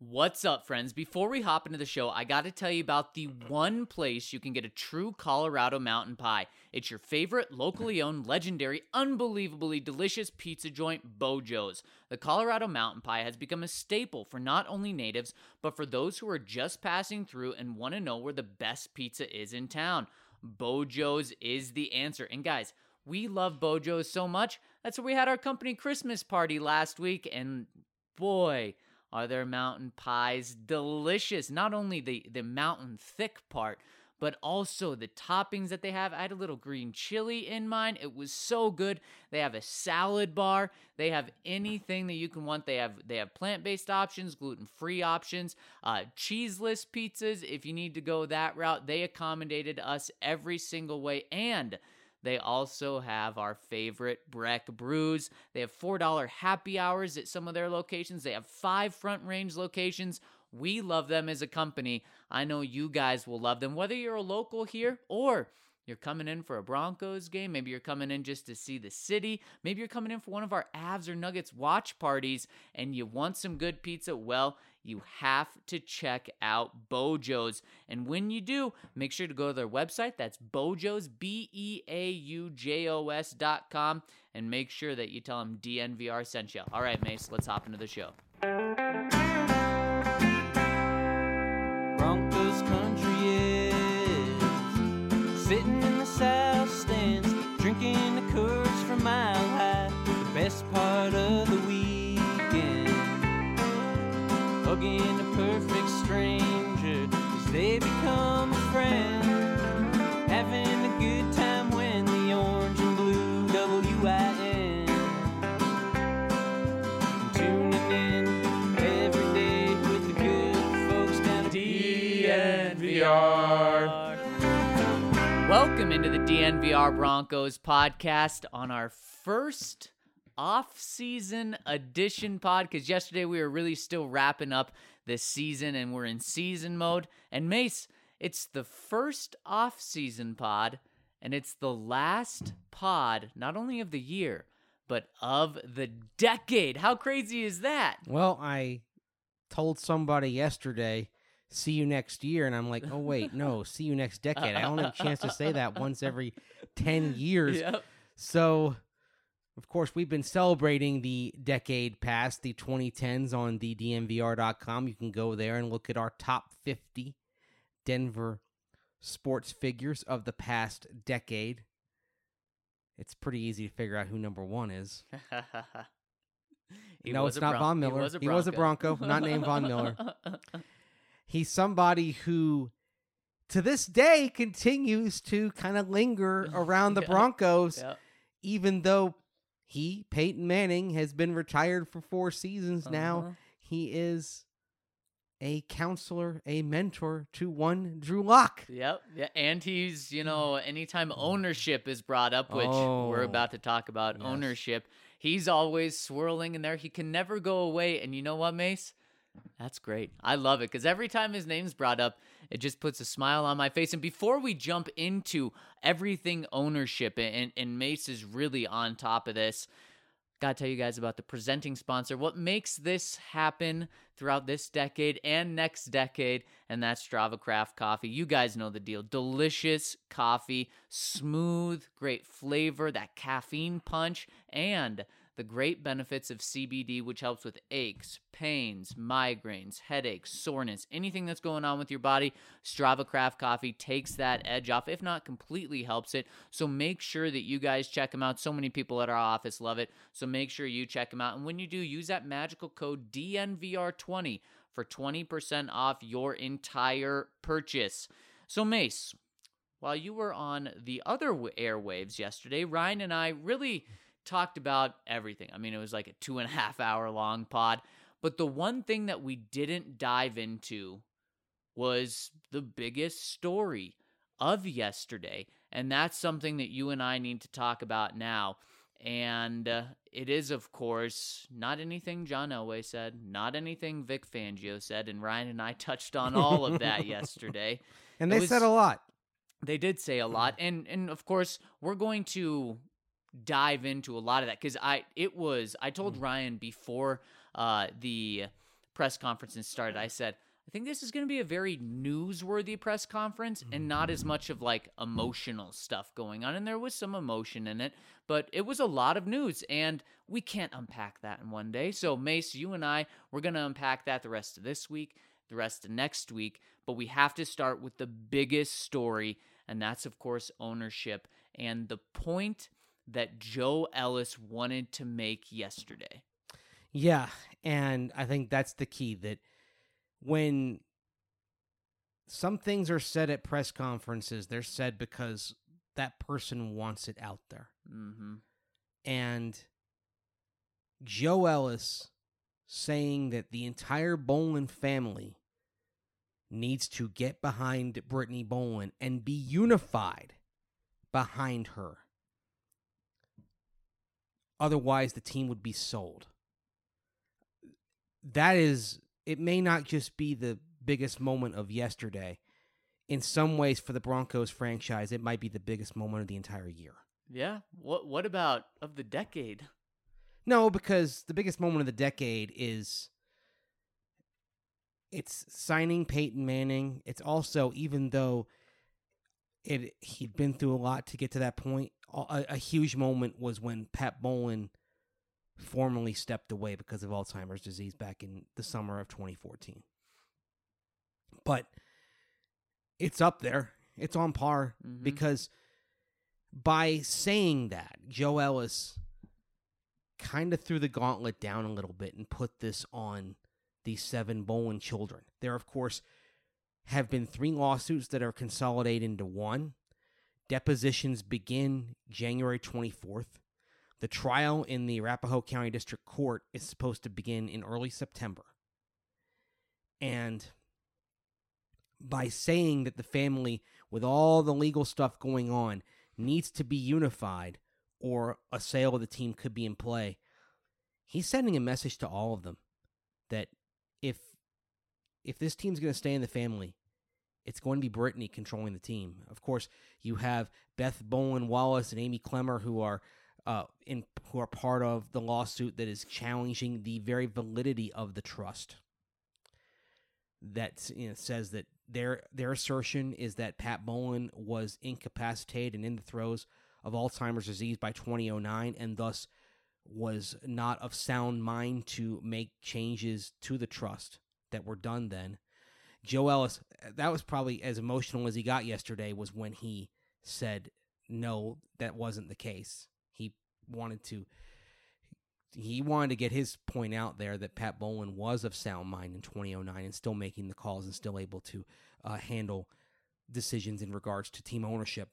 What's up, friends? Before we hop into the show, I got to tell you about the one place you can get a true Colorado mountain pie. It's your favorite, locally owned, legendary, unbelievably delicious pizza joint, Bojo's. The Colorado mountain pie has become a staple for not only natives, but for those who are just passing through and want to know where the best pizza is in town. Bojo's is the answer. And guys, we love Bojo's so much. That's where we had our company Christmas party last week, and boy, are their mountain pies delicious. Not only the mountain thick part, but also the toppings that they have. I had a little green chili in mine. It was so good. They have a salad bar. They have anything that you can want. They have plant-based options, gluten-free options, cheeseless pizzas. If you need to go that route, they accommodated us every single way. And they also have our favorite Breck brews. They have $4 happy hours at some of their locations. They have 5 Front Range locations. We love them as a company. I know you guys will love them, whether you're a local here or you're coming in for a Broncos game. Maybe you're coming in just to see the city. Maybe you're coming in for one of our Avs or Nuggets watch parties and you want some good pizza. Well, you have to check out Bojo's. And when you do, make sure to go to their website. That's Bojo's, BEAUJOS.com. And make sure that you tell them DNVR sent you. All right, Mace, let's hop into the show. Broncos country is sitting in the south stands, drinking the Coors from Mile High. The best part of the weekend, hugging a perfect stranger as they become a friend, having a good time when the orange and blue WIN, tuning in every day with the good folks down at DNVR. Welcome into the DNVR Broncos podcast on our first off-season edition pod, because yesterday we were really still wrapping up this season and we're in season mode. And Mace, it's the first off-season pod and it's the last pod, not only of the year, but of the decade. How crazy is that? Well, I told somebody yesterday, see you next year, and I'm like, oh, wait, no, see you next decade. I only have a chance to say that once every 10 years. Yep. So, of course, we've been celebrating the decade past, the 2010s on the DNVR.com. You can go there and look at our top 50 Denver sports figures of the past decade. It's pretty easy to figure out who number one is. No, it's not Von Miller. He was a Bronco, not named Von Miller. He's somebody who, to this day, continues to kind of linger around the Broncos, even though Peyton Manning, has been retired for 4 seasons now. He is a counselor, a mentor to one Drew Lock. Yep. Yeah. And he's, anytime ownership is brought up, which we're about to talk about ownership, he's always swirling in there. He can never go away. And you know what, Mace? That's great. I love it because every time his name's brought up, it just puts a smile on my face. And before we jump into everything ownership, and Mace is really on top of this, got to tell you guys about the presenting sponsor, what makes this happen throughout this decade and next decade, and that's Strava Craft Coffee. You guys know the deal. Delicious coffee, smooth, great flavor, that caffeine punch, and the great benefits of CBD, which helps with aches, pains, migraines, headaches, soreness, anything that's going on with your body. Strava Craft Coffee takes that edge off, if not completely helps it. So make sure that you guys check them out. So many people at our office love it. So make sure you check them out. And when you do, use that magical code DNVR20 for 20% off your entire purchase. So Mace, while you were on the other airwaves yesterday, Ryan and I really talked about everything. I mean, it was like a 2.5 hour long pod, but the one thing that we didn't dive into was the biggest story of yesterday, and that's something that you and I need to talk about now. And it is, of course, not anything John Elway said, not anything Vic Fangio said, and Ryan and I touched on all of that yesterday. And they said a lot. They did say a lot, and of course, we're going to dive into a lot of that because I told Ryan before the press conferences started, I said, I think this is going to be a very newsworthy press conference and not as much of like emotional stuff going on. And there was some emotion in it, but it was a lot of news, and we can't unpack that in one day. So Mace, you and I, we're going to unpack that the rest of this week, the rest of next week, but we have to start with the biggest story, and that's, of course, ownership and the point that Joe Ellis wanted to make yesterday. Yeah, and I think that's the key, that when some things are said at press conferences, they're said because that person wants it out there. Mm-hmm. And Joe Ellis saying that the entire Bowlen family needs to get behind Brittany Bowlen and be unified behind her. Otherwise, the team would be sold. That is, it may not just be the biggest moment of yesterday. In some ways, for the Broncos franchise, it might be the biggest moment of the entire year. Yeah. What about of the decade? No, because the biggest moment of the decade is it's signing Peyton Manning. It's also, even though he'd been through a lot to get to that point, a huge moment was when Pat Bowlen formally stepped away because of Alzheimer's disease back in the summer of 2014. But it's up there. It's on par, because by saying that, Joe Ellis kind of threw the gauntlet down a little bit and put this on the 7 Bowlen children. There, of course, have been 3 lawsuits that are consolidated into one. Depositions begin January 24th. The trial in the Arapahoe County District Court is supposed to begin in early September. And by saying that the family, with all the legal stuff going on, needs to be unified or a sale of the team could be in play, he's sending a message to all of them that if this team's going to stay in the family, it's going to be Brittany controlling the team. Of course, you have Beth Bowlen Wallace and Amy Clemmer, who are part of the lawsuit that is challenging the very validity of the trust. That says that their assertion is that Pat Bowlen was incapacitated and in the throes of Alzheimer's disease by 2009, and thus was not of sound mind to make changes to the trust that were done then. Joe Ellis, that was probably as emotional as he got yesterday, was when he said, no, that wasn't the case. He wanted to get his point out there that Pat Bowlen was of sound mind in 2009 and still making the calls and still able to handle decisions in regards to team ownership.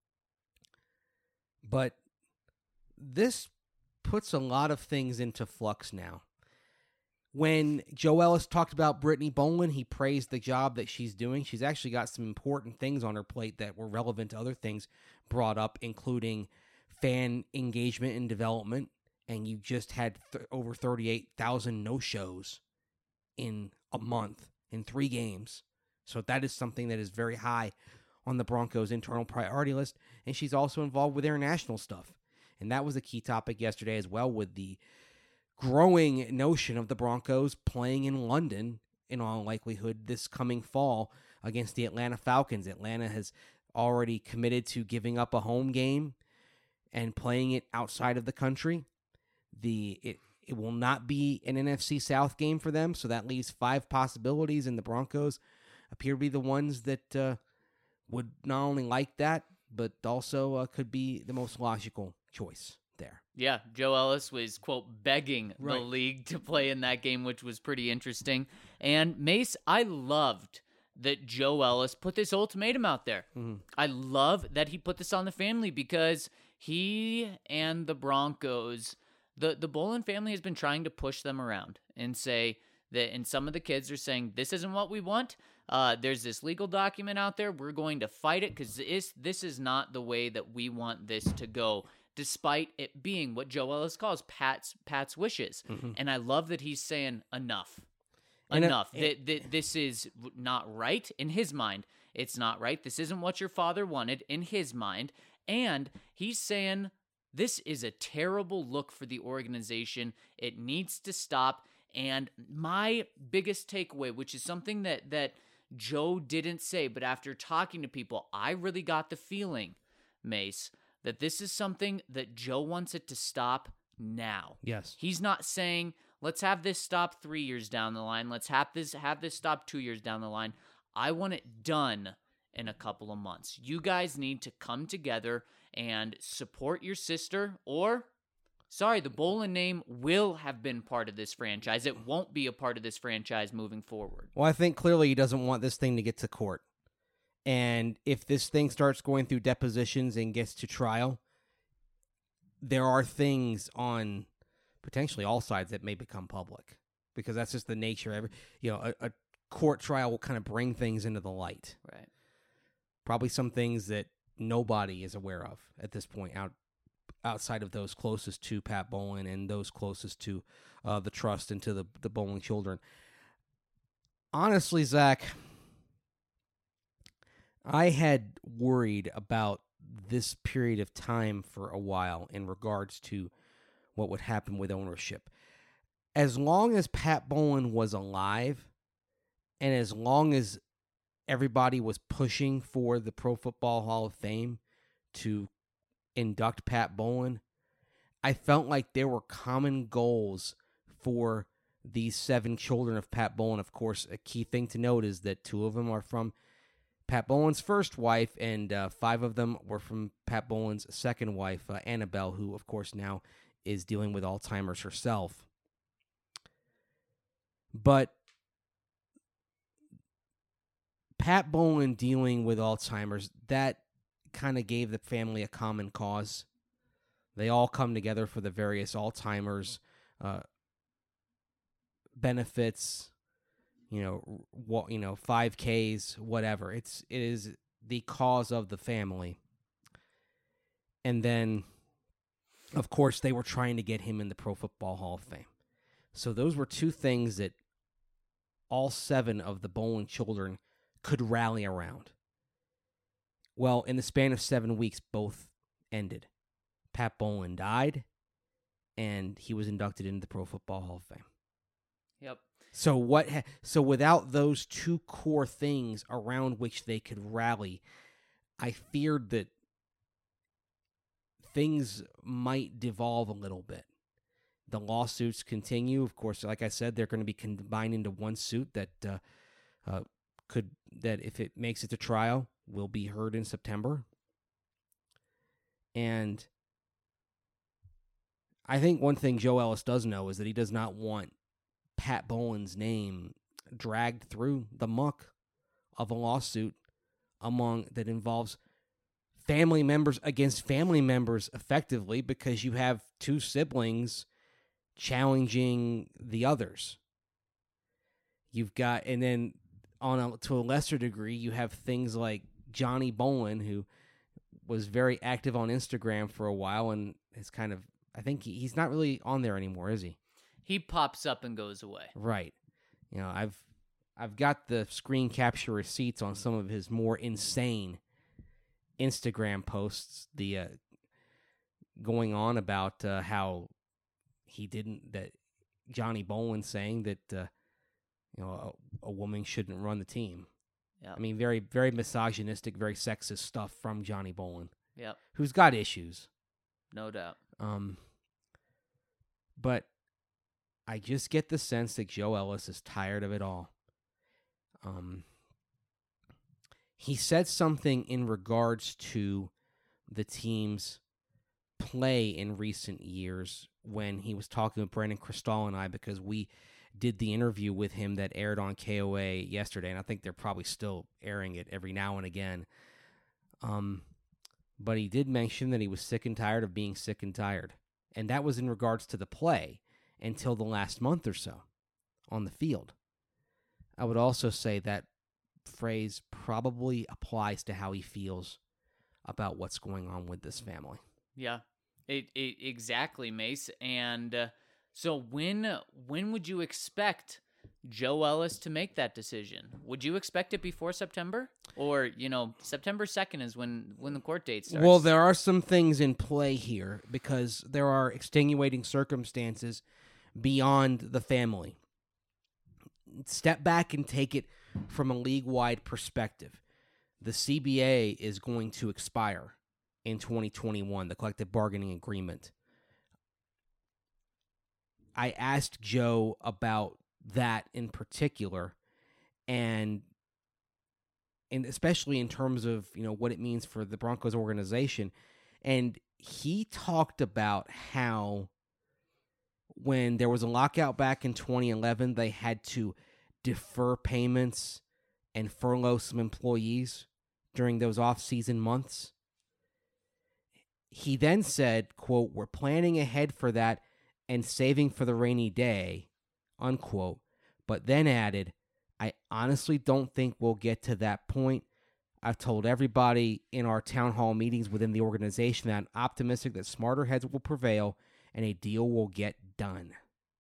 But this puts a lot of things into flux now. When Joe Ellis talked about Brittany Bowlen, he praised the job that she's doing. She's actually got some important things on her plate that were relevant to other things brought up, including fan engagement and development. And you just had over 38,000 no-shows in a month, in 3 games. So that is something that is very high on the Broncos' internal priority list. And she's also involved with international stuff. And that was a key topic yesterday as well, with the growing notion of the Broncos playing in London, in all likelihood, this coming fall against the Atlanta Falcons. Atlanta has already committed to giving up a home game and playing it outside of the country. It will not be an NFC South game for them, so that leaves 5 possibilities, and the Broncos appear to be the ones that would not only like that, but also could be the most logical choice there. Yeah, Joe Ellis was, quote, begging the league to play in that game, which was pretty interesting. And Mace, I loved that Joe Ellis put this ultimatum out there. I love that he put this on the family, because he and the Broncos, the Bowlen family has been trying to push them around and say that, and some of the kids are saying, this isn't what we want. There's this legal document out there. We're going to fight it because this is not the way that we want this to go, despite it being what Joe Ellis calls Pat's wishes. And I love that he's saying enough. This is not right in his mind. It's not right. This isn't what your father wanted in his mind. And he's saying this is a terrible look for the organization. It needs to stop. And my biggest takeaway, which is something that Joe didn't say, but after talking to people, I really got the feeling, Mace, that this is something that Joe wants it to stop now. Yes. He's not saying, let's have this stop 3 years down the line. Let's have this stop 2 years down the line. I want it done in a couple of months. You guys need to come together and support your sister, or, sorry, the Bolin name will have been part of this franchise. It won't be a part of this franchise moving forward. Well, I think clearly he doesn't want this thing to get to court. And if this thing starts going through depositions and gets to trial, there are things on potentially all sides that may become public, because that's just the nature of it. A court trial will kind of bring things into the light. Right. Probably some things that nobody is aware of at this point outside of those closest to Pat Bolin and those closest to the trust and to the Bolin children. Honestly, Zach, I had worried about this period of time for a while in regards to what would happen with ownership. As long as Pat Bolin was alive, and as long as everybody was pushing for the Pro Football Hall of Fame to induct Pat Bolin, I felt like there were common goals for these 7 children of Pat Bolin. Of course, a key thing to note is that 2 of them are from Pat Bolin's first wife, and 5 of them were from Pat Bolin's second wife, Annabelle, who, of course, now is dealing with Alzheimer's herself. But Pat Bolin dealing with Alzheimer's, that kind of gave the family a common cause. They all come together for the various Alzheimer's benefits, 5Ks, whatever. It is the cause of the family. And then, of course, they were trying to get him in the Pro Football Hall of Fame. So those were 2 things that all 7 of the Bolin children could rally around. Well, in the span of 7 weeks, both ended. Pat Bolin died, and he was inducted into the Pro Football Hall of Fame. Yep. So without those 2 core things around which they could rally, I feared that things might devolve a little bit. The lawsuits continue. Of course, like I said, they're going to be combined into one suit that if it makes it to trial, will be heard in September. And I think one thing Joe Ellis does know is that he does not want Pat Bolin's name dragged through the muck of a lawsuit that involves family members against family members, effectively, because you have 2 siblings challenging the others. You've got, and then to a lesser degree, you have things like Johnny Bolin, who was very active on Instagram for a while, and is kind of, I think he's not really on there anymore, is he? He pops up and goes away. Right. I've got the screen capture receipts on some of his more insane Instagram posts, the going on about how that Johnny Bolin saying that a woman shouldn't run the team. Yep. I mean, very, very misogynistic, very sexist stuff from Johnny Bolin. Yep. Who's got issues. No doubt. But I just get the sense that Joe Ellis is tired of it all. He said something in regards to the team's play in recent years when he was talking with Brandon Cristal and I, because we did the interview with him that aired on KOA yesterday, and I think they're probably still airing it every now and again. But he did mention that he was sick and tired of being sick and tired, and that was in regards to the play until the last month or so on the field. I would also say that phrase probably applies to how he feels about what's going on with this family. Yeah, exactly, Mace. And so when would you expect Joe Ellis to make that decision? Would you expect it before September? Or, September 2nd is when the court date starts. Well, there are some things in play here because there are extenuating circumstances beyond the family. Step back and take it from a league-wide perspective. The CBA is going to expire in 2021, the collective bargaining agreement. I asked Joe about that in particular, and especially in terms of, what it means for the Broncos organization. And he talked about how when there was a lockout back in 2011, they had to defer payments and furlough some employees during those off-season months. He then said, quote, "We're planning ahead for that and saving for the rainy day," unquote, but then added, "I honestly don't think we'll get to that point. I've told everybody in our town hall meetings within the organization that I'm optimistic that smarter heads will prevail and a deal will get done."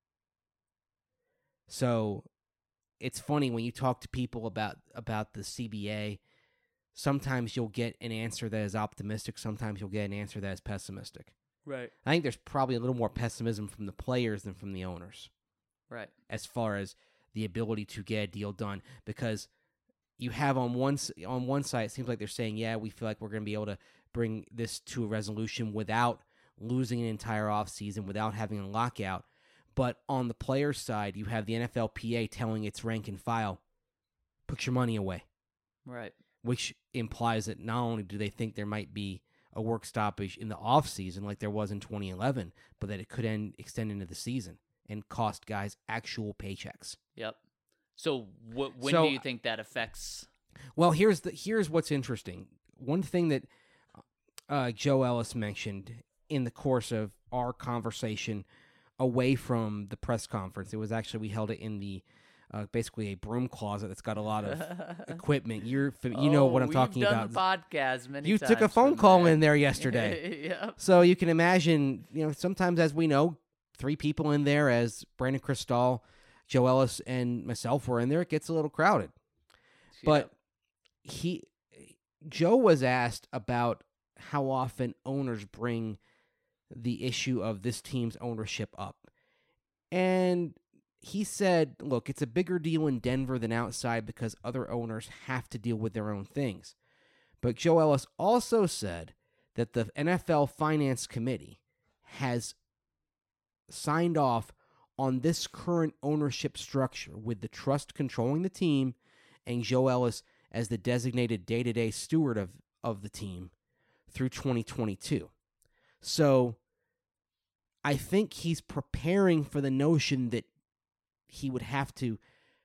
So it's funny when you talk to people about the CBA, sometimes you'll get an answer that is optimistic, sometimes you'll get an answer that is pessimistic. Right. I think there's probably a little more pessimism from the players than from the owners. Right. As far as the ability to get a deal done, because you have on one side, it seems like they're saying, yeah, we feel like we're going to be able to bring this to a resolution without losing an entire offseason, without having a lockout. But on the player's side, you have the NFLPA telling its rank and file, put your money away. Right. Which implies that not only do they think there might be a work stoppage in the offseason like there was in 2011, but that it could extend into the season and cost guys actual paychecks. Yep. So when do you think that affects? Well, here's what's interesting. One thing that Joe Ellis mentioned in the course of our conversation away from the press conference, it was actually, we held it in the basically a broom closet that's got a lot of equipment. You know what I'm talking about. We've done the podcast many times. You took a phone call in there yesterday. Yep. So you can imagine, sometimes, as we know, 3 people in there, as Brandon Cristal, Joe Ellis, and myself were in there, it gets a little crowded. Yep. But Joe was asked about how often owners bring the issue of this team's ownership up. And he said, look, it's a bigger deal in Denver than outside because other owners have to deal with their own things. But Joe Ellis also said that the NFL Finance Committee has signed off on this current ownership structure with the trust controlling the team and Joe Ellis as the designated day-to-day steward of the team through 2022. So I think he's preparing for the notion that he would have to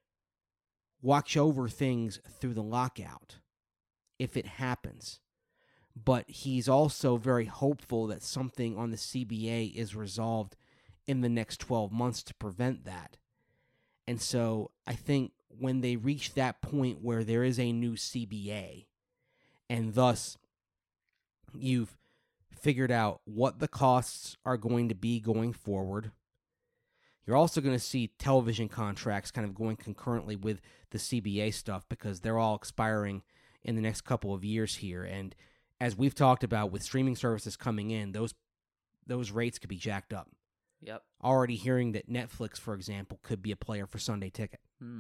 watch over things through the lockout if it happens. But he's also very hopeful that something on the CBA is resolved in the next 12 months to prevent that. And so I think when they reach that point where there is a new CBA, and thus you've figured out what the costs are going to be going forward, you're also going to see television contracts kind of going concurrently with the CBA stuff because they're all expiring in the next couple of years here. And as we've talked about with streaming services coming in, those rates could be jacked up. Yep. Already hearing that Netflix, for example, could be a player for Sunday Ticket.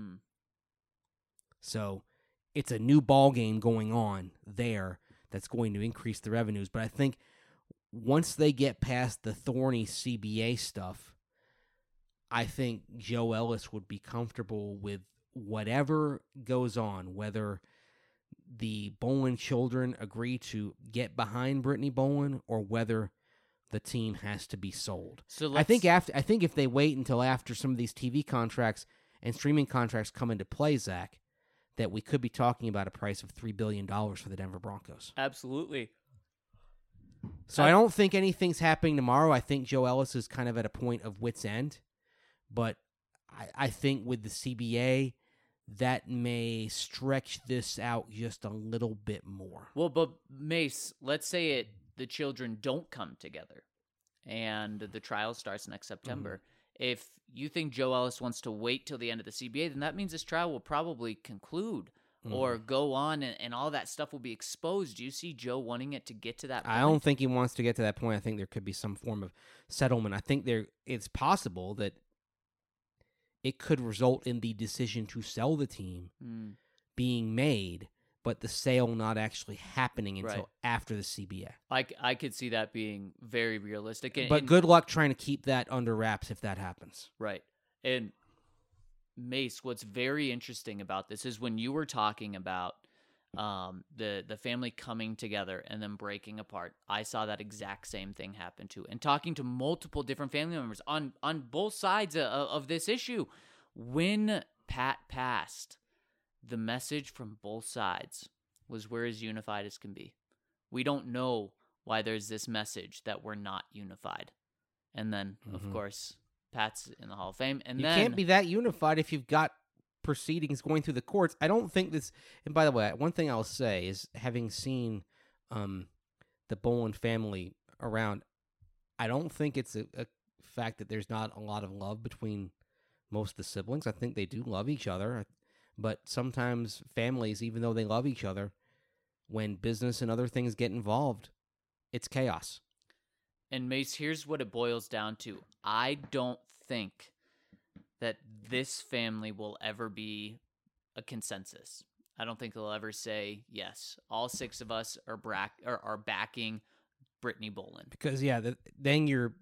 So it's a new ball game going on there that's going to increase the revenues. But I think once they get past the thorny CBA stuff, I think Joe Ellis would be comfortable with whatever goes on, whether the Bolin children agree to get behind Brittany Bolin or whether the team has to be sold. So I think if they wait until after some of these TV contracts and streaming contracts come into play, Zach, that we could be talking about a price of $3 billion for the Denver Broncos. Absolutely. So I don't think anything's happening tomorrow. I think Joe Ellis is kind of at a point of wit's end. But I think with the CBA, that may stretch this out just a little bit more. Well, but Mace, let's say the children don't come together and the trial starts next September. If you think Joe Ellis wants to wait till the end of the CBA, then that means this trial will probably conclude or go on and all that stuff will be exposed. Do you see Joe wanting it to get to that point? I don't think he wants to get to that point. I think there could be some form of settlement. I think it's possible that it could result in the decision to sell the team being made, but the sale not actually happening until after the CBA. I could see that being very realistic. But good luck trying to keep that under wraps if that happens. Right. And Mace, what's very interesting about this is when you were talking about the family coming together and then breaking apart, I saw that exact same thing happen too. And talking to multiple different family members on both sides of this issue, when Pat passed, the message from both sides was we're as unified as can be. We don't know why there's this message that we're not unified. And then, of course, Pat's in the Hall of Fame. And you then can't be that unified if you've got proceedings going through the courts. I don't think this. And by the way, one thing I'll say is, having seen the Boland family around, I don't think it's a fact that there's not a lot of love between most of the siblings. I think they do love each other. But sometimes families, even though they love each other, when business and other things get involved, it's chaos. And Mace, here's what it boils down to. I don't think that this family will ever be a consensus. I don't think they'll ever say, yes, all 6 of us are backing Brittany Boland. Because, then you're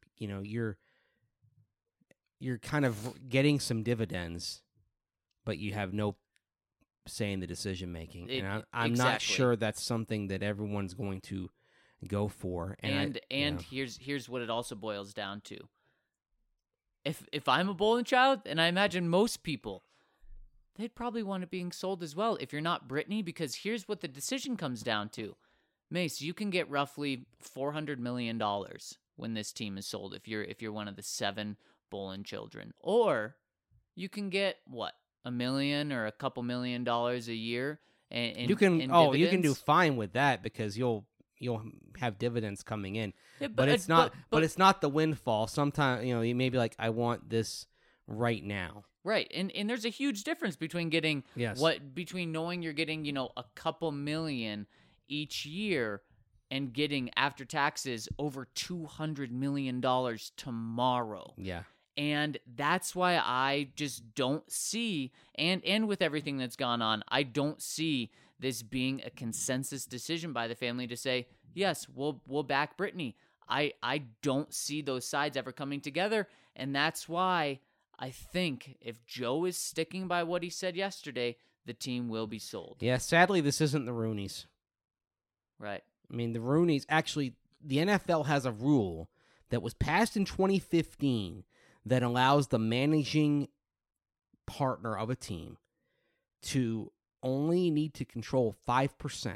kind of getting some dividends, but you have no say in the decision making. And I'm not sure that's something that everyone's going to go for. And here's what it also boils down to. If I'm a Boland child, and I imagine most people, they'd probably want it being sold as well if you're not Brittany, because here's what the decision comes down to. Mace, you can get roughly $400 million when this team is sold if you're one of the 7 Boland children. Or you can get, what, $1 million or a couple $1 million a year in you can dividends? You can do fine with that because you'll have dividends coming in. Yeah, but it's not it's not the windfall. Sometimes, you may be like, I want this right now. Right. And there's a huge difference between getting between knowing you're getting, a couple million each year and getting after taxes over $200 million tomorrow. Yeah. And that's why I just don't see, and with everything that's gone on, I don't see this being a consensus decision by the family to say, yes, we'll back Brittany. I don't see those sides ever coming together, and that's why I think if Joe is sticking by what he said yesterday, the team will be sold. Yeah, sadly, this isn't the Rooneys. Right. I mean, the Rooneys, actually, the NFL has a rule that was passed in 2015 that allows the managing partner of a team to only need to control 5%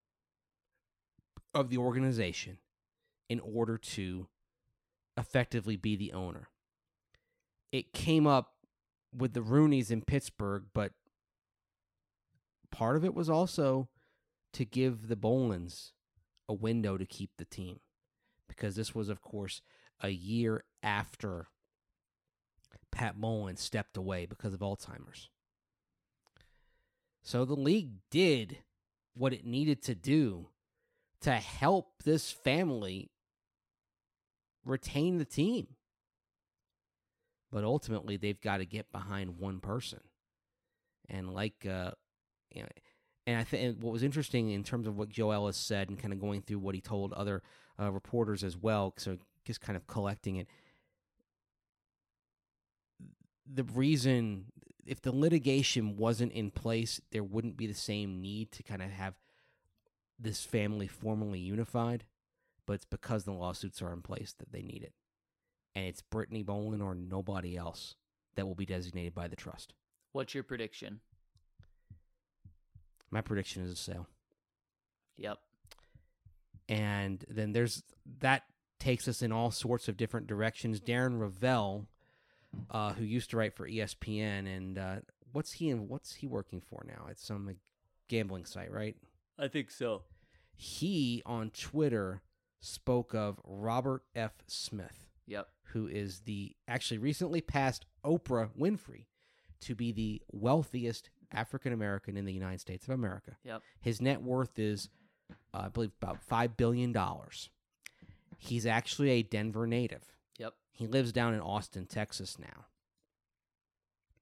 of the organization in order to effectively be the owner. It came up with the Rooneys in Pittsburgh, but part of it was also to give the Bolands a window to keep the team, because this was, of course, a year after Pat Boland stepped away because of Alzheimer's. So the league did what it needed to do to help this family retain the team. But ultimately, they've got to get behind one person. And and I think what was interesting in terms of what Joe Ellis said and kind of going through what he told other reporters as well, so just kind of collecting it. The reason, if the litigation wasn't in place, there wouldn't be the same need to kind of have this family formally unified, but it's because the lawsuits are in place that they need it. And it's Brittany Boland or nobody else that will be designated by the trust. What's your prediction? My prediction is a sale. Yep. And then that takes us in all sorts of different directions. Darren Ravel, who used to write for ESPN, and what's he working for now? It's some gambling site, right? I think so. He on Twitter spoke of Robert F. Smith. Yep. Who is the actually recently passed Oprah Winfrey to be the wealthiest African American in the United States of America. Yep. His net worth is, I believe, about $5 billion. He's actually a Denver native. Yep. He lives down in Austin, Texas now.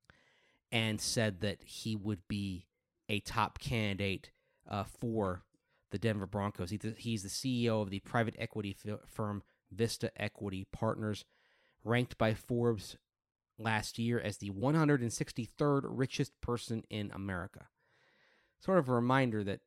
and said that he would be a top candidate for the Denver Broncos. He's the CEO of the private equity firm Vista Equity Partners, ranked by Forbes last year as the 163rd richest person in America. Sort of a reminder that,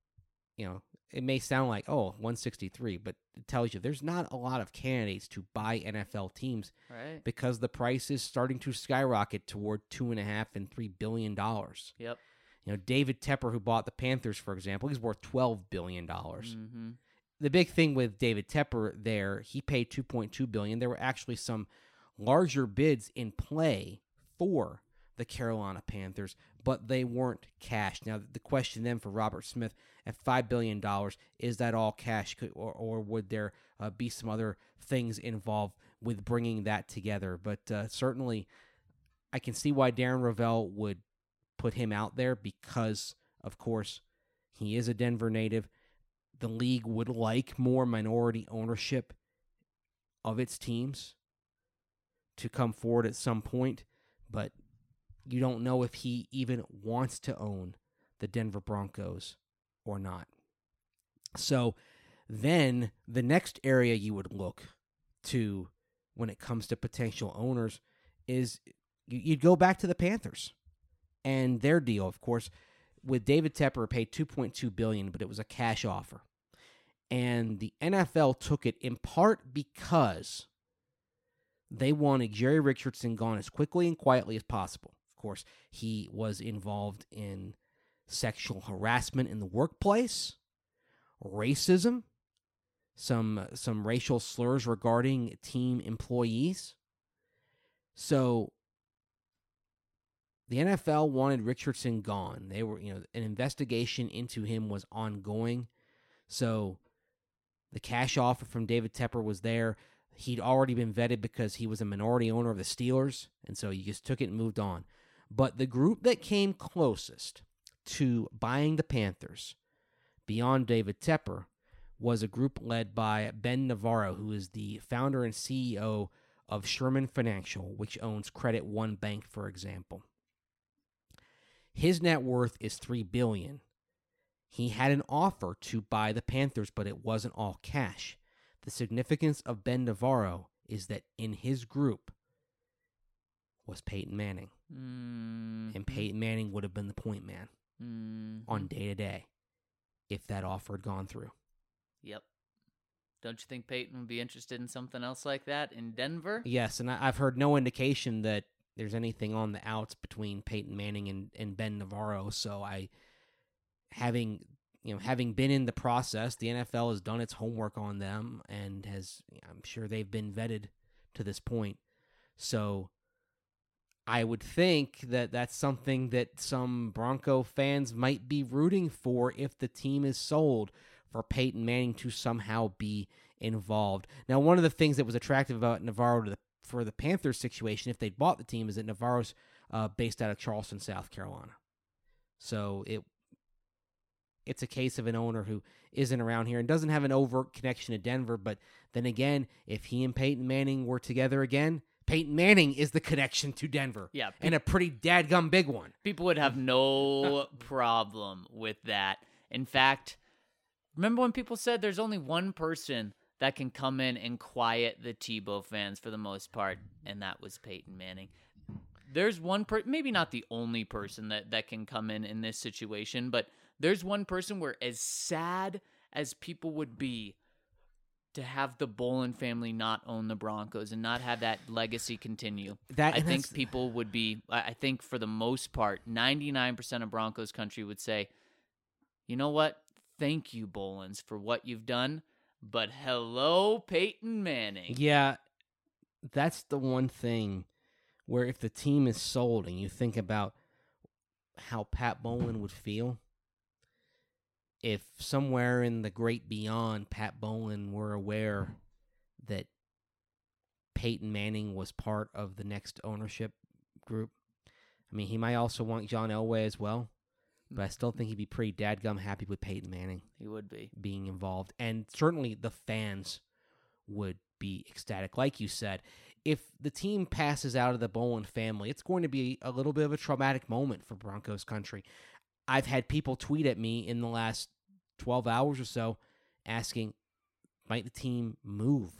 it may sound like, 163, but it tells you there's not a lot of candidates to buy NFL teams, right? Because the price is starting to skyrocket toward $2.5 and $3 billion. Yep. David Tepper, who bought the Panthers, for example, he's worth $12 billion. Mm-hmm. The big thing with David Tepper there, he paid $2.2 billion. There were actually some larger bids in play for the Carolina Panthers, but they weren't cash. Now, the question then for Robert Smith at $5 billion, is that all cash, or would there be some other things involved with bringing that together? But certainly, I can see why Darren Rovell would put him out there because, of course, he is a Denver native. The league would like more minority ownership of its teams to come forward at some point, but you don't know if he even wants to own the Denver Broncos or not. So then the next area you would look to when it comes to potential owners is you'd go back to the Panthers and their deal. Of course, with David Tepper, paid $2.2 billion, but it was a cash offer. And the NFL took it in part because they wanted Jerry Richardson gone as quickly and quietly as possible. Of course, he was involved in sexual harassment in the workplace, racism, some racial slurs regarding team employees. So the NFL wanted Richardson gone. They were, an investigation into him was ongoing. So the cash offer from David Tepper was there. He'd already been vetted because he was a minority owner of the Steelers, and so you just took it and moved on. But the group that came closest to buying the Panthers, beyond David Tepper, was a group led by Ben Navarro, who is the founder and CEO of Sherman Financial, which owns Credit One Bank, for example. His net worth is $3 billion. He had an offer to buy the Panthers, but it wasn't all cash. The significance of Ben Navarro is that in his group was Peyton Manning. And Peyton Manning would have been the point man on day-to-day if that offer had gone through. Yep. Don't you think Peyton would be interested in something else like that in Denver? Yes, and I've heard no indication that there's anything on the outs between Peyton Manning and Ben Navarro, so having been in the process, the NFL has done its homework on them and I'm sure they've been vetted to this point. So I would think that that's something that some Bronco fans might be rooting for if the team is sold, for Peyton Manning to somehow be involved. Now, one of the things that was attractive about Navarro for the Panthers situation, if they'd bought the team, is that Navarro's based out of Charleston, South Carolina. So it's a case of an owner who isn't around here and doesn't have an overt connection to Denver. But then again, if he and Peyton Manning were together again, Peyton Manning is the connection to Denver. Yeah. And a pretty dadgum big one. People would have no problem with that. In fact, remember when people said there's only one person that can come in and quiet the Tebow fans for the most part, and that was Peyton Manning. There's one maybe not the only person that can come in this situation, but there's one person where, as sad as people would be to have the Bowlen family not own the Broncos and not have that legacy continue, I think people would be, I think for the most part, 99% of Broncos country would say, you know what? Thank you, Bolens, for what you've done, but hello, Peyton Manning. Yeah, that's the one thing where if the team is sold and you think about how Pat Bowlen would feel, if somewhere in the great beyond Pat Bowlen were aware that Peyton Manning was part of the next ownership group, I mean, he might also want John Elway as well, but I still think he'd be pretty dadgum happy with Peyton Manning. He would be. Being involved. And certainly the fans would be ecstatic. Like you said, if the team passes out of the Bowlen family, it's going to be a little bit of a traumatic moment for Broncos country. I've had people tweet at me in the last 12 hours or so asking, might the team move?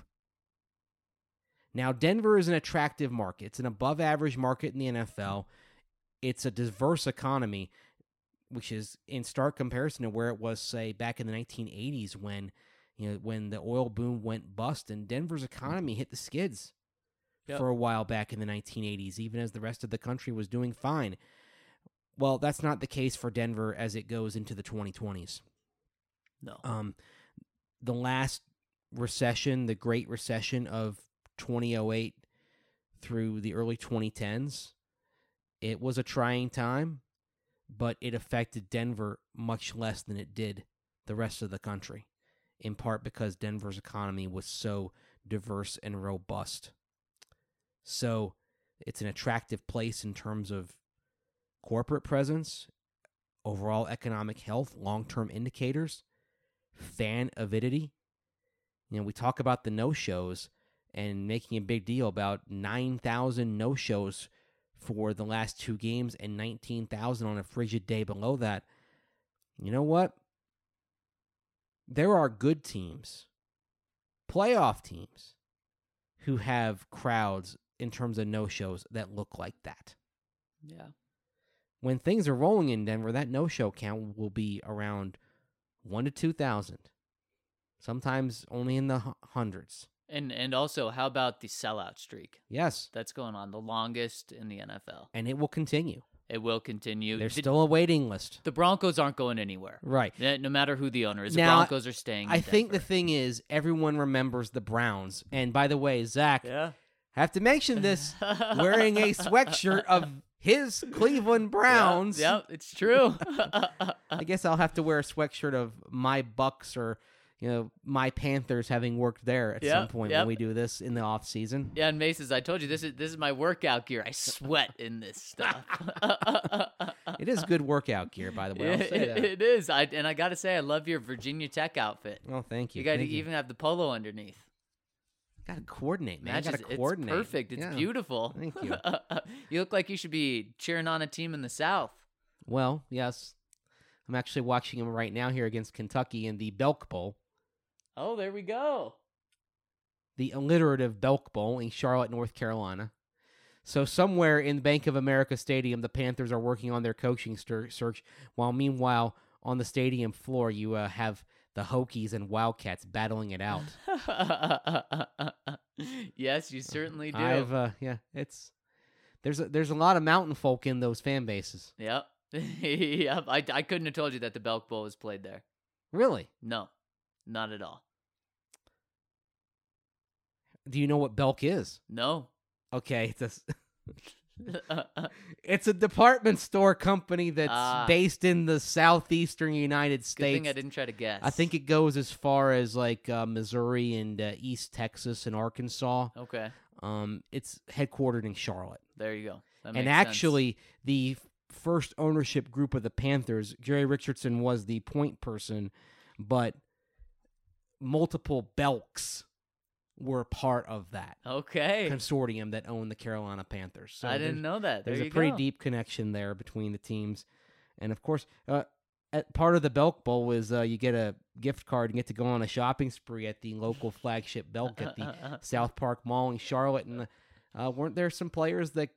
Now, Denver is an attractive market. It's an above-average market in the NFL. It's a diverse economy, which is in stark comparison to where it was, say, back in the 1980s when the oil boom went bust and Denver's economy hit the skids for a while back in the 1980s, even as the rest of the country was doing fine. Well, that's not the case for Denver as it goes into the 2020s. No. The last recession, the Great Recession of 2008 through the early 2010s, it was a trying time, but it affected Denver much less than it did the rest of the country, in part because Denver's economy was so diverse and robust. So it's an attractive place in terms of corporate presence, overall economic health, long-term indicators, fan avidity. We talk about the no-shows and making a big deal about 9,000 no-shows for the last 2 games and 19,000 on a frigid day below that. You know what? There are good teams, playoff teams, who have crowds in terms of no-shows that look like that. Yeah. When things are rolling in Denver, that no-show count will be around 1,000 to 2,000. Sometimes only in the hundreds. And also, how about the sellout streak? Yes. That's going on, the longest in the NFL. And it will continue. It will continue. There's still a waiting list. The Broncos aren't going anywhere. Right. No matter who the owner is, now, the Broncos are staying in Denver. think the thing is, everyone remembers the Browns. And by the way, Zach, have to mention this, wearing a sweatshirt of his Cleveland Browns. Yep, it's true. I guess I'll have to wear a sweatshirt of my Bucks or my Panthers, having worked there at some point when we do this in the off season. Yeah, and Maces, I told you this is my workout gear. I sweat in this stuff. It is good workout gear, by the way. I'll say that. It is. I got to say, I love your Virginia Tech outfit. Oh, thank you. You got to even have the polo underneath. Got to coordinate, man. Got to coordinate. It's perfect. It's beautiful. Thank you. You look like you should be cheering on a team in the South. Well, yes. I'm actually watching him right now here against Kentucky in the Belk Bowl. Oh, there we go. The alliterative Belk Bowl in Charlotte, North Carolina. So somewhere in Bank of America Stadium, the Panthers are working on their coaching search, while meanwhile on the stadium floor you have the Hokies and Wildcats battling it out. Yes, you certainly do. There's a lot of mountain folk in those fan bases. Yep. Yep. I couldn't have told you that the Belk Bowl was played there. Really? No, not at all. Do you know what Belk is? No. Okay, it's a department store company that's based in the southeastern United States. Good thing I didn't try to guess. I think it goes as far as like Missouri and East Texas and Arkansas. Okay. It's headquartered in Charlotte. There you go. That and makes actually, sense. The first ownership group of the Panthers, Jerry Richardson was the point person, but multiple Belks were part of that consortium that owned the Carolina Panthers. So I didn't know that. There's a pretty deep connection there between the teams. And, of course, part of the Belk Bowl is you get a gift card and get to go on a shopping spree at the local flagship Belk at the South Park Mall in Charlotte. And weren't there some players that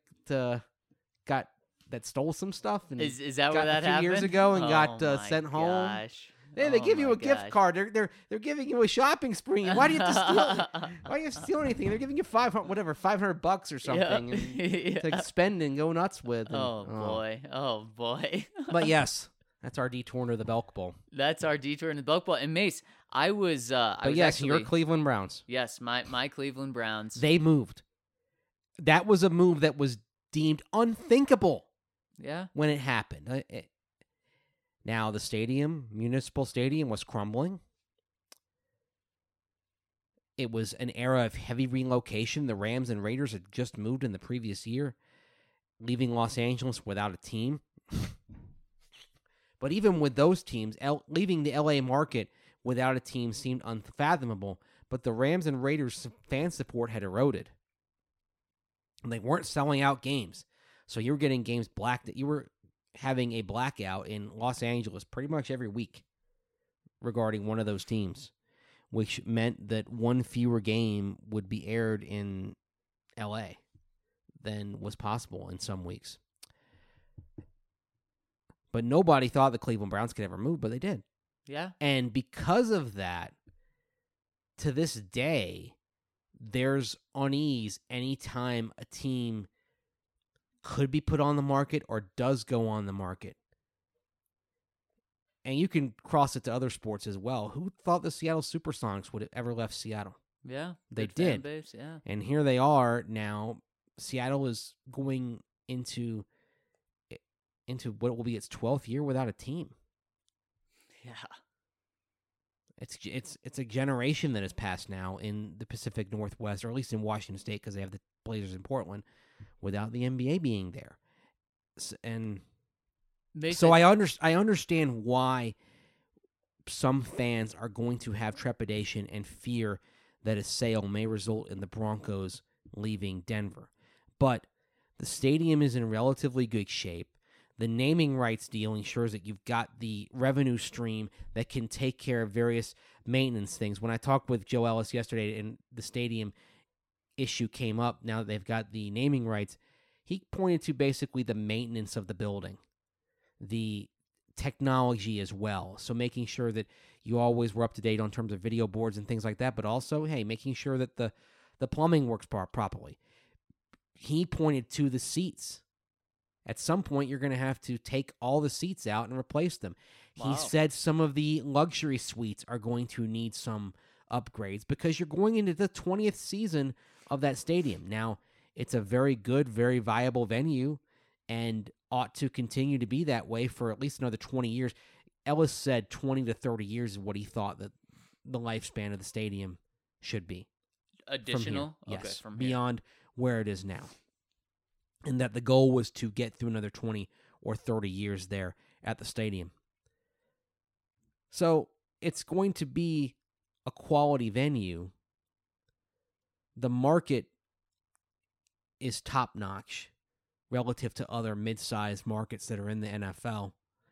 stole some stuff? And is that where that happened? A few years ago and got sent home. Gosh. Hey, they give you a gift card. They're giving you a shopping spree. Why do you have to steal? Why do you have to steal anything? They're giving you $500 or something to spend and go nuts with. And, oh boy. But yes, that's our detour into the Belk Bowl. That's our detour into the Belk Bowl. And Mace, I was your Cleveland Browns. Yes, my Cleveland Browns. They moved. That was a move that was deemed unthinkable. Yeah. When it happened. Now, the Municipal Stadium, was crumbling. It was an era of heavy relocation. The Rams and Raiders had just moved in the previous year, leaving Los Angeles without a team. But even with those teams, leaving the LA market without a team seemed unfathomable. But the Rams and Raiders fan support had eroded. They weren't selling out games. So you were getting games you were having a blackout in Los Angeles pretty much every week regarding one of those teams, which meant that one fewer game would be aired in LA than was possible in some weeks. But nobody thought the Cleveland Browns could ever move, but they did. Yeah. And because of that, to this day, there's unease anytime a team could be put on the market or does go on the market. And you can cross it to other sports as well. Who thought the Seattle Supersonics would have ever left Seattle? Yeah. They did. Fan base, yeah. And here they are now. Seattle is going into what will be its 12th year without a team. Yeah. It's a generation that has passed now in the Pacific Northwest, or at least in Washington State, because they have the Blazers in Portland, without the NBA being there. I understand why some fans are going to have trepidation and fear that a sale may result in the Broncos leaving Denver. But the stadium is in relatively good shape. The naming rights deal ensures that you've got the revenue stream that can take care of various maintenance things. When I talked with Joe Ellis yesterday and the stadium issue came up, now that they've got the naming rights, he pointed to basically the maintenance of the building, the technology as well. So making sure that you always were up to date on terms of video boards and things like that, but also, hey, making sure that the plumbing works properly. He pointed to the seats. At some point, you're going to have to take all the seats out and replace them. Wow. He said some of the luxury suites are going to need some upgrades because you're going into the 20th season of that stadium. Now, it's a very good, very viable venue and ought to continue to be that way for at least another 20 years. Ellis said 20 to 30 years is what he thought that the lifespan of the stadium should be. Additional? From here. Yes, from beyond where it is now. And that the goal was to get through another 20 or 30 years there at the stadium. So it's going to be a quality venue. The market is top-notch relative to other mid-sized markets that are in the NFL.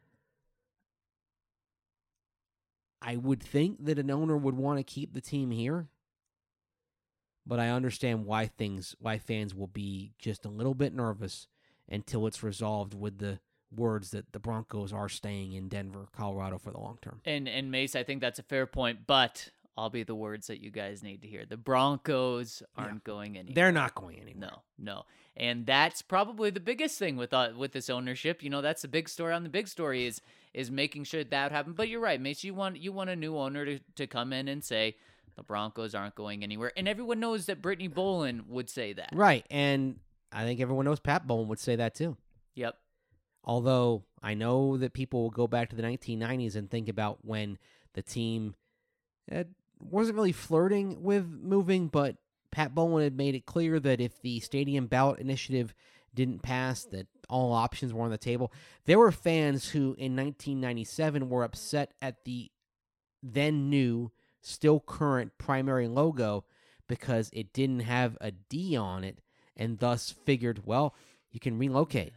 I would think that an owner would want to keep the team here. But I understand why fans will be just a little bit nervous until it's resolved with the words that the Broncos are staying in Denver, Colorado for the long term. And Mace, I think that's a fair point, but I'll be the words that you guys need to hear. The Broncos aren't going anywhere. They're not going anywhere. No. And that's probably the biggest thing with this ownership. You know, that's the big story on the big story is making sure that happens. But you're right, Mace. You want a new owner to come in and say, the Broncos aren't going anywhere. And everyone knows that Brittany Bowlen would say that. Right. And I think everyone knows Pat Bowlen would say that too. Yep. Although I know that people will go back to the 1990s and think about when the team wasn't really flirting with moving, but Pat Bowlen had made it clear that if the stadium ballot initiative didn't pass, that all options were on the table. There were fans who in 1997 were upset at the then new still current primary logo because it didn't have a D on it and thus figured, well, you can relocate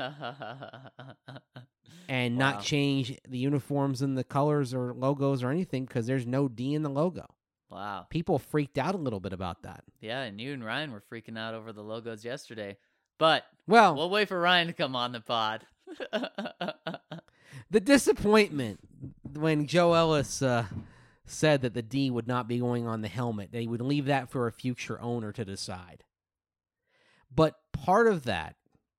and not change the uniforms and the colors or logos or anything because there's no D in the logo. Wow. People freaked out a little bit about that. Yeah, and you and Ryan were freaking out over the logos yesterday. But we'll wait for Ryan to come on the pod. The disappointment when Joe Ellis said that the D would not be going on the helmet. They would leave that for a future owner to decide. But part of that,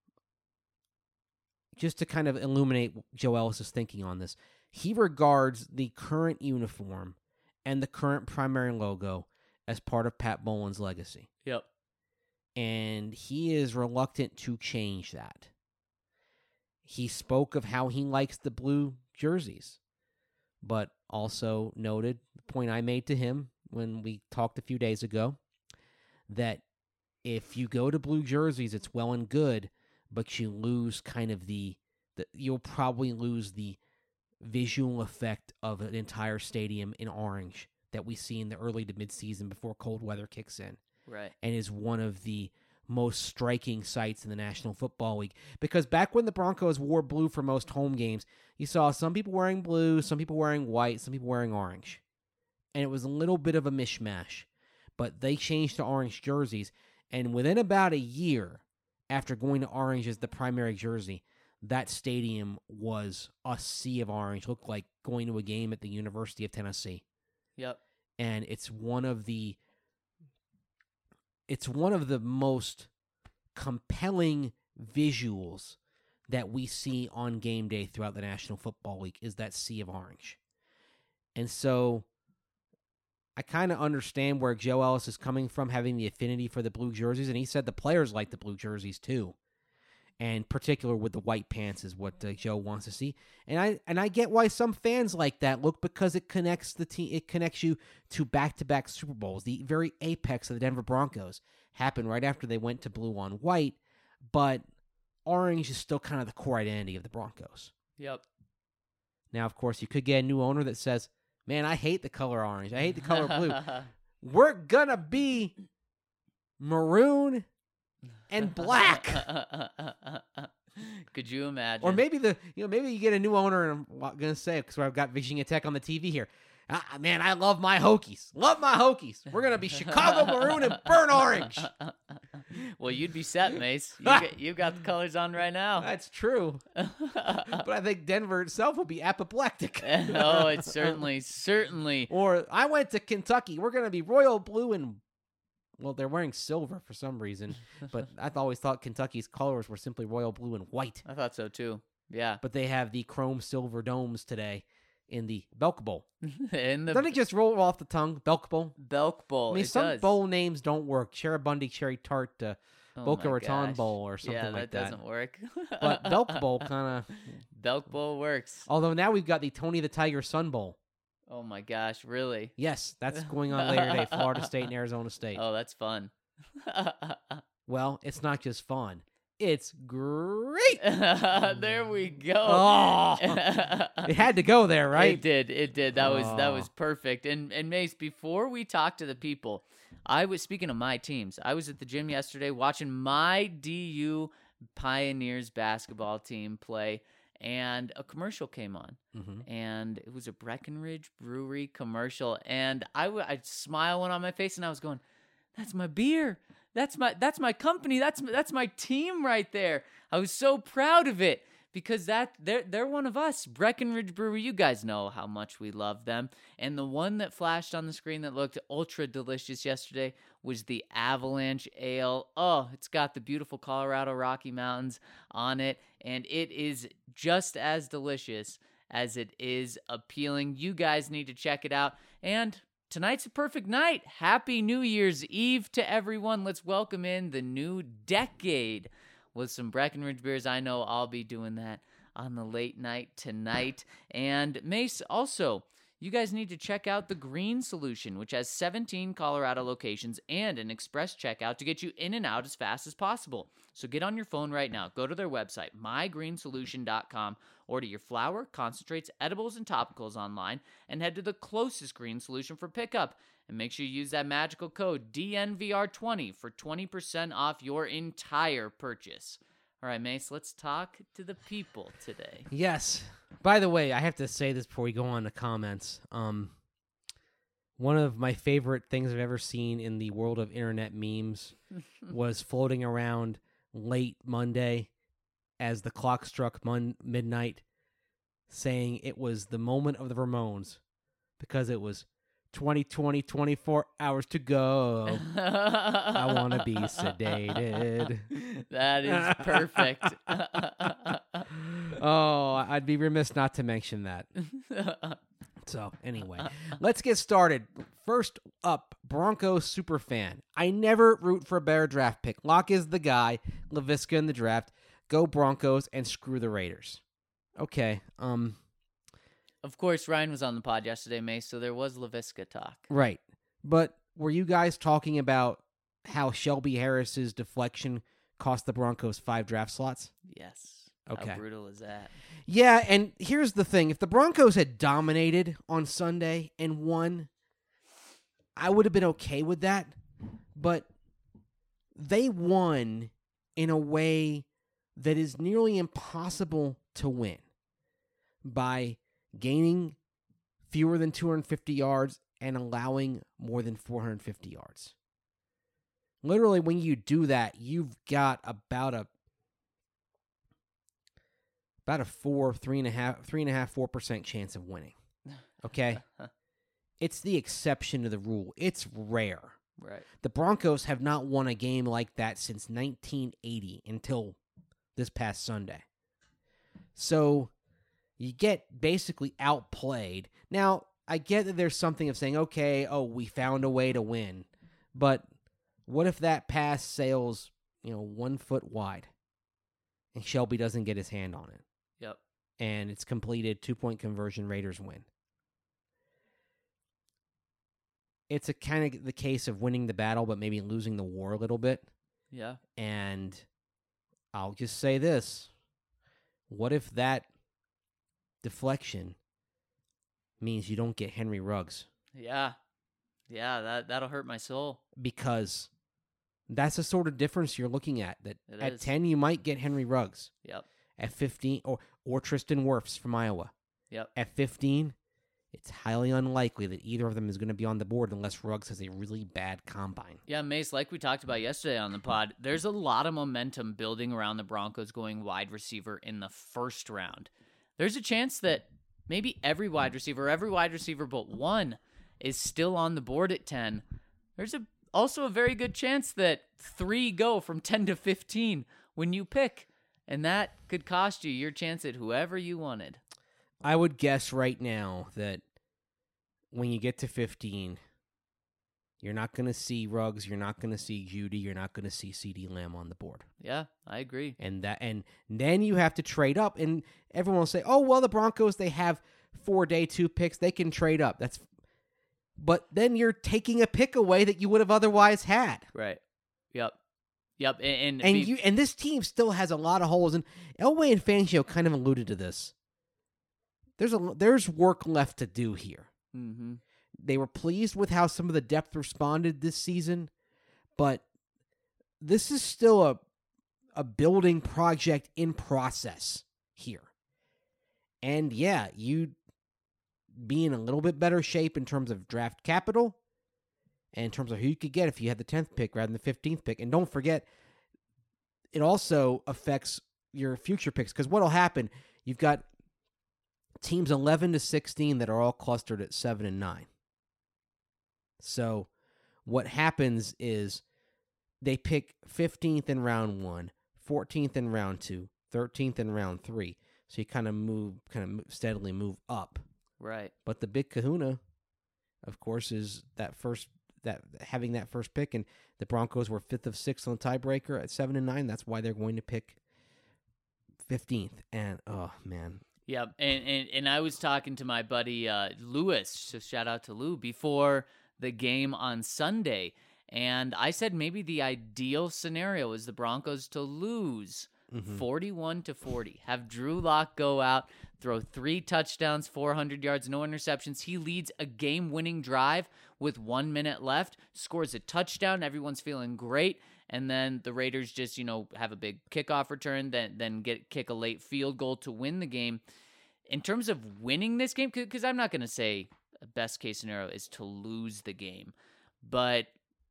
just to kind of illuminate Joe Ellis' thinking on this, he regards the current uniform and the current primary logo as part of Pat Bowlen's legacy. Yep. And he is reluctant to change that. He spoke of how he likes the blue jerseys, but also noted the point I made to him when we talked a few days ago, that if you go to blue jerseys, it's well and good, but you lose kind of you'll probably lose the visual effect of an entire stadium in orange that we see in the early to mid-season before cold weather kicks in. Right. And is one of the most striking sights in the National Football League. Because back when the Broncos wore blue for most home games, you saw some people wearing blue, some people wearing white, some people wearing orange. And it was a little bit of a mishmash. But they changed to orange jerseys, and within about a year after going to orange as the primary jersey, that stadium was a sea of orange. Looked like going to a game at the University of Tennessee. Yep. And it's one of the most compelling visuals that we see on game day throughout the National Football League is that sea of orange. And so I kind of understand where Joe Ellis is coming from, having the affinity for the blue jerseys, and he said the players like the blue jerseys too. And particular with the white pants is what Joe wants to see. And I get why some fans like that look, because it connects the team. It connects you to back-to-back Super Bowls. The very apex of the Denver Broncos happened right after they went to blue on white, but orange is still kind of the core identity of the Broncos. Yep. Now, of course, you could get a new owner that says, man, I hate the color orange. I hate the color blue. We're going to be maroon and black. Could you imagine? Or maybe maybe you get a new owner, and I'm going to say, because I've got Virginia Tech on the TV here. Man, I love my Hokies. Love my Hokies. We're going to be Chicago maroon and burnt orange. Well, you'd be set, Mace. You got the colors on right now. That's true. But I think Denver itself will be apoplectic. Oh, it's certainly. Or I went to Kentucky. We're going to be royal blue and, well, they're wearing silver for some reason. But I've always thought Kentucky's colors were simply royal blue and white. I thought so, too. Yeah. But they have the chrome silver domes today in the Belk Bowl. Doesn't it just roll off the tongue? Belk Bowl? Belk Bowl. I mean, some bowl names don't work. Cherubundy Cherry Tart Boca Raton Bowl or something like that. Yeah, that doesn't work. But Belk Bowl kind of... Belk Bowl works. Although now we've got the Tony the Tiger Sun Bowl. Oh my gosh, really? Yes, that's going on later today, Florida State and Arizona State. Oh, that's fun. Well, it's not just fun. It's great. There we go. Oh, it had to go there, right? It did. That was perfect. And Mace, before we talk to the people, I was speaking of my teams. I was at the gym yesterday watching my DU Pioneers basketball team play, and a commercial came on, and it was a Breckenridge Brewery commercial, and I smile went on my face, and I was going, "That's my beer. That's my company. That's my team right there." I was so proud of it because they're one of us. Breckenridge Brewery, you guys know how much we love them. And the one that flashed on the screen that looked ultra delicious yesterday was the Avalanche Ale. Oh, it's got the beautiful Colorado Rocky Mountains on it, and it is just as delicious as it is appealing. You guys need to check it out. And tonight's a perfect night. Happy New Year's Eve to everyone. Let's welcome in the new decade with some Breckenridge beers. I know I'll be doing that on the late night tonight. And Mace, also, you guys need to check out the Green Solution, which has 17 Colorado locations and an express checkout to get you in and out as fast as possible. So get on your phone right now. Go to their website, mygreensolution.com. Order your flour, concentrates, edibles, and topicals online, and head to the closest Green Solution for pickup. And make sure you use that magical code DNVR20 for 20% off your entire purchase. All right, Mace, let's talk to the people today. Yes. By the way, I have to say this before we go on to comments. One of my favorite things I've ever seen in the world of internet memes was floating around late Monday as the clock struck midnight, saying it was the moment of the Ramones because it was 24 hours to go. I want to be sedated. That is perfect. Oh, I'd be remiss not to mention that. So, anyway, let's get started. First up, Broncos superfan. I never root for a better draft pick. Locke is the guy. Laviska in the draft. Go Broncos and screw the Raiders. Okay. Of course, Ryan was on the pod yesterday, Mace, so there was Laviska talk. Right. But were you guys talking about how Shelby Harris's deflection cost the Broncos 5 draft slots? Yes. Okay. How brutal is that? Yeah, and here's the thing. If the Broncos had dominated on Sunday and won, I would have been okay with that. But they won in a way that is nearly impossible to win by gaining fewer than 250 yards and allowing more than 450 yards. Literally, when you do that, you've got about a 4% chance of winning. Okay? It's the exception to the rule. It's rare. Right. The Broncos have not won a game like that since 1980 until this past Sunday. So you get basically outplayed. Now, I get that there's something of saying, okay, we found a way to win. But what if that pass sails, 1 foot wide and Shelby doesn't get his hand on it? Yep. And it's completed, 2-point conversion, Raiders win. It's a kind of the case of winning the battle, but maybe losing the war a little bit. Yeah. And I'll just say this. What if that deflection means you don't get Henry Ruggs? Yeah. Yeah, that'll hurt my soul. Because that's the sort of difference you're looking at. That it at is. 10, you might get Henry Ruggs. Yep. At 15, or Tristan Wirfs from Iowa. Yep. At 15, it's highly unlikely that either of them is going to be on the board unless Ruggs has a really bad combine. Yeah, Mace, like we talked about yesterday on the pod, there's a lot of momentum building around the Broncos going wide receiver in the first round. There's a chance that maybe every wide receiver but one, is still on the board at 10. There's also a very good chance that 3 go from 10 to 15 when you pick, and that could cost you your chance at whoever you wanted. I would guess right now that when you get to 15, you're not going to see Ruggs, you're not going to see Judy, you're not going to see CeeDee Lamb on the board. Yeah, I agree. And then you have to trade up, and everyone will say, "Oh, well, the Broncos, they have 4 day 2 picks, they can trade up." But then you're taking a pick away that you would have otherwise had. Right. Yep. And this team still has a lot of holes, and Elway and Fangio kind of alluded to this. There's work left to do here. Mm-hmm. They were pleased with how some of the depth responded this season, but this is still a building project in process here. And yeah, you'd be in a little bit better shape in terms of draft capital and in terms of who you could get if you had the 10th pick rather than the 15th pick. And don't forget, it also affects your future picks, because what'll happen, you've got teams 11 to 16 that are all clustered at 7 and 9. So what happens is they pick 15th in round 1, 14th in round 2, 13th in round 3. So you kind of steadily move up. Right. But the big kahuna, of course, is having that first pick, and the Broncos were 5th of 6 on the tiebreaker at 7 and 9. That's why they're going to pick 15th. And oh man. Yeah, and I was talking to my buddy Lewis, so shout out to Lou, before the game on Sunday, and I said maybe the ideal scenario is the Broncos to lose 41-40. Have Drew Lock go out, throw 3 touchdowns, 400 yards, no interceptions. He leads a game-winning drive with 1 minute left, scores a touchdown. Everyone's feeling great. And then the Raiders just, have a big kickoff return, then kick a late field goal to win the game. In terms of winning this game, because I'm not going to say a best case scenario is to lose the game, but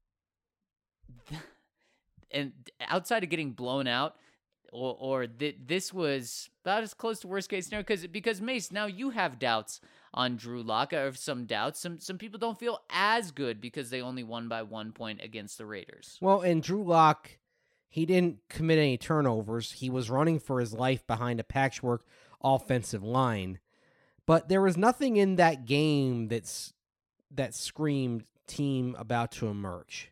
and outside of getting blown out, this was about as close to worst case scenario, because Mace, now you have doubts on Drew Lock, or some doubts. Some people don't feel as good because they only won by 1 point against the Raiders. Well, and Drew Lock, he didn't commit any turnovers. He was running for his life behind a patchwork offensive line. But there was nothing in that game that screamed team about to emerge.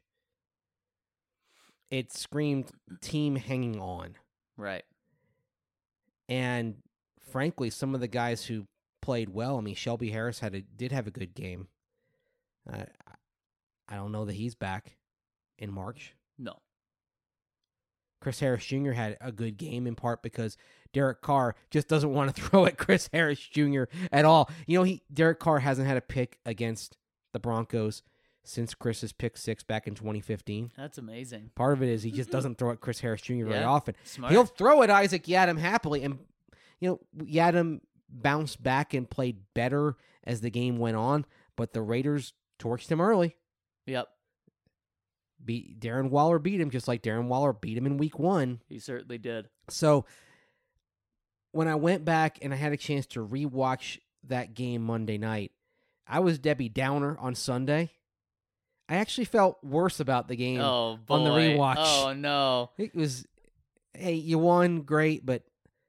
It screamed team hanging on. Right. And frankly, some of the guys who played well, Shelby Harris did have a good game. I don't know that he's back in March. No. Chris Harris Jr. had a good game, in part because Derek Carr just doesn't want to throw at Chris Harris Jr. at all. Derek Carr hasn't had a pick against the Broncos since Chris's pick 6 back in 2015. That's amazing. Part of it is he just doesn't throw at Chris Harris Jr. very often. Smart. He'll throw at Isaac Yiadom happily, and Yiadom bounced back and played better as the game went on, but the Raiders torched him early. Yep. Darren Waller beat him just like Darren Waller beat him in week 1. He certainly did. So when I went back and I had a chance to rewatch that game Monday night, I was Debbie Downer on Sunday. I actually felt worse about the game on the rewatch. Oh, no. It was, hey, you won, great, but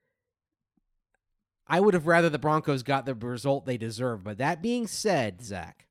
I would have rather the Broncos got the result they deserved. But that being said, Zach,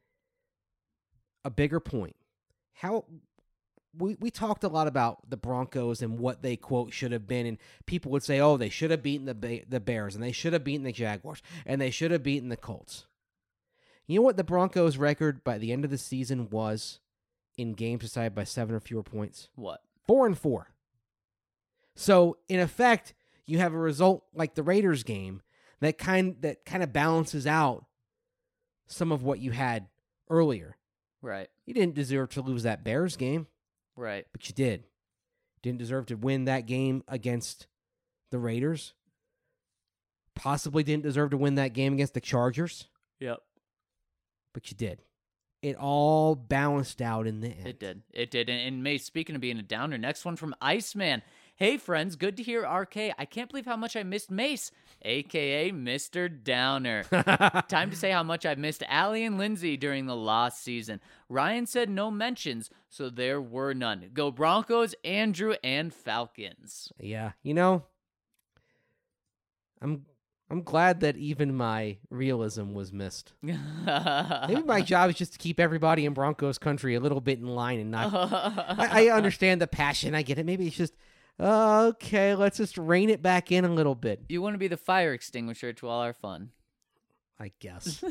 a bigger point. How we talked a lot about the Broncos and what they, quote, should have been, and people would say, oh, they should have beaten the Bears, and they should have beaten the Jaguars, and they should have beaten the Colts. You know what the Broncos' record by the end of the season was in games decided by 7 or fewer points? What? 4-4. So, in effect, you have a result like the Raiders game that kind of balances out some of what you had earlier. Right. You didn't deserve to lose that Bears game. Right. But you did. Didn't deserve to win that game against the Raiders. Possibly didn't deserve to win that game against the Chargers. Yep. But you did. It all balanced out in the end. It did. And Mace, speaking of being a downer, next one from Iceman. Hey, friends, good to hear RK. I can't believe how much I missed Mace, a.k.a. Mr. Downer. Time to say how much I've missed Allie and Lindsay during the lost season. Ryan said no mentions, so there were none. Go Broncos, Andrew, and Falcons. Yeah, I'm glad that even my realism was missed. Maybe my job is just to keep everybody in Broncos country a little bit in line and not... I understand the passion. I get it. Maybe it's just... Okay, let's just rein it back in a little bit. You want to be the fire extinguisher to all our fun. I guess.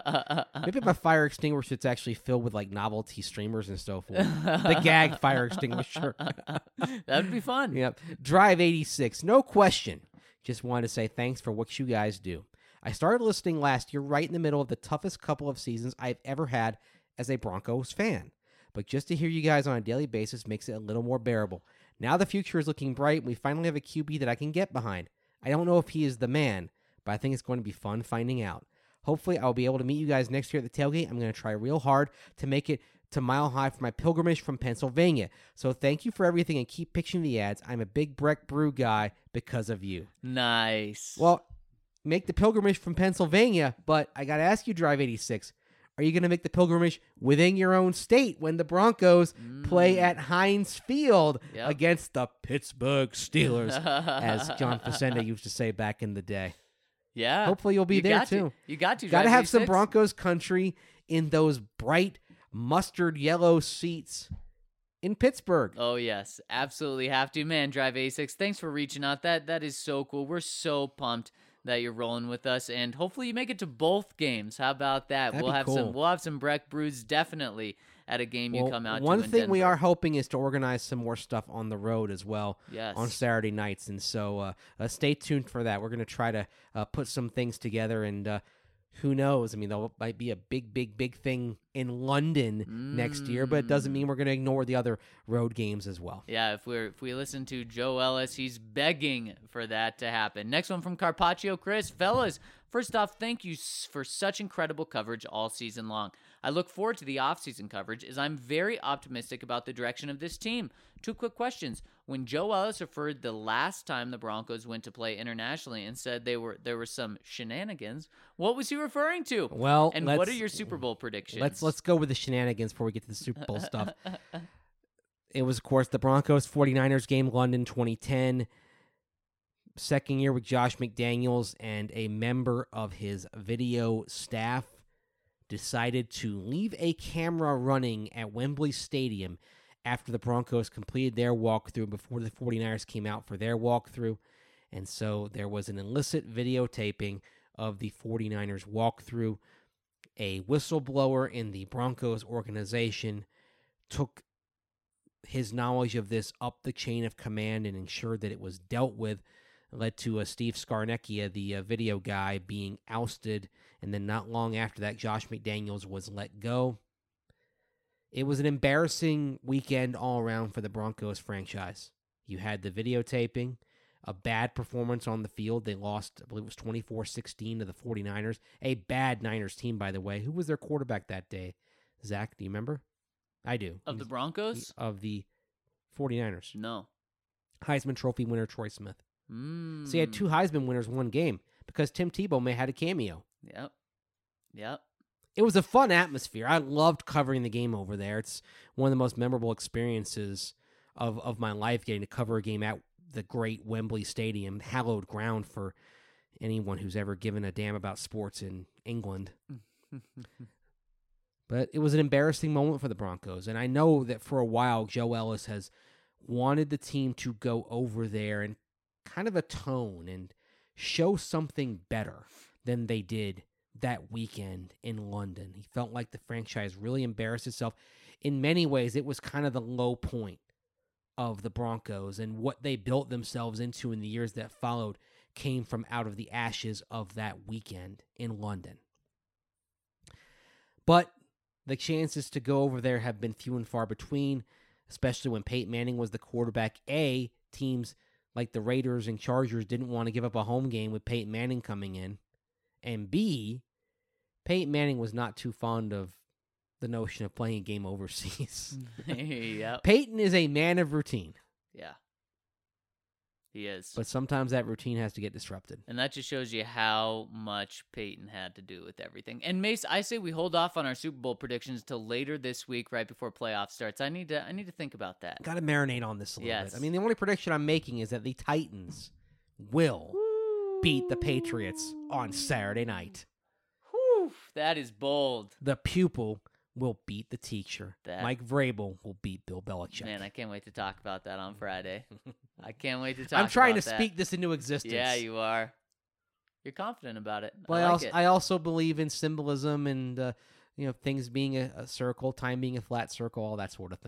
Maybe my fire extinguisher it's actually filled with like novelty streamers and so forth. The gag fire extinguisher. That would be fun. Yep. Drive 86. No question. Just wanted to say thanks for what you guys do. I started listening last year right in the middle of the toughest couple of seasons I've ever had as a Broncos fan. But just to hear you guys on a daily basis makes it a little more bearable. Now the future is looking bright, and we finally have a QB that I can get behind. I don't know if he is the man, but I think it's going to be fun finding out. Hopefully, I'll be able to meet you guys next year at the tailgate. I'm going to try real hard to make it to Mile High for my pilgrimage from Pennsylvania. So thank you for everything, and keep pitching the ads. I'm a big Breck Brew guy because of you. Nice. Well, make the pilgrimage from Pennsylvania, but I got to ask you, Drive 86, are you going to make the pilgrimage within your own state when the Broncos play at Heinz Field against the Pittsburgh Steelers, as John Facenda used to say back in the day? Yeah. Hopefully you'll be there, too. You got to. Got to have some Broncos country in those bright mustard yellow seats in Pittsburgh. Oh, yes. Absolutely have to. Man, Drive A6, thanks for reaching out. That is so cool. We're so pumped that you're rolling with us, and hopefully you make it to both games. How about that? That'd be cool. We'll have some Breck Brews definitely at a game you come out to. One thing we Denver. are hoping is to organize some more stuff on the road as well. Yes. On Saturday nights, and so stay tuned for that. We're going to try to put some things together, and who knows? I mean, there might be a big thing in London next year, but it doesn't mean we're going to ignore the other road games as well. Yeah, if we listen to Joe Ellis, he's begging for that to happen. Next one from Carpaccio Chris. Fellas, first off, thank you for such incredible coverage all season long. I look forward to the off-season coverage as I'm very optimistic about the direction of this team. 2 quick questions. When Joe Ellis referred the last time the Broncos went to play internationally and said there were some shenanigans, what was he referring to? Well, and what are your Super Bowl predictions? Let's go with the shenanigans before we get to the Super Bowl stuff. It was, of course, the Broncos 49ers game, London 2010. Second year with Josh McDaniels, and a member of his video staff decided to leave a camera running at Wembley Stadium after the Broncos completed their walkthrough before the 49ers came out for their walkthrough. And so there was an illicit videotaping of the 49ers walkthrough. A whistleblower in the Broncos organization took his knowledge of this up the chain of command and ensured that it was dealt with. It led to Steve Scarnecchia, the video guy, being ousted. And then not long after that, Josh McDaniels was let go. It was an embarrassing weekend all around for the Broncos franchise. You had the videotaping, a bad performance on the field. They lost, I believe it was 24-16 to the 49ers. A bad Niners team, by the way. Who was their quarterback that day? Zach, do you remember? I do. Of the Broncos? Of the 49ers. No. Heisman Trophy winner Troy Smith. So he had 2 Heisman winners one game because Tim Tebow may had a cameo. Yep. It was a fun atmosphere. I loved covering the game over there. It's one of the most memorable experiences of my life, getting to cover a game at the great Wembley Stadium, hallowed ground for anyone who's ever given a damn about sports in England. But it was an embarrassing moment for the Broncos, and I know that for a while Joe Ellis has wanted the team to go over there and kind of atone and show something better than they did that weekend in London. He felt like the franchise really embarrassed itself. In many ways, it was kind of the low point of the Broncos, and what they built themselves into in the years that followed came from out of the ashes of that weekend in London. But the chances to go over there have been few and far between, especially when Peyton Manning was the quarterback. A, teams like the Raiders and Chargers didn't want to give up a home game with Peyton Manning coming in. And B, Peyton Manning was not too fond of the notion of playing a game overseas. Yep. Peyton is a man of routine. Yeah. He is. But sometimes that routine has to get disrupted. And that just shows you how much Peyton had to do with everything. And Mace, I say we hold off on our Super Bowl predictions till later this week, right before playoff starts. I need to think about that. Got to marinate on this a little bit. I mean, the only prediction I'm making is that the Titans will beat the Patriots on Saturday night. Whew, that is bold. The pupil will beat the teacher. Mike Vrabel will beat Bill Belichick. Man, I can't wait to talk about that on Friday. I can't wait to talk about that. I'm trying to speak this into existence. Yeah, you are. You're confident about it. Well, I also believe in symbolism and things being a circle, time being a flat circle, all that sort of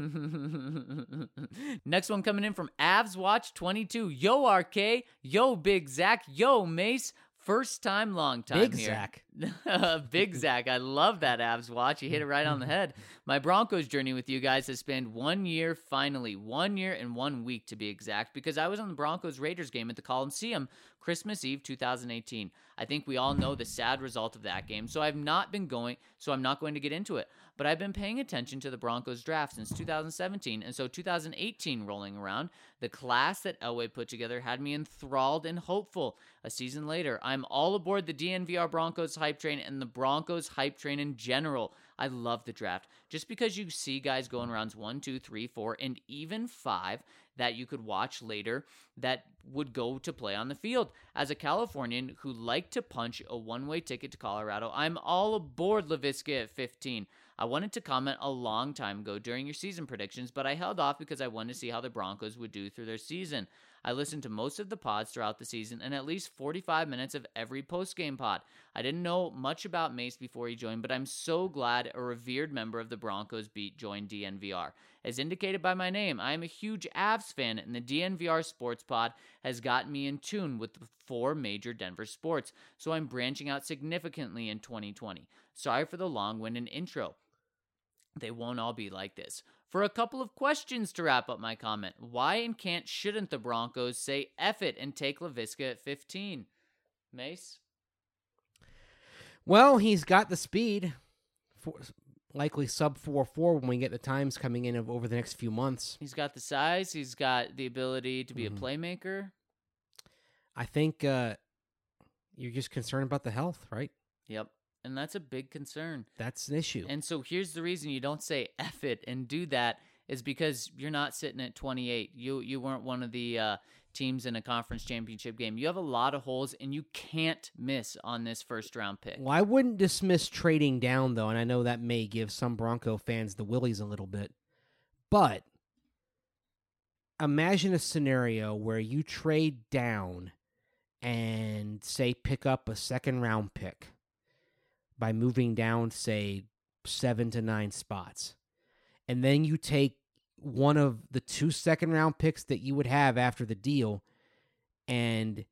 thing. Next one coming in from Avs Watch 22. Yo, RK. Yo, Big Zach. Yo, Mace. First time, long time Big here. Zach. Big Zach. I love that, Avs Watch. You hit it right on the head. My Broncos journey with you guys has spanned 1 year, finally. 1 year and 1 week, to be exact, because I was on the Broncos-Raiders game at the Coliseum Christmas Eve 2018. I think we all know the sad result of that game, so I'm not going to get into it. But I've been paying attention to the Broncos draft since 2017, and so 2018 rolling around, the class that Elway put together had me enthralled and hopeful. A season later, I'm all aboard the DNVR Broncos hype train and the Broncos hype train in general. I love the draft. Just because you see guys going rounds 1, 2, 3, 4, and even 5 that you could watch later that would go to play on the field. As a Californian who liked to punch a one-way ticket to Colorado, I'm all aboard Laviska at 15. I wanted to comment a long time ago during your season predictions, but I held off because I wanted to see how the Broncos would do through their season. I listened to most of the pods throughout the season and at least 45 minutes of every post-game pod. I didn't know much about Mace before he joined, but I'm so glad a revered member of the Broncos beat joined DNVR. As indicated by my name, I am a huge Avs fan, and the DNVR Sports Pod has gotten me in tune with the 4 major Denver sports, so I'm branching out significantly in 2020. Sorry for the long-winded intro. They won't all be like this. For a couple of questions to wrap up my comment, why and shouldn't the Broncos say F it and take Laviska at 15? Mace? Well, he's got the speed, likely sub 4.4 when we get the times coming in over the next few months. He's got the size. He's got the ability to be a playmaker. I think you're just concerned about the health, right? Yep. And that's a big concern. That's an issue. And so here's the reason you don't say F it and do that is because you're not sitting at 28. You weren't one of the teams in a conference championship game. You have a lot of holes, and you can't miss on this first-round pick. Well, I wouldn't dismiss trading down, though, and I know that may give some Bronco fans the willies a little bit. But imagine a scenario where you trade down and, say, pick up a second-round pick by moving down, say, 7 to 9 spots. And then you take one of the 2 second-round picks that you would have after the deal and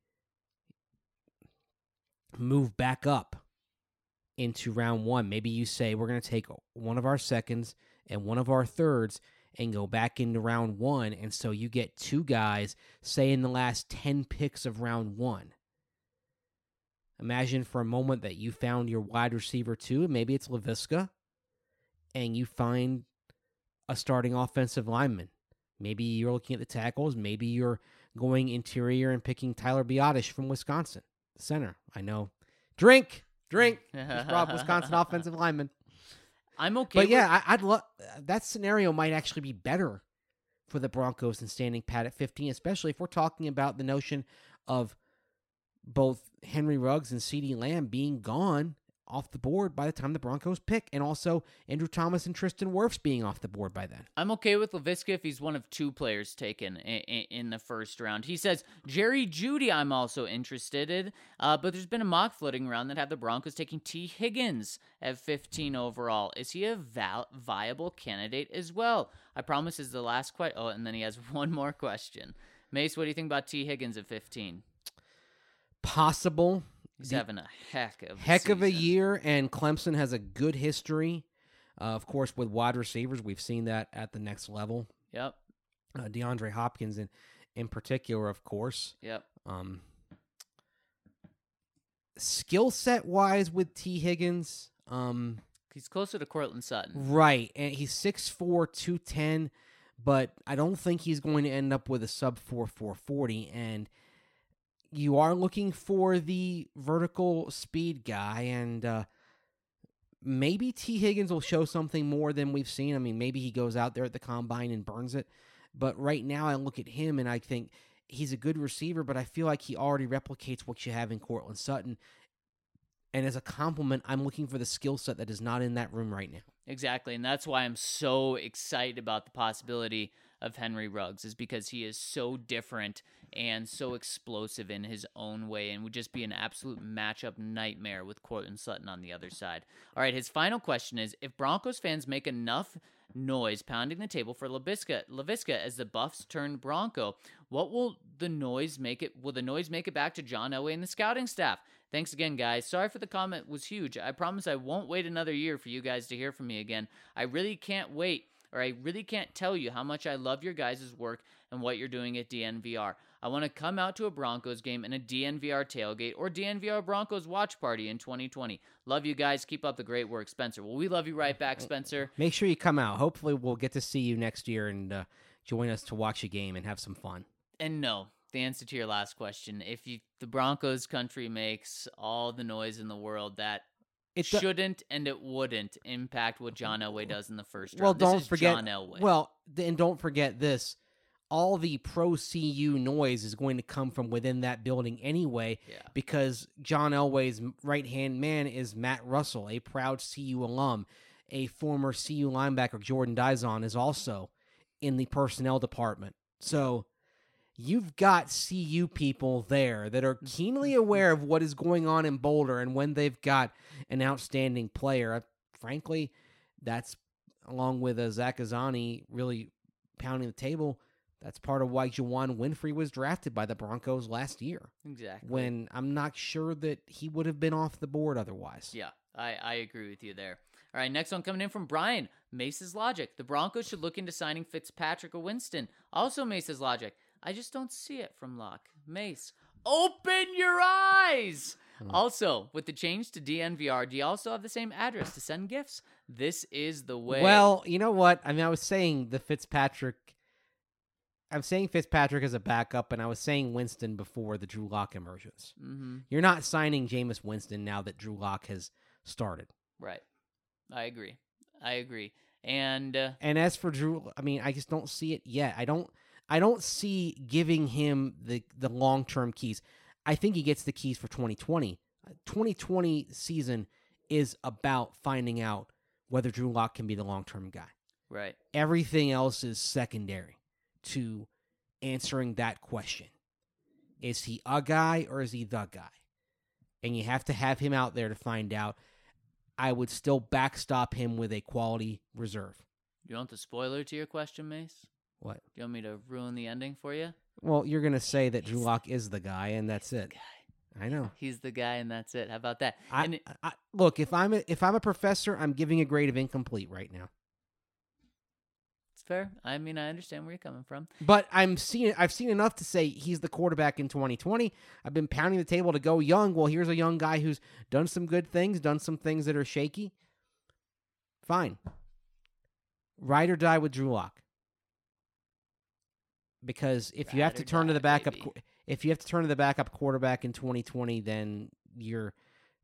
move back up into round 1. Maybe you say, we're going to take one of our seconds and one of our thirds and go back into round 1, and so you get 2 guys, say, in the last 10 picks of round 1. Imagine for a moment that you found your wide receiver 2, maybe it's Laviska, and you find a starting offensive lineman. Maybe you're looking at the tackles. Maybe you're going interior and picking Tyler Biotish from Wisconsin, center. I know. Drink. Rob, Wisconsin offensive lineman. I'm okay. But yeah, I'd love that scenario. Might actually be better for the Broncos than standing pat at 15, especially if we're talking about the notion of both Henry Ruggs and CeeDee Lamb being gone off the board by the time the Broncos pick, and also Andrew Thomas and Tristan Wirfs being off the board by then. I'm okay with Laviska if he's one of 2 players taken in the first round. He says, Jerry Jeudy I'm also interested in, but there's been a mock floating around that have the Broncos taking T. Higgins at 15 overall. Is he a viable candidate as well? I promise is the last question. Oh, and then he has one more question. Mace, what do you think about T. Higgins at 15? Possible. He's having a heck of a year, and Clemson has a good history, of course, with wide receivers. We've seen that at the next level. Yep. DeAndre Hopkins in particular, of course. Yep. Skill set wise with T. Higgins, he's closer to Courtland Sutton. Right, and he's 6'4", 210, but I don't think he's going to end up with a sub 4.40, and you are looking for the vertical speed guy, and maybe T. Higgins will show something more than we've seen. I mean, maybe he goes out there at the combine and burns it. But right now I look at him and I think he's a good receiver, but I feel like he already replicates what you have in Courtland Sutton. And as a compliment, I'm looking for the skill set that is not in that room right now. Exactly, and that's why I'm so excited about the possibility of Henry Ruggs, is because he is so different and so explosive in his own way and would just be an absolute matchup nightmare with Courtland Sutton on the other side. All right, his final question is, if Broncos fans make enough noise pounding the table for Laviska as the Buffs turn Bronco, what will the noise make it? Will the noise make it back to John Elway and the scouting staff? Thanks again, guys. Sorry for the comment was huge. I promise I won't wait another year for you guys to hear from me again. I really can't wait, or I really can't tell you how much I love your guys' work and what you're doing at DNVR. I want to come out to a Broncos game and a DNVR tailgate or DNVR Broncos watch party in 2020. Love you guys. Keep up the great work, Spencer. Well, we love you right back, Spencer. Make sure you come out. Hopefully we'll get to see you next year and join us to watch a game and have some fun. And no, the answer to your last question, if the Broncos country makes all the noise in the world, that it shouldn't and it wouldn't impact what John Elway does in the first round. Well, don't forget John Elway. Well, and don't forget this. All the pro-CU noise is going to come from within that building anyway, because John Elway's right-hand man is Matt Russell, a proud CU alum. A former CU linebacker, Jordan Dizon, is also in the personnel department. So you've got CU people there that are keenly aware of what is going on in Boulder, and when they've got an outstanding player, frankly, that's, along with Zach Azzanni really pounding the table, that's part of why Juwan Winfrey was drafted by the Broncos last year. Exactly. When I'm not sure that he would have been off the board otherwise. Yeah, I agree with you there. All right, next one coming in from Brian. Mace's logic. The Broncos should look into signing Fitzpatrick or Winston. Also Mace's logic. I just don't see it from Locke. Mace, open your eyes! Also, with the change to DNVR, do you also have the same address to send gifts? This is the way. Well, you know what? I mean, I was saying Fitzpatrick as a backup, and I was saying Winston before the Drew Lock emergence. Mm-hmm. You're not signing Jameis Winston now that Drew Lock has started. Right. I agree. And as for Drew, I mean, I just don't see it yet. I don't see giving him the long-term keys. I think he gets the keys for 2020. 2020 season is about finding out whether Drew Lock can be the long-term guy. Right. Everything else is secondary to answering that question. Is he a guy or is he the guy? And you have to have him out there to find out. I would still backstop him with a quality reserve. You want the spoiler to your question, Mace? What? Do you want me to ruin the ending for you? Well, you're going to say that Drew Lock is the guy, and that's it. I know. He's the guy, and that's it. How about that? Look, if I'm a professor, I'm giving a grade of incomplete right now. It's fair. I mean, I understand where you're coming from. But I've seen enough to say he's the quarterback in 2020. I've been pounding the table to go young. Well, here's a young guy who's done some good things, done some things that are shaky. Fine. Ride or die with Drew Lock. Because if you have to turn to the backup, if you have to turn to the backup quarterback in 2020, then your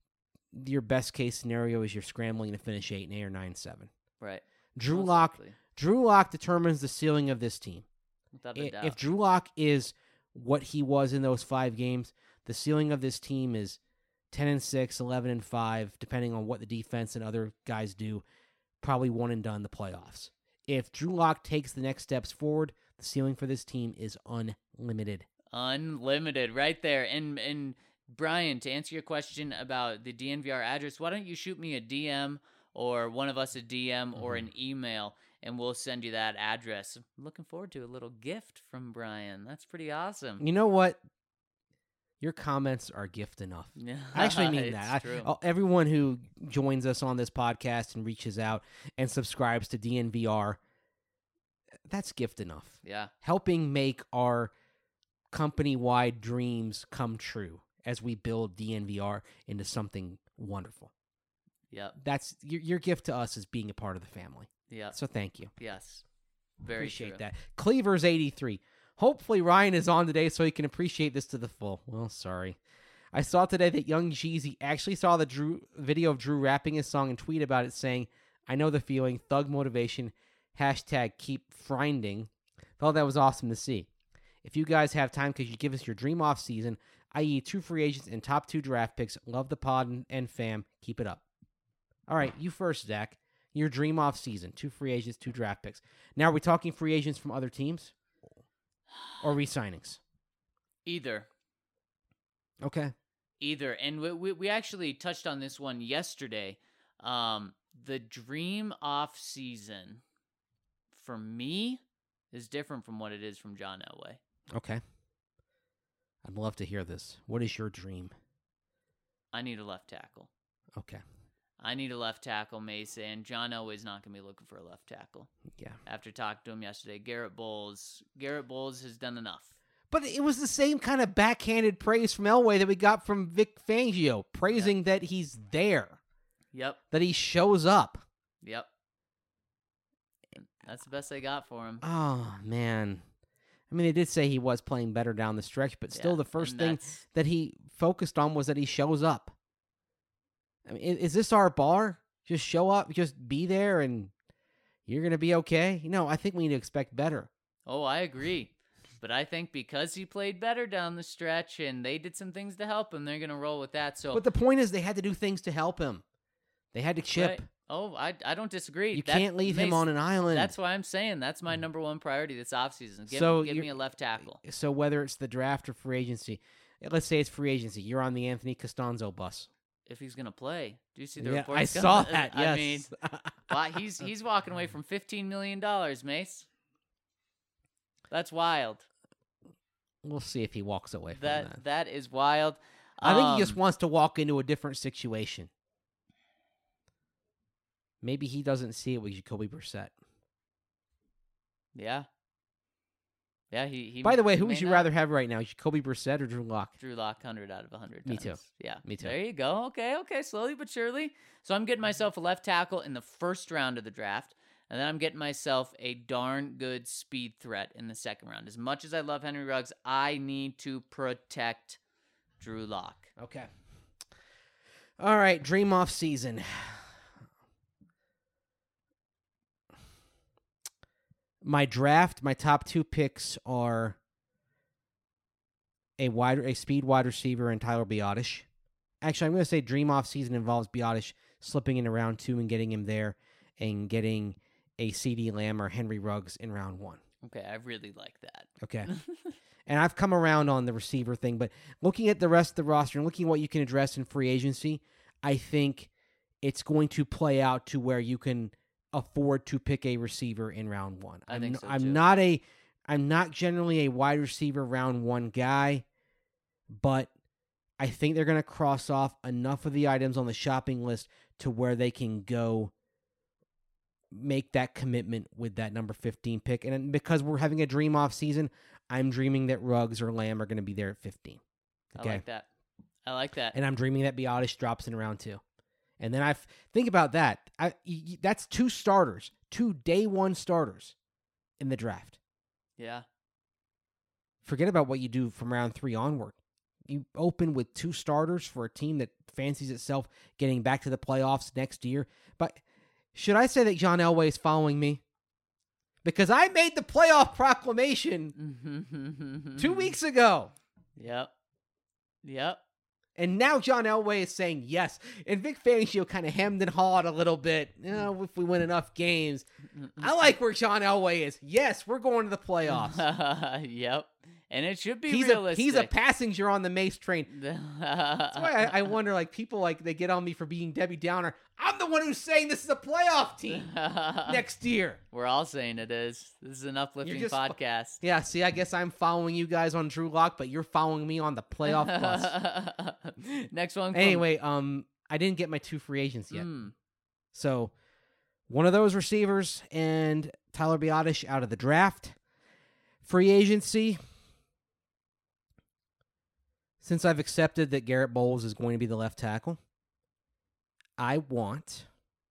best case scenario is you're scrambling to finish 8-8 or 9-7. Right. Drew Lock determines the ceiling of this team. Without a doubt. If Drew Lock is what he was in those 5 games, the ceiling of this team is 10-6, 11-5, depending on what the defense and other guys do. Probably one and done the playoffs. If Drew Lock takes the next steps forward, the ceiling for this team is unlimited. Unlimited, right there. And Brian, to answer your question about the DNVR address, why don't you shoot me a DM or one of us a DM or an email, and we'll send you that address. I'm looking forward to a little gift from Brian. That's pretty awesome. You know what? Your comments are gift enough. I actually mean that. Everyone who joins us on this podcast and reaches out and subscribes to DNVR, that's gift enough. Yeah. Helping make our company-wide dreams come true as we build DNVR into something wonderful. Yep. That's your gift to us is being a part of the family. Yeah. So thank you. Yes. Very appreciate true. that. Cleaver's 83. Hopefully Ryan is on today so he can appreciate this to the full. Well, sorry. I saw today that Young Jeezy actually saw the video of Drew rapping his song and tweet about it saying, "I know the feeling, thug motivation, #keep frinding." Thought that was awesome to see. If you guys have time, could you give us your dream off season, i.e. 2 free agents and top 2 draft picks? Love the pod and fam. Keep it up. All right, you first, Zach. Your dream off season, 2 free agents, 2 draft picks. Now, are we talking free agents from other teams or re-signings? Either. Okay. Either. And we actually touched on this one yesterday. The dream off season for me is different from what it is from John Elway. Okay. I'd love to hear this. What is your dream? I need a left tackle. Okay. I need a left tackle, Mesa, and John Elway's not going to be looking for a left tackle. Yeah. After talking to him yesterday, Garrett Bowles has done enough. But it was the same kind of backhanded praise from Elway that we got from Vic Fangio, praising that he's there. Yep. That he shows up. Yep. That's the best they got for him. Oh, man. I mean, they did say he was playing better down the stretch, but still the first thing that he focused on was that he shows up. I mean, is this our bar? Just show up, just be there, and you're going to be okay? No, I think we need to expect better. Oh, I agree. But I think because he played better down the stretch and they did some things to help him, they're going to roll with that. So, but the point is they had to do things to help him. They had to chip. Right. Oh, I don't disagree. You can't leave him on an island. That's why I'm saying that's my number one priority this offseason. Give me a left tackle. So whether it's the draft or free agency, let's say it's free agency, you're on the Anthony Costanzo bus. If he's going to play. Do you see the reports? I saw that, yes. I mean, he's walking away from $15 million, Mace. That's wild. We'll see if he walks away from that. That is wild. I think he just wants to walk into a different situation. Maybe he doesn't see it with Jacoby Brissett. Yeah. Yeah, he By the way, who would you rather have right now, Jacoby Brissett or Drew Lock? Drew Lock, 100 out of 100 times. Me too. Yeah. Me too. There you go. Okay, slowly but surely. So I'm getting myself a left tackle in the first round of the draft, and then I'm getting myself a darn good speed threat in the second round. As much as I love Henry Ruggs, I need to protect Drew Lock. Okay. All right, dream off season. My draft, my top 2 picks are a speed wide receiver and Tyler Biadasz. Actually, I'm going to say dream off season involves Biadasz slipping into round 2 and getting him there and getting a CeeDee Lamb or Henry Ruggs in round 1. Okay, I really like that. Okay. And I've come around on the receiver thing, but looking at the rest of the roster and looking at what you can address in free agency, I think it's going to play out to where you can afford to pick a receiver in round 1. I think so too. I'm not generally a wide receiver round 1 guy, but I think they're going to cross off enough of the items on the shopping list to where they can go make that commitment with that number 15 pick. And because we're having a dream off season, I'm dreaming that Ruggs or Lamb are going to be there at 15. Okay? I like that. And I'm dreaming that Biadasz drops in round 2. And then think about that. That's 2 starters, 2 day 1 starters in the draft. Yeah. Forget about what you do from round 3 onward. You open with 2 starters for a team that fancies itself getting back to the playoffs next year. But should I say that John Elway is following me? Because I made the playoff proclamation 2 weeks ago. Yep. And now John Elway is saying yes. And Vic Fangio kind of hemmed and hawed a little bit. If we win enough games. I like where John Elway is. Yes, we're going to the playoffs. Yep. And it should be realistic. He's a passenger on the Mace train. That's why I wonder, like, people, like, they get on me for being Debbie Downer. I'm the one who's saying this is a playoff team next year. We're all saying it is. This is an uplifting podcast. Yeah, see, I guess I'm following you guys on Drew Lock, but you're following me on the playoff bus. Next one. Anyway, I didn't get my 2 free agents yet. So, one of those receivers and Tyler Biadasz out of the draft. Free agency. Since I've accepted that Garrett Bowles is going to be the left tackle, I want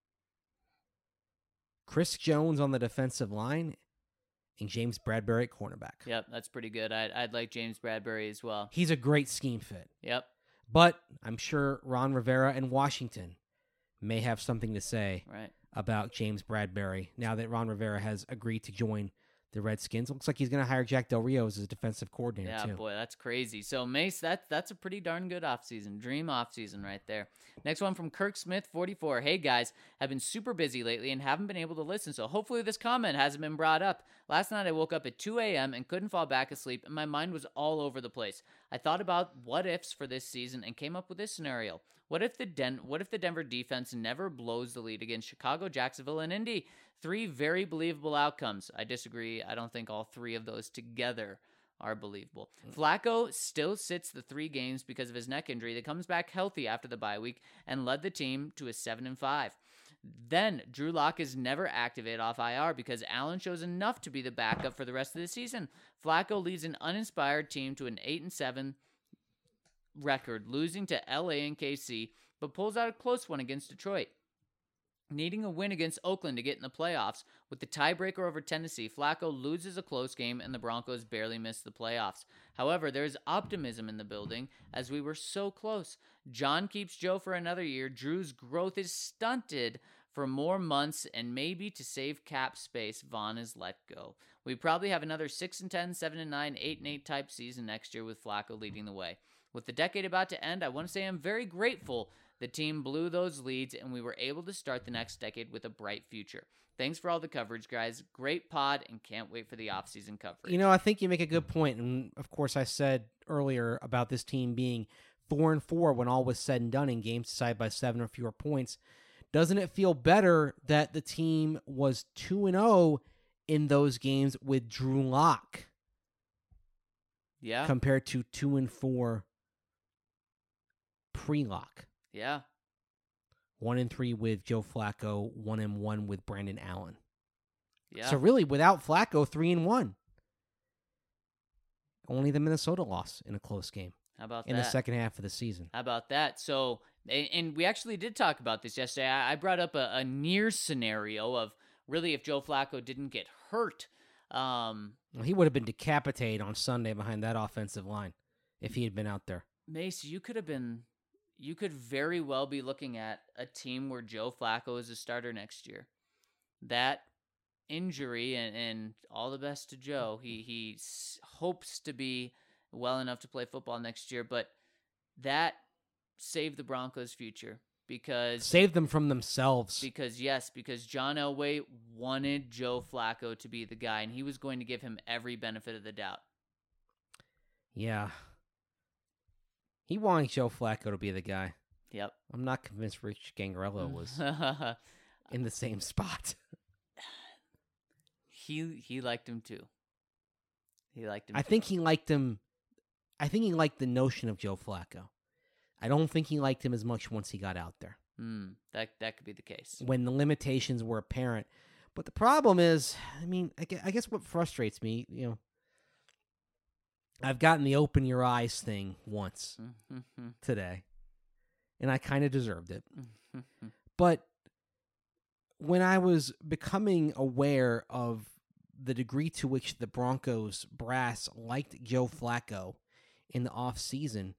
Chris Jones on the defensive line and James Bradbury at cornerback. Yep, that's pretty good. I'd like James Bradbury as well. He's a great scheme fit. Yep. But I'm sure Ron Rivera and Washington may have something to say about James Bradbury now that Ron Rivera has agreed to join the Redskins. Looks like he's going to hire Jack Del Rio as his defensive coordinator, too. Yeah, boy, that's crazy. So, Mace, that's a pretty darn good offseason. Dream offseason right there. Next one from Kirk Smith, 44. Hey, guys, I've been super busy lately and haven't been able to listen, so hopefully this comment hasn't been brought up. Last night I woke up at 2 a.m. and couldn't fall back asleep, and my mind was all over the place. I thought about what-ifs for this season and came up with this scenario. What if the Denver defense never blows the lead against Chicago, Jacksonville, and Indy? 3 very believable outcomes. I disagree. I don't think all 3 of those together are believable. Flacco still sits the 3 games because of his neck injury that comes back healthy after the bye week and led the team to a 7-5. Then Drew Lock is never activated off IR because Allen shows enough to be the backup for the rest of the season. Flacco leads an uninspired team to an 8-7 record, losing to LA and KC, but pulls out a close one against Detroit. Needing a win against Oakland to get in the playoffs, with the tiebreaker over Tennessee, Flacco loses a close game and the Broncos barely miss the playoffs. However, there is optimism in the building as we were so close. John keeps Joe for another year. Drew's growth is stunted for more months, and maybe to save cap space, Vaughn is let go. We probably have another 6-10, 7-9, 8-8 type season next year with Flacco leading the way. With the decade about to end, I want to say I'm very grateful the team blew those leads, and we were able to start the next decade with a bright future. Thanks for all the coverage, guys. Great pod, and can't wait for the offseason coverage. You know, I think you make a good point, and of course I said earlier about this team being 4-4 when all was said and done in games decided by 7 or fewer points. Doesn't it feel better that the team was 2-0 in those games with Drew Lock? Yeah. Compared to 2-4 pre-Lock. Yeah. 1-3 with Joe Flacco, 1-1 with Brandon Allen. Yeah. So really, without Flacco, 3-1. Only the Minnesota loss in a close game. How about that? In the second half of the season. How about that? So, and we actually did talk about this yesterday. I brought up a near scenario of really if Joe Flacco didn't get hurt. Well, he would have been decapitated on Sunday behind that offensive line if he had been out there. Mace, you could very well be looking at a team where Joe Flacco is a starter next year. That injury, and all the best to Joe, he hopes to be well enough to play football next year, but that saved the Broncos' future. Because save them from themselves. Because John Elway wanted Joe Flacco to be the guy, and he was going to give him every benefit of the doubt. Yeah. He wanted Joe Flacco to be the guy. Yep. I'm not convinced Rich Gangarello was in the same spot. He liked him too. I think he liked him. I think he liked the notion of Joe Flacco. I don't think he liked him as much once he got out there. That could be the case. When the limitations were apparent But the problem is, I guess what frustrates me, I've gotten the open your eyes thing once today, and I kind of deserved it. But when I was becoming aware of the degree to which the Broncos brass liked Joe Flacco in the offseason,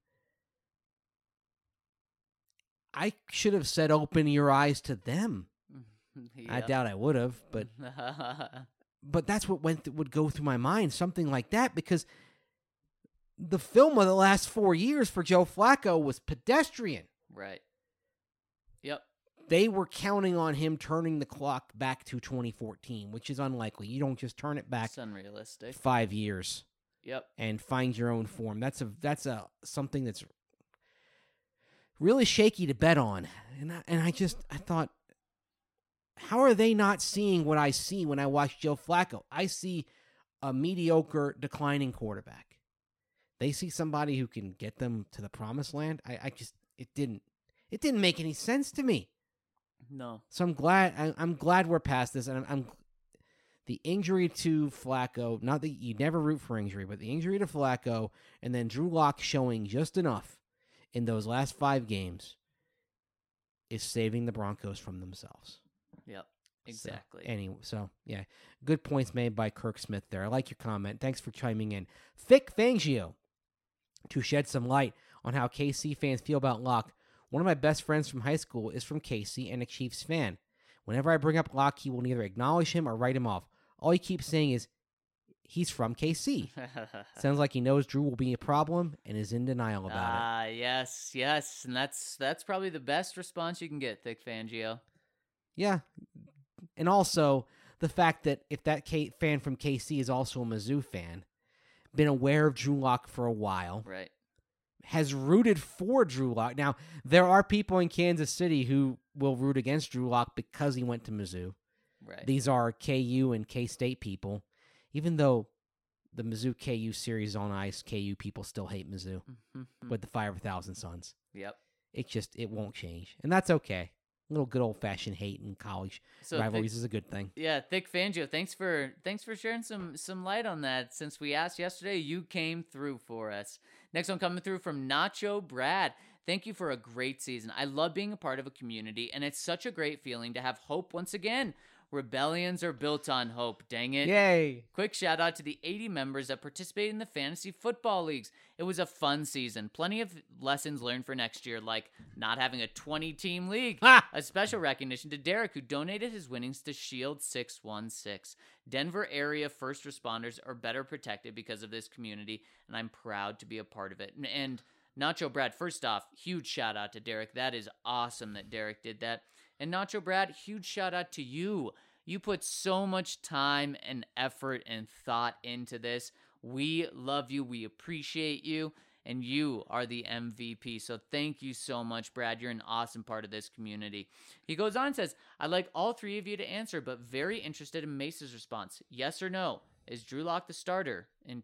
I should have said open your eyes to them. Yep. I doubt I would have, but that's what would go through my mind, something like that, because the film of the last 4 years for Joe Flacco was pedestrian. Right. Yep. They were counting on him turning the clock back to 2014, which is unlikely. You don't just turn it back. It's unrealistic. 5 years. Yep. And find your own form. That's something that's really shaky to bet on. And I thought, how are they not seeing what I see when I watch Joe Flacco? I see a mediocre, declining quarterback. They see somebody who can get them to the promised land. It didn't make any sense to me. No. So I'm glad we're past this, and I'm the injury to Flacco. Not that you never root for injury, but the injury to Flacco, and then Drew Lock showing just enough in those last 5 games is saving the Broncos from themselves. Yep, exactly. So yeah, good points made by Kirk Smith there. I like your comment. Thanks for chiming in. Thick Fangio, to shed some light on how KC fans feel about Lock. One of my best friends from high school is from KC and a Chiefs fan. Whenever I bring up Lock, he will neither acknowledge him or write him off. All he keeps saying is, he's from KC. Sounds like he knows Drew will be a problem and is in denial about it. Yes. And that's probably the best response you can get, Thick Fangio. Yeah. And also, the fact that if that fan from KC is also a Mizzou fan, been aware of Drew Lock for a while. Right. Has rooted for Drew Lock. Now, there are people in Kansas City who will root against Drew Lock because he went to Mizzou. Right. These are KU and K-State people. Even though the Mizzou-KU series is on ice, KU people still hate Mizzou with the 5,000 Suns. Yep. It won't change. And that's okay. A little good old-fashioned hate in college rivalries is a good thing. Yeah, Thick Fangio, thanks for sharing some light on that. Since we asked yesterday, you came through for us. Next one coming through from Nacho Brad. Thank you for a great season. I love being a part of a community, and it's such a great feeling to have hope once again. Rebellions are built on hope, dang it. Yay. Quick shout out to the 80 members that participated in the fantasy football leagues. It was a fun season. Plenty of lessons learned for next year, like not having a 20-team league. A special recognition to Derek, who donated his winnings to Shield 616. Denver area first responders are better protected because of this community, and I'm proud to be a part of it. And Nacho Brad, first off, huge shout out to Derek. That is awesome that Derek did that. And Nacho Brad, huge shout out to you. You put so much time and effort and thought into this. We love you. We appreciate you. And you are the MVP. So thank you so much, Brad. You're an awesome part of this community. He goes on and says, I'd like all 3 of you to answer, but very interested in Mace's response. Yes or no? Is Drew Lock the starter in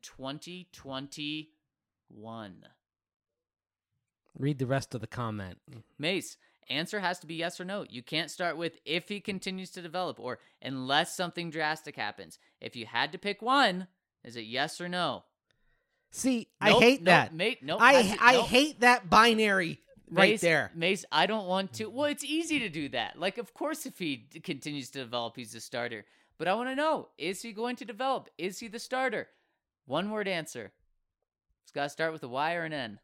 2021? Read the rest of the comment. Mace, answer has to be yes or no. You can't start with if he continues to develop or unless something drastic happens. If you had to pick one, is it yes or no? See, nope, I hate that. Mate, nope, I hate that binary right there. Mace, I don't want to. Well, it's easy to do that. Like, of course, if he continues to develop, he's the starter. But I want to know, is he going to develop? Is he the starter? One word answer. It's got to start with a Y or an N.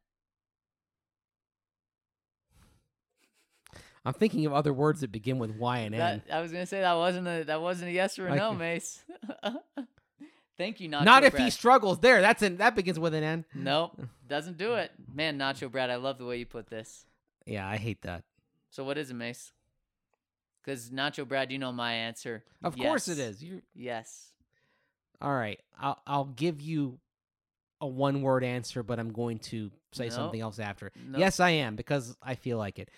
I'm thinking of other words that begin with Y and N. I was gonna say that wasn't a yes or a no, Mace. Thank you, Nacho. Not if Brad. He struggles. There, that begins with an N. Nope, doesn't do it. Man, Nacho Brad, I love the way you put this. Yeah, I hate that. So what is it, Mace? Because Nacho Brad, you know my answer. Of course it is. Yes. All right, I'll give you a one-word answer, but I'm going to say something else after. Nope. Yes, I am, because I feel like it.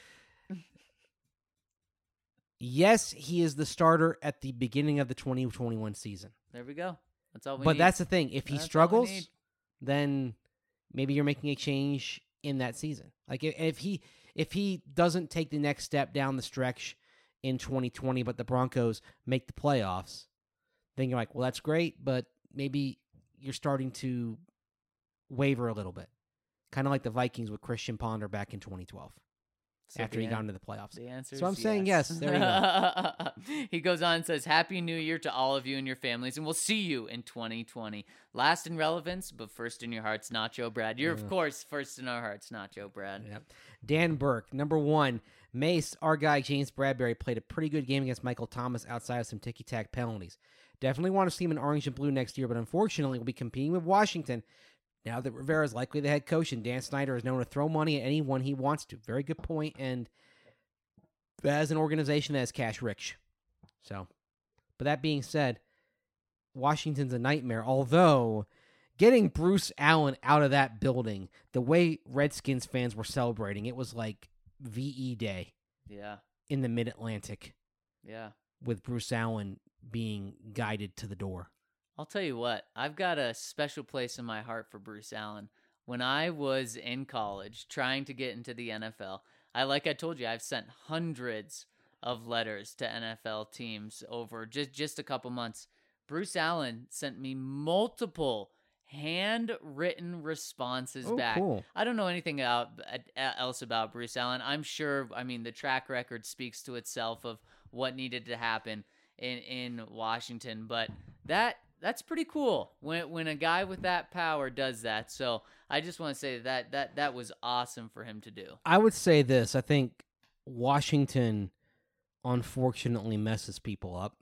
Yes, he is the starter at the beginning of the 2021 season. There we go. That's all we need. But that's the thing. If he struggles, then maybe you're making a change in that season. Like if he doesn't take the next step down the stretch in 2020, but the Broncos make the playoffs, then you're like, well, that's great, but maybe you're starting to waver a little bit. Kind of like the Vikings with Christian Ponder back in 2012. After he got into the playoffs. The answer so I'm is saying yes. There you go. He goes on and says, Happy New Year to all of you and your families, and we'll see you in 2020. Last in relevance, but first in your hearts, Nacho Brad. You're, of course, first in our hearts, Nacho Brad. Yep. Dan Burke, number 1. Mace, our guy, James Bradbury, played a pretty good game against Michael Thomas outside of some ticky-tack penalties. Definitely want to see him in orange and blue next year, but unfortunately we'll be competing with Washington now that Rivera is likely the head coach, and Dan Snyder is known to throw money at anyone he wants to. Very good point, and as an organization that is cash rich. So, but that being said, Washington's a nightmare, although getting Bruce Allen out of that building, the way Redskins fans were celebrating, it was like VE Day. Yeah. In the Mid-Atlantic. Yeah. With Bruce Allen being guided to the door. I'll tell you what, I've got a special place in my heart for Bruce Allen. When I was in college trying to get into the NFL, like I told you, I've sent hundreds of letters to NFL teams over just a couple months. Bruce Allen sent me multiple handwritten responses back. Cool. I don't know anything else about Bruce Allen. I'm sure, the track record speaks to itself of what needed to happen in Washington, but that's pretty cool when a guy with that power does that. So I just want to say that was awesome for him to do. I would say this. I think Washington unfortunately messes people up.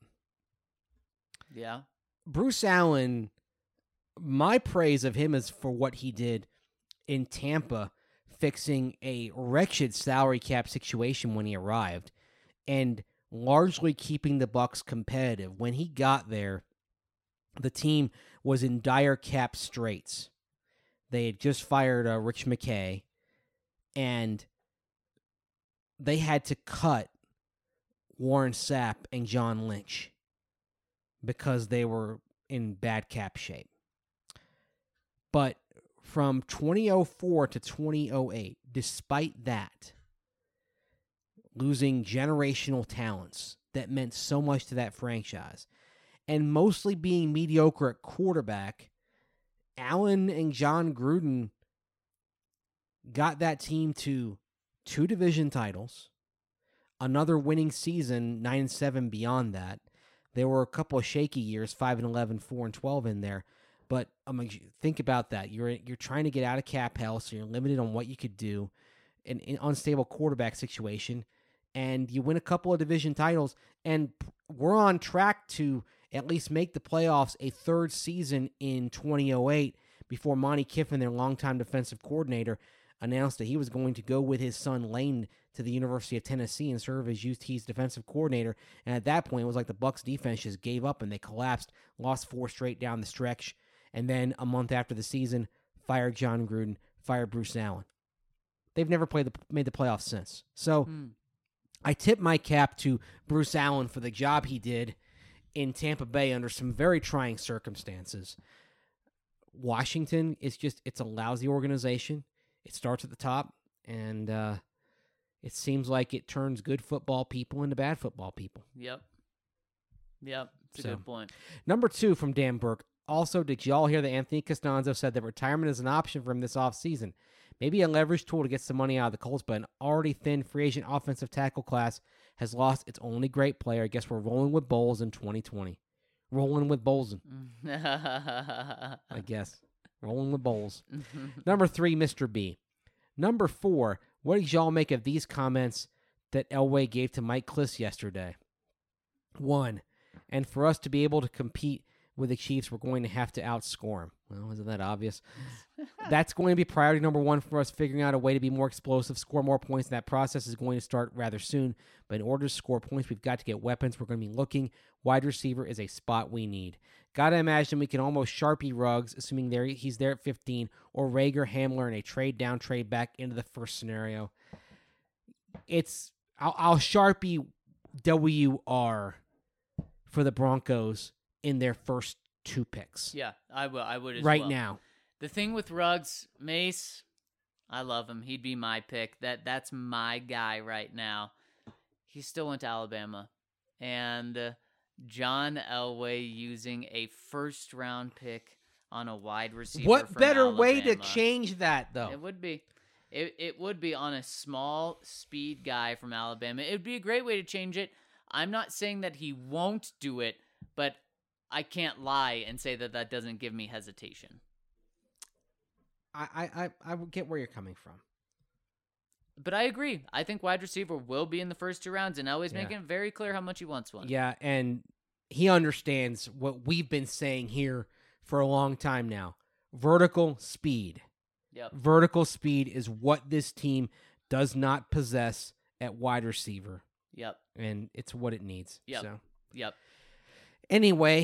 Yeah. Bruce Allen, my praise of him is for what he did in Tampa, fixing a wretched salary cap situation when he arrived and largely keeping the Bucs competitive. When he got there, the team was in dire cap straits. They had just fired Rich McKay, and they had to cut Warren Sapp and John Lynch because they were in bad cap shape. But from 2004 to 2008, despite that, losing generational talents that meant so much to that franchise, and mostly being mediocre at quarterback, Allen and John Gruden got that team to 2 division titles, another winning season, 9-7 beyond that. There were a couple of shaky years, 5-11, 4-12 in there. But think about that. You're trying to get out of cap hell, so you're limited on what you could do in an unstable quarterback situation, and you win a couple of division titles, and we're on track to at least make the playoffs a third season in 2008 before Monty Kiffin, their longtime defensive coordinator, announced that he was going to go with his son Lane to the University of Tennessee and serve as UT's defensive coordinator. And at that point, it was like the Bucs defense just gave up and they collapsed, lost 4 straight down the stretch. And then a month after the season, fired John Gruden, fired Bruce Allen. They've never made the playoffs since. So I tip my cap to Bruce Allen for the job he did in Tampa Bay under some very trying circumstances. Washington is it's a lousy organization. It starts at the top, and it seems like it turns good football people into bad football people. Yep. It's a good point. Number 2 from Dan Burke. Also, did y'all hear that Anthony Costanzo said that retirement is an option for him this offseason? Maybe a leverage tool to get some money out of the Colts, but an already thin free agent offensive tackle class has lost its only great player. I guess we're rolling with Bowles in 2020. Rolling with Bowles. I guess. Rolling with Bowles. Number 3, Mr. B. Number 4, what did y'all make of these comments that Elway gave to Mike Klis yesterday? 1, and for us to be able to compete with the Chiefs, we're going to have to outscore them. Well, isn't that obvious? That's going to be priority number 1 for us, figuring out a way to be more explosive, score more points. That process is going to start rather soon. But in order to score points, we've got to get weapons. We're going to be looking. Wide receiver is a spot we need. Got to imagine we can almost Sharpie Ruggs, assuming he's there at 15, or Rager Hamler in a trade down, trade back into the first scenario. I'll Sharpie WR for the Broncos in their first 2 picks. Yeah, I would as well. Right now. The thing with Ruggs, Mace, I love him. He'd be my pick. That's my guy right now. he still went to Alabama. And John Elway using a first-round pick on a wide receiver. What better Alabama. way to change that, though? It would be. It would be on a small speed guy from Alabama. It would be a great way to change it. I'm not saying that he won't do it, but I can't lie and say that doesn't give me hesitation. I get where you're coming from. But I agree. I think wide receiver will be in the first 2 rounds, and Elway's making it very clear how much he wants one. Yeah, and he understands what we've been saying here for a long time now. Vertical speed. Yep. Vertical speed is what this team does not possess at wide receiver. Yep. And it's what it needs. Yep. So. Yep. Anyway,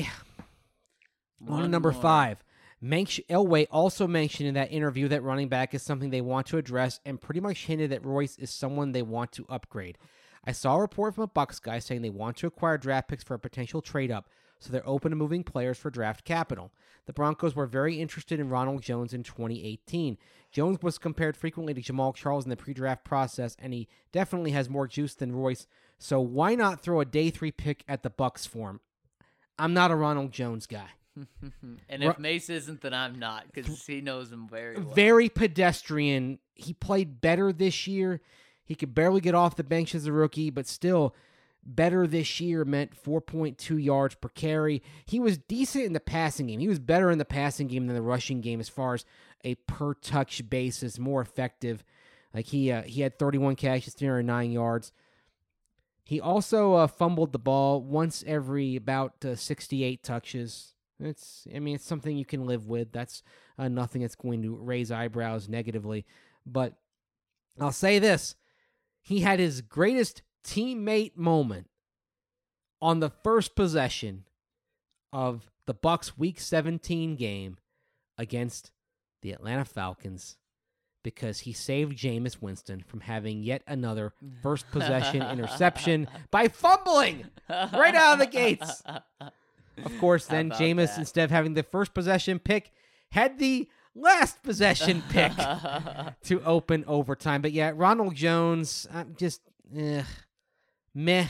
on to number 5. Elway also mentioned in that interview that running back is something they want to address and pretty much hinted that Royce is someone they want to upgrade. I saw a report from a Bucs guy saying they want to acquire draft picks for a potential trade-up, so they're open to moving players for draft capital. The Broncos were very interested in Ronald Jones in 2018. Jones was compared frequently to Jamal Charles in the pre-draft process, and he definitely has more juice than Royce, so why not throw a day 3 pick at the Bucs for him? I'm not a Ronald Jones guy. And if Mace isn't, then I'm not, because he knows him very well. Very pedestrian. He played better this year. He could barely get off the bench as a rookie, but still, better this year meant 4.2 yards per carry. He was decent in the passing game. He was better in the passing game than the rushing game as far as a per-touch basis, more effective. Like he had 31 catches, 309 yards. He also fumbled the ball once every about 68 touches. It's something you can live with. That's nothing that's going to raise eyebrows negatively. But I'll say this. He had his greatest teammate moment on the first possession of the Bucs Week 17 game against the Atlanta Falcons because he saved Jameis Winston from having yet another first possession interception by fumbling right out of the gates. Of course, then Jameis, instead of having the first possession pick, had the last possession pick to open overtime. But yeah, Ronald Jones, just meh.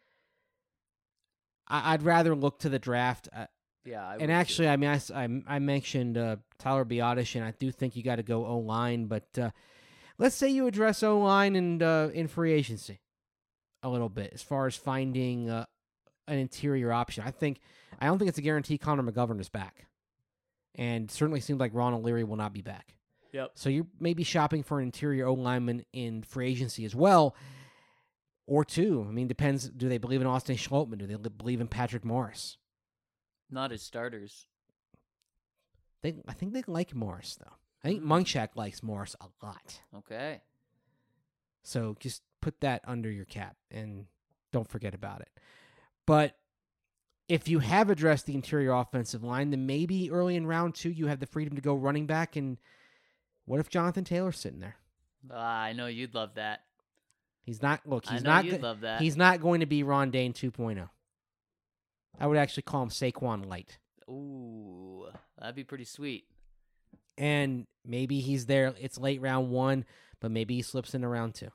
I'd rather look to the draft. And actually, I mentioned Tyler Biadasz, and I do think you got to go O-line. But let's say you address O-line and in free agency a little bit as far as finding an interior option. I don't think it's a guarantee Connor McGovern is back. And certainly seems like Ron O'Leary will not be back. Yep. So you may be shopping for an interior O-lineman in free agency as well. Or 2. Depends. Do they believe in Austin Schlottman? Do they believe in Patrick Morris? Not as starters. I think they like Morris, though. I think Munchak likes Morris a lot. Okay. So just put that under your cap and don't forget about it. But if you have addressed the interior offensive line, then maybe early in round 2 you have the freedom to go running back. And what if Jonathan Taylor's sitting there? I know you'd love that. He's not. Look, he's not. You'd love that. He's not going to be Ron Dane 2.0. I would actually call him Saquon Light. Ooh, that'd be pretty sweet. And maybe he's there. It's late round 1, but maybe he slips into round 2.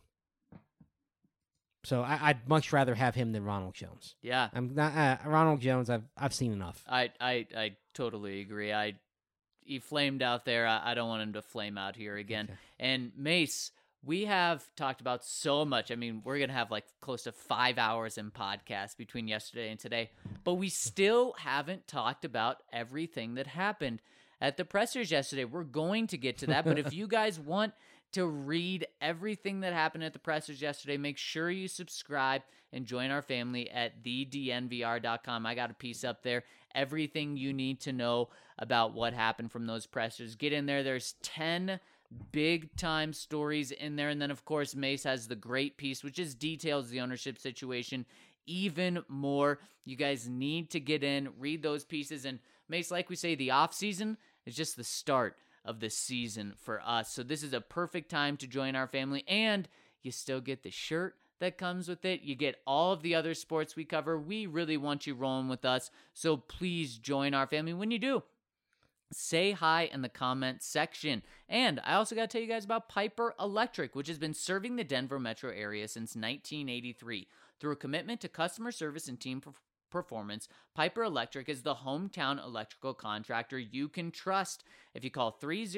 So I'd much rather have him than Ronald Jones. Yeah, I'm not Ronald Jones. I've seen enough. I totally agree. He flamed out there. I don't want him to flame out here again. Okay. And Mace, we have talked about so much. We're gonna have like close to 5 hours in podcast between yesterday and today, but we still haven't talked about everything that happened at the pressers yesterday. We're going to get to that, but if you guys want to read everything that happened at the pressers yesterday, make sure you subscribe and join our family at thednvr.com. I got a piece up there. Everything you need to know about what happened from those pressers. Get in there. There's 10 big-time stories in there. And then, of course, Mace has the great piece, which just details the ownership situation even more. You guys need to get in, read those pieces. And Mace, like we say, the offseason is just the start of the season for us. So this is a perfect time to join our family, and you still get the shirt that comes with it. You get all of the other sports we cover. We really want you rolling with us, so please join our family. When you do, say hi in the comment section. And I also got to tell you guys about Piper Electric, which has been serving the Denver metro area since 1983. Through a commitment to customer service and team performance, Piper Electric is the hometown electrical contractor you can trust. If you call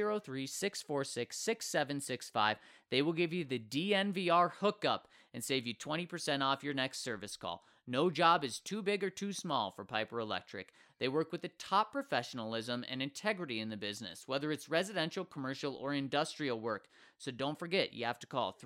303-646-6765, they will give you the DNVR hookup and save you 20% off your next service call. No job is too big or too small for Piper Electric. They work with the top professionalism and integrity in the business, whether it's residential, commercial, or industrial work. So don't forget, you have to call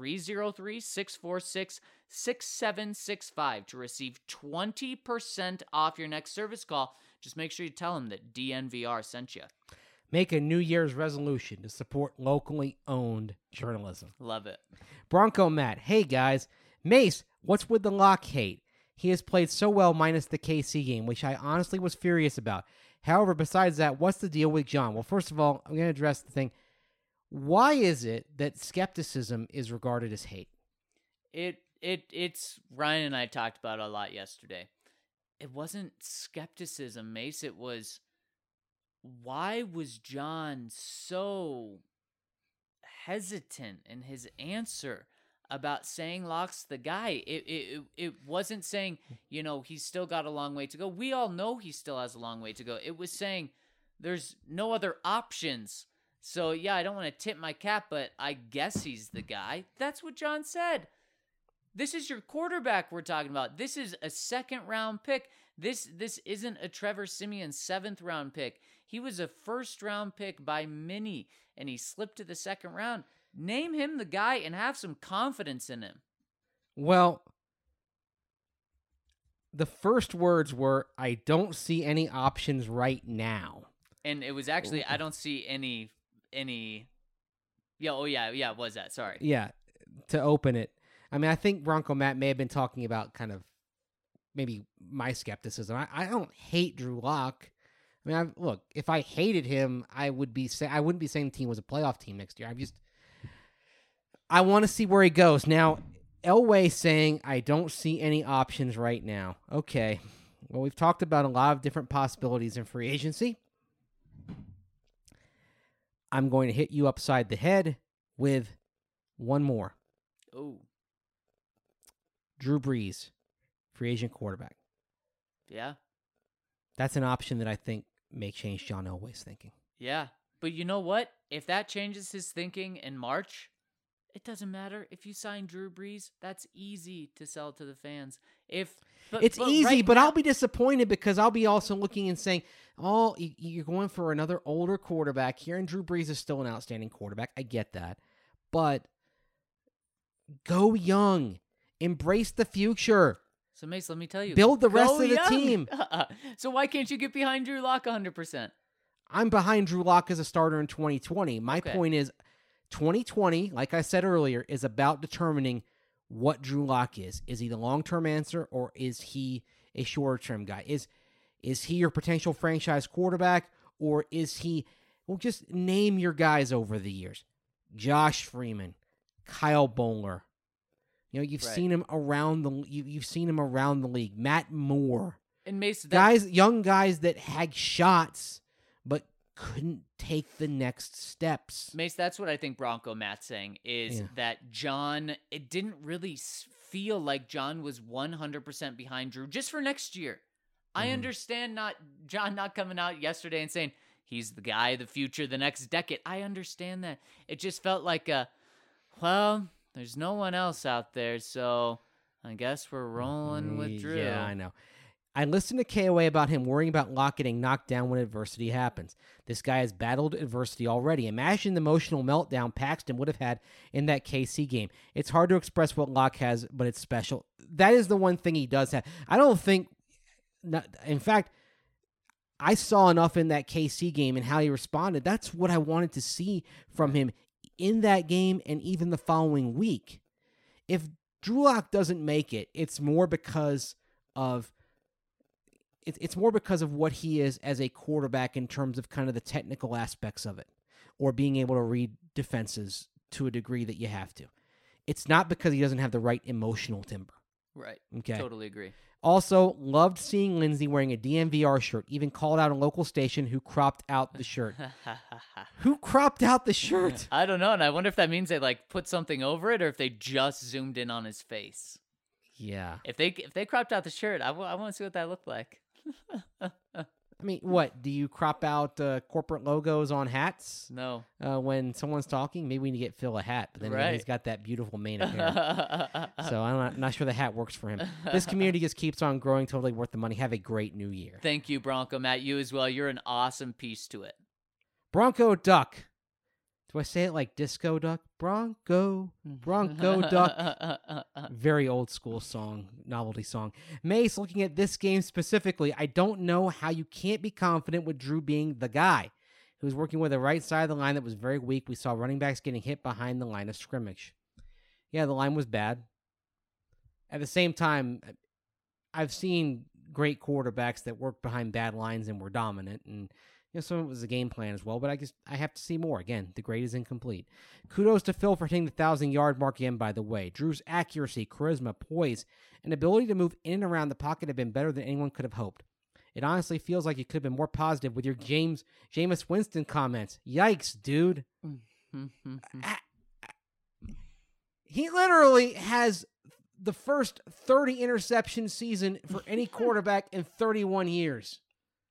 303-646-6765 to receive 20% off your next service call. Just make sure you tell them that DNVR sent you. Make a New Year's resolution to support locally owned journalism. Love it. Bronco Matt, hey guys. Mace, what's with the Locke hate? He has played so well minus the KC game, which I honestly was furious about. However, besides that, what's the deal with John? Well, first of all, I'm going to address the thing. Why is it that skepticism is regarded as hate? It's Ryan and I talked about it a lot yesterday. It wasn't skepticism, Mace. It was, why was John so hesitant in his answer about saying Locke's the guy? It wasn't saying, he's still got a long way to go. We all know he still has a long way to go. It was saying there's no other options. So, yeah, I don't want to tip my cap, but I guess he's the guy. That's what John said. This is your quarterback we're talking about. This is a second-round pick. This isn't a Trevor Siemian seventh-round pick. He was a first-round pick by many, and he slipped to the second round. Name him the guy and have some confidence in him. Well, the first words were, I don't see any options right now. And it was actually, I don't see any. Yeah, it was that. Sorry. Yeah, to open it. I mean, I think Bronco Matt may have been talking about kind of maybe my skepticism. I don't hate Drew Lock. I mean, look, if I hated him, I wouldn't be saying the team was a playoff team next year. I want to see where he goes. Now, Elway saying, I don't see any options right now. Okay. Well, we've talked about a lot of different possibilities in free agency. I'm going to hit you upside the head with one more. Oh. Drew Brees, free agent quarterback. Yeah. That's an option that I think may change John Elway's thinking. Yeah. But you know what? If that changes his thinking in March, it doesn't matter. If you sign Drew Brees, that's easy to sell to the fans. It's easy, but I'll be disappointed because I'll be also looking and saying, oh, you're going for another older quarterback here, and Drew Brees is still an outstanding quarterback. I get that. But go young. Embrace the future. So, Mace, let me tell you. Build the rest of the team. So why can't you get behind Drew Lock 100%? I'm behind Drew Lock as a starter in 2020. My point is 2020, like I said earlier, is about determining what Drew Lock is. Is he the long-term answer, or is he a shorter-term guy? Is he your potential franchise quarterback, or is he, well, just name your guys over the years. Josh Freeman, Kyle Boller. You've seen him around you've seen him around the league. Matt Moore. And Mason, young guys that had shots but couldn't take the next steps. Mace, that's what I think Bronco Matt's saying is that John, it didn't really feel like John was 100% behind Drew just for next year. I understand John not coming out yesterday and saying he's the guy, the future, the next decade. I understand that. It just felt like there's no one else out there, so I guess we're rolling with Drew. Yeah, I know. I listened to KOA about him worrying about Locke getting knocked down when adversity happens. This guy has battled adversity already. Imagine the emotional meltdown Paxton would have had in that KC game. It's hard to express what Locke has, but it's special. That is the one thing he does have. I don't think... In fact, I saw enough in that KC game and how he responded. That's what I wanted to see from him in that game and even the following week. If Drew Lock doesn't make it, it's more because of what he is as a quarterback in terms of kind of the technical aspects of it, or being able to read defenses to a degree that you have to. It's not because he doesn't have the right emotional timber. Right. Okay. Totally agree. Also, loved seeing Lindsey wearing a DNVR shirt. Even called out a local station who cropped out the shirt. Who cropped out the shirt? I don't know, and I wonder if that means they put something over it or if they just zoomed in on his face. Yeah. If they cropped out the shirt, I want to see what that looked like. I mean, what? Do you crop out corporate logos on hats? No. When someone's talking? Maybe we need to get Phil a hat, but then again, he's got that beautiful mane of hair. So I'm not sure the hat works for him. This community just keeps on growing, totally worth the money. Have a great new year. Thank you, Bronco Matt. You as well. You're an awesome piece to it. Bronco Duck. Do I say it like Disco Duck? Bronco Duck. Very old school song, novelty song. Mace, looking at this game specifically, I don't know how you can't be confident with Drew being the guy who's working with the right side of the line that was very weak. We saw running backs getting hit behind the line of scrimmage. Yeah, the line was bad. At the same time, I've seen great quarterbacks that worked behind bad lines and were dominant, and some of it was a game plan as well, but I have to see more. Again, the grade is incomplete. Kudos to Phil for hitting the 1,000-yard mark again, by the way. Drew's accuracy, charisma, poise, and ability to move in and around the pocket have been better than anyone could have hoped. It honestly feels like you could have been more positive with your Jameis Winston comments. Yikes, dude. He literally has the first 30 interception season for any quarterback in 31 years.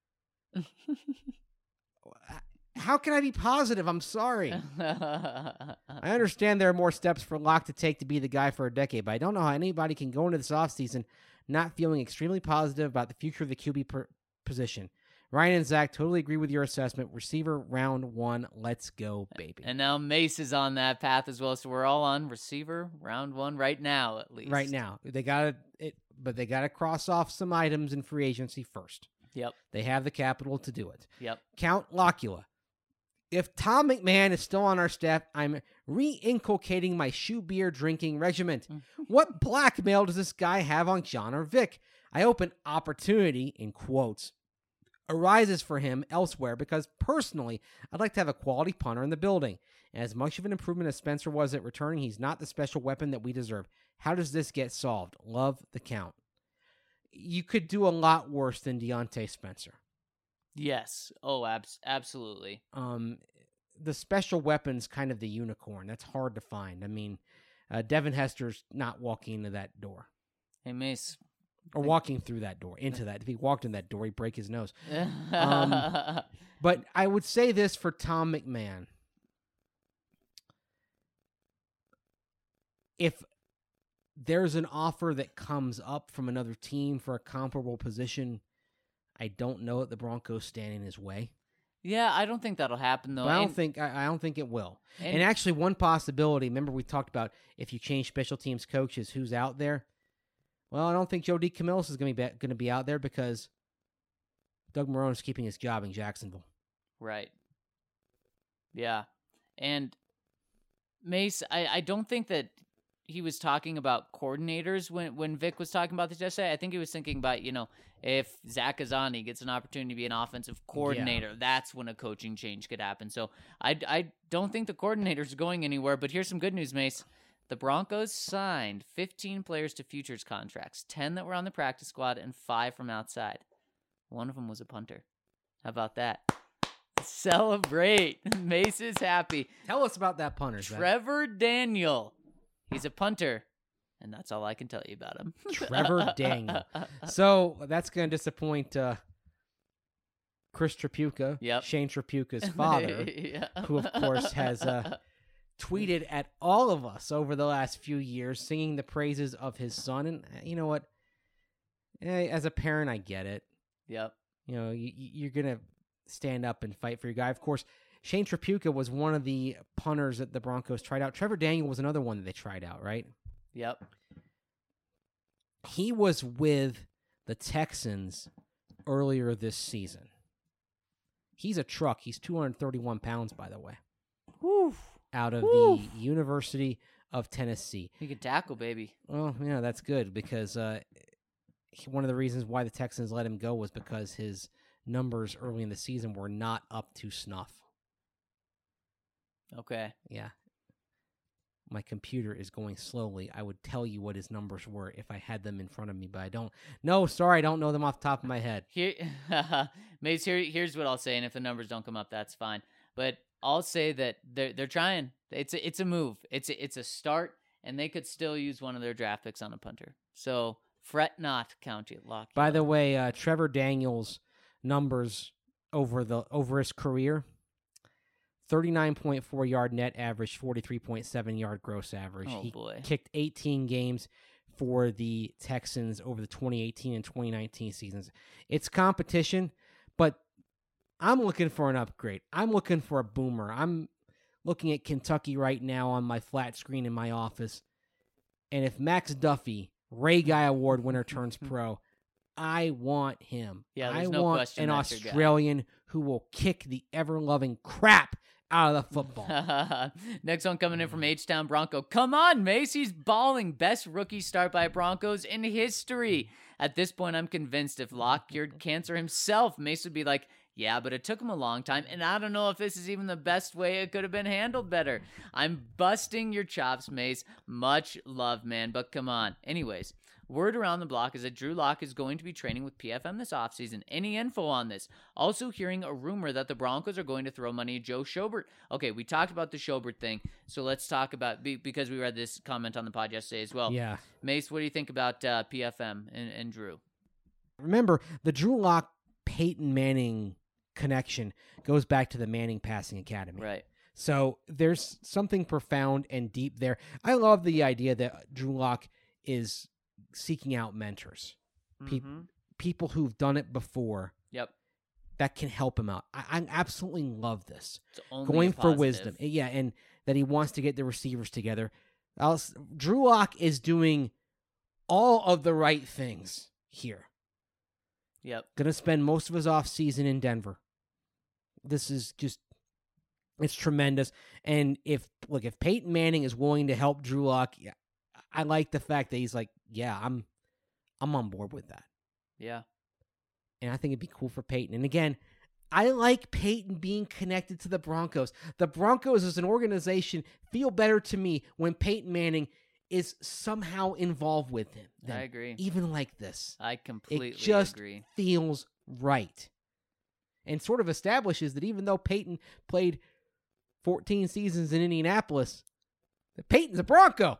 How can I be positive? I'm sorry. I understand there are more steps for Locke to take to be the guy for a decade, but I don't know how anybody can go into this offseason not feeling extremely positive about the future of the QB position. Ryan and Zach, totally agree with your assessment. Receiver round 1, let's go, baby. And now Mace is on that path as well, so we're all on receiver round 1 right now, at least. Right now. They got to cross off some items in free agency first. Yep. They have the capital to do it. Yep. Count Locula. If Tom McMahon is still on our staff, I'm re-inculcating my shoe beer drinking regimen. What blackmail does this guy have on John or Vic? I hope an opportunity, in quotes, arises for him elsewhere because personally, I'd like to have a quality punter in the building. And as much of an improvement as Spencer was at returning, he's not the special weapon that we deserve. How does this get solved? Love the count. You could do a lot worse than Deontay Spencer. Yes. Oh, absolutely. The special weapon's kind of the unicorn. That's hard to find. I mean, Devin Hester's not walking into that door. Hey, Mace. Or walking through that door, into that. If he walked in that door, he'd break his nose. But I would say this for Tom McMahon. If there's an offer that comes up from another team for a comparable position, I don't know that the Broncos stand in his way. Yeah, I don't think that'll happen though. But I don't think it will. And actually, one possibility. Remember, we talked about if you change special teams coaches, who's out there. Well, I don't think Joe DeCamillis is going to be out there because Doug Marrone is keeping his job in Jacksonville. Right. Yeah, and Mace, I don't think that he was talking about coordinators when Vic was talking about this yesterday. I think he was thinking about, if Zach Azzanni gets an opportunity to be an offensive coordinator, that's when a coaching change could happen. So I don't think the coordinators are going anywhere, but here's some good news, Mace. The Broncos signed 15 players to futures contracts, 10 that were on the practice squad and 5 from outside. One of them was a punter. How about that? Celebrate. Mace is happy. Tell us about that punter, Trevor Daniel. He's a punter, and that's all I can tell you about him. Trevor Daniel. So that's going to disappoint Chris Trapuka, Shane Trapuka's father, who, of course, has tweeted at all of us over the last few years, singing the praises of his son. And you know what? As a parent, I get it. Yep. You're going to stand up and fight for your guy. Of course, Shane Trapuka was one of the punters that the Broncos tried out. Trevor Daniel was another one that they tried out, right? Yep. He was with the Texans earlier this season. He's a truck. He's 231 pounds, by the way. Woo. Out of the University of Tennessee. He could tackle, baby. Well, yeah, that's good because one of the reasons why the Texans let him go was because his numbers early in the season were not up to snuff. Okay. Yeah. My computer is going slowly. I would tell you what his numbers were if I had them in front of me, but I don't. No, sorry, I don't know them off the top of my head. Mace, here's what I'll say, and if the numbers don't come up, that's fine. But I'll say that they're trying. It's a move. It's a start, and they could still use one of their draft picks on a punter. So fret not, County Lock. By the way, Trevor Daniels' numbers over his career: 39.4 yard net average, 43.7 yard gross average. Oh, boy. Kicked 18 games for the Texans over the 2018 and 2019 seasons. It's competition, but I'm looking for an upgrade. I'm looking for a boomer. I'm looking at Kentucky right now on my flat screen in my office. And if Max Duffy, Ray Guy Award winner, turns pro, I want him. Yeah, I no want question an that's your guy. Australian who will kick the ever-loving crap out of the football. Next one coming in from H-Town Bronco. Come on, Mace. He's balling. Best rookie start by Broncos in history. At this point, I'm convinced if Locke cured cancer himself, Mace would be like, yeah, but it took him a long time, and I don't know if this is even the best way it could have been handled better. I'm busting your chops, Mace. Much love, man, but come on. Anyways, word around the block is that Drew Lock is going to be training with PFM this offseason. Any info on this? Also hearing a rumor that the Broncos are going to throw money at Joe Schobert. Okay, we talked about the Schobert thing, so let's talk about, because we read this comment on the pod yesterday as well. Yeah. Mace, what do you think about PFM and Drew? Remember, the Drew Lock Peyton Manning connection goes back to the Manning Passing Academy. Right. So there's something profound and deep there. I love the idea that Drew Lock is seeking out mentors, people who've done it before. Yep. That can help him out. I absolutely love this. It's only going for positive. wisdom. Yeah, and that he wants to get the receivers together. Drew Lock is doing all of the right things here. Yep. Going to spend most of his offseason in Denver. This is just, it's tremendous. And if Peyton Manning is willing to help Drew Lock, yeah, I like the fact that he's like, yeah, I'm on board with that. Yeah. And I think it'd be cool for Peyton. And again, I like Peyton being connected to the Broncos. The Broncos as an organization feel better to me when Peyton Manning is somehow involved with him. I agree. Even like this. I completely agree. It just agree. feels right. And sort of establishes that even though Peyton played 14 seasons in Indianapolis, that Peyton's a Bronco.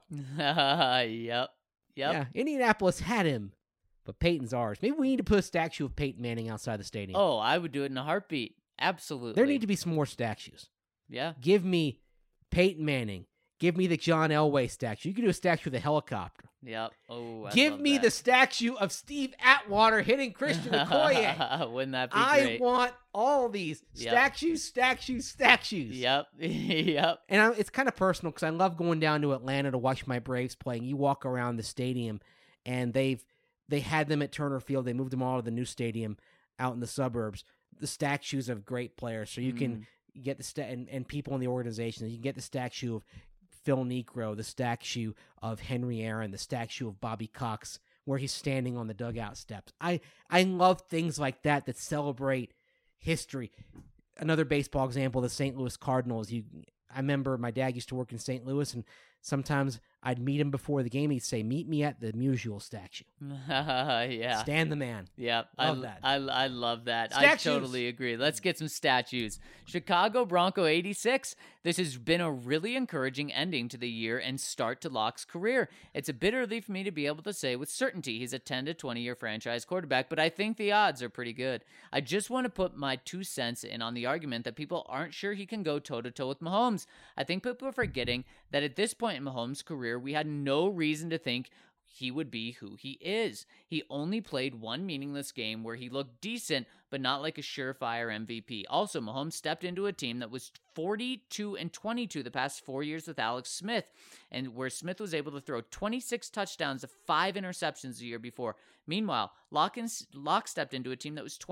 Yep. Yeah, Indianapolis had him, but Peyton's ours. Maybe we need to put a statue of Peyton Manning outside the stadium. Oh, I would do it in a heartbeat. Absolutely. There need to be some more statues. Yeah. Give me Peyton Manning. Give me the John Elway statue. You can do a statue of the helicopter. Yep. Oh, give me the statue of Steve Atwater hitting Christian Okoye. Wouldn't that be great? I want all these statues. Yep. Yep. And it's kind of personal because I love going down to Atlanta to watch my Braves playing. You walk around the stadium, and they had them at Turner Field. They moved them all to the new stadium out in the suburbs. The statues of great players, so you can get and people in the organization. You can get the statue of Phil Niekro, the statue of Henry Aaron, the statue of Bobby Cox, where he's standing on the dugout steps. I love things like that celebrate history. Another baseball example, the St. Louis Cardinals. I remember my dad used to work in St. Louis, and sometimes I'd meet him before the game. He'd say, "Meet me at the Musial statue." Yeah. Stan the man. Yeah. Love that. I love that. Statues. I totally agree. Let's get some statues. Chicago Bronco 86. This has been a really encouraging ending to the year and start to Locke's career. It's a bit early for me to be able to say with certainty he's a 10 to 20 year franchise quarterback, but I think the odds are pretty good. I just want to put my 2 cents in on the argument that people aren't sure he can go toe-to-toe with Mahomes. I think people are forgetting that at this point in Mahomes' career, we had no reason to think he would be who he is. He only played one meaningless game where he looked decent, but not like a surefire MVP. Also, Mahomes stepped into a team that was 42-22 the past 4 years with Alex Smith, and where Smith was able to throw 26 touchdowns to 5 interceptions the year before. Meanwhile, Locke stepped into a team that was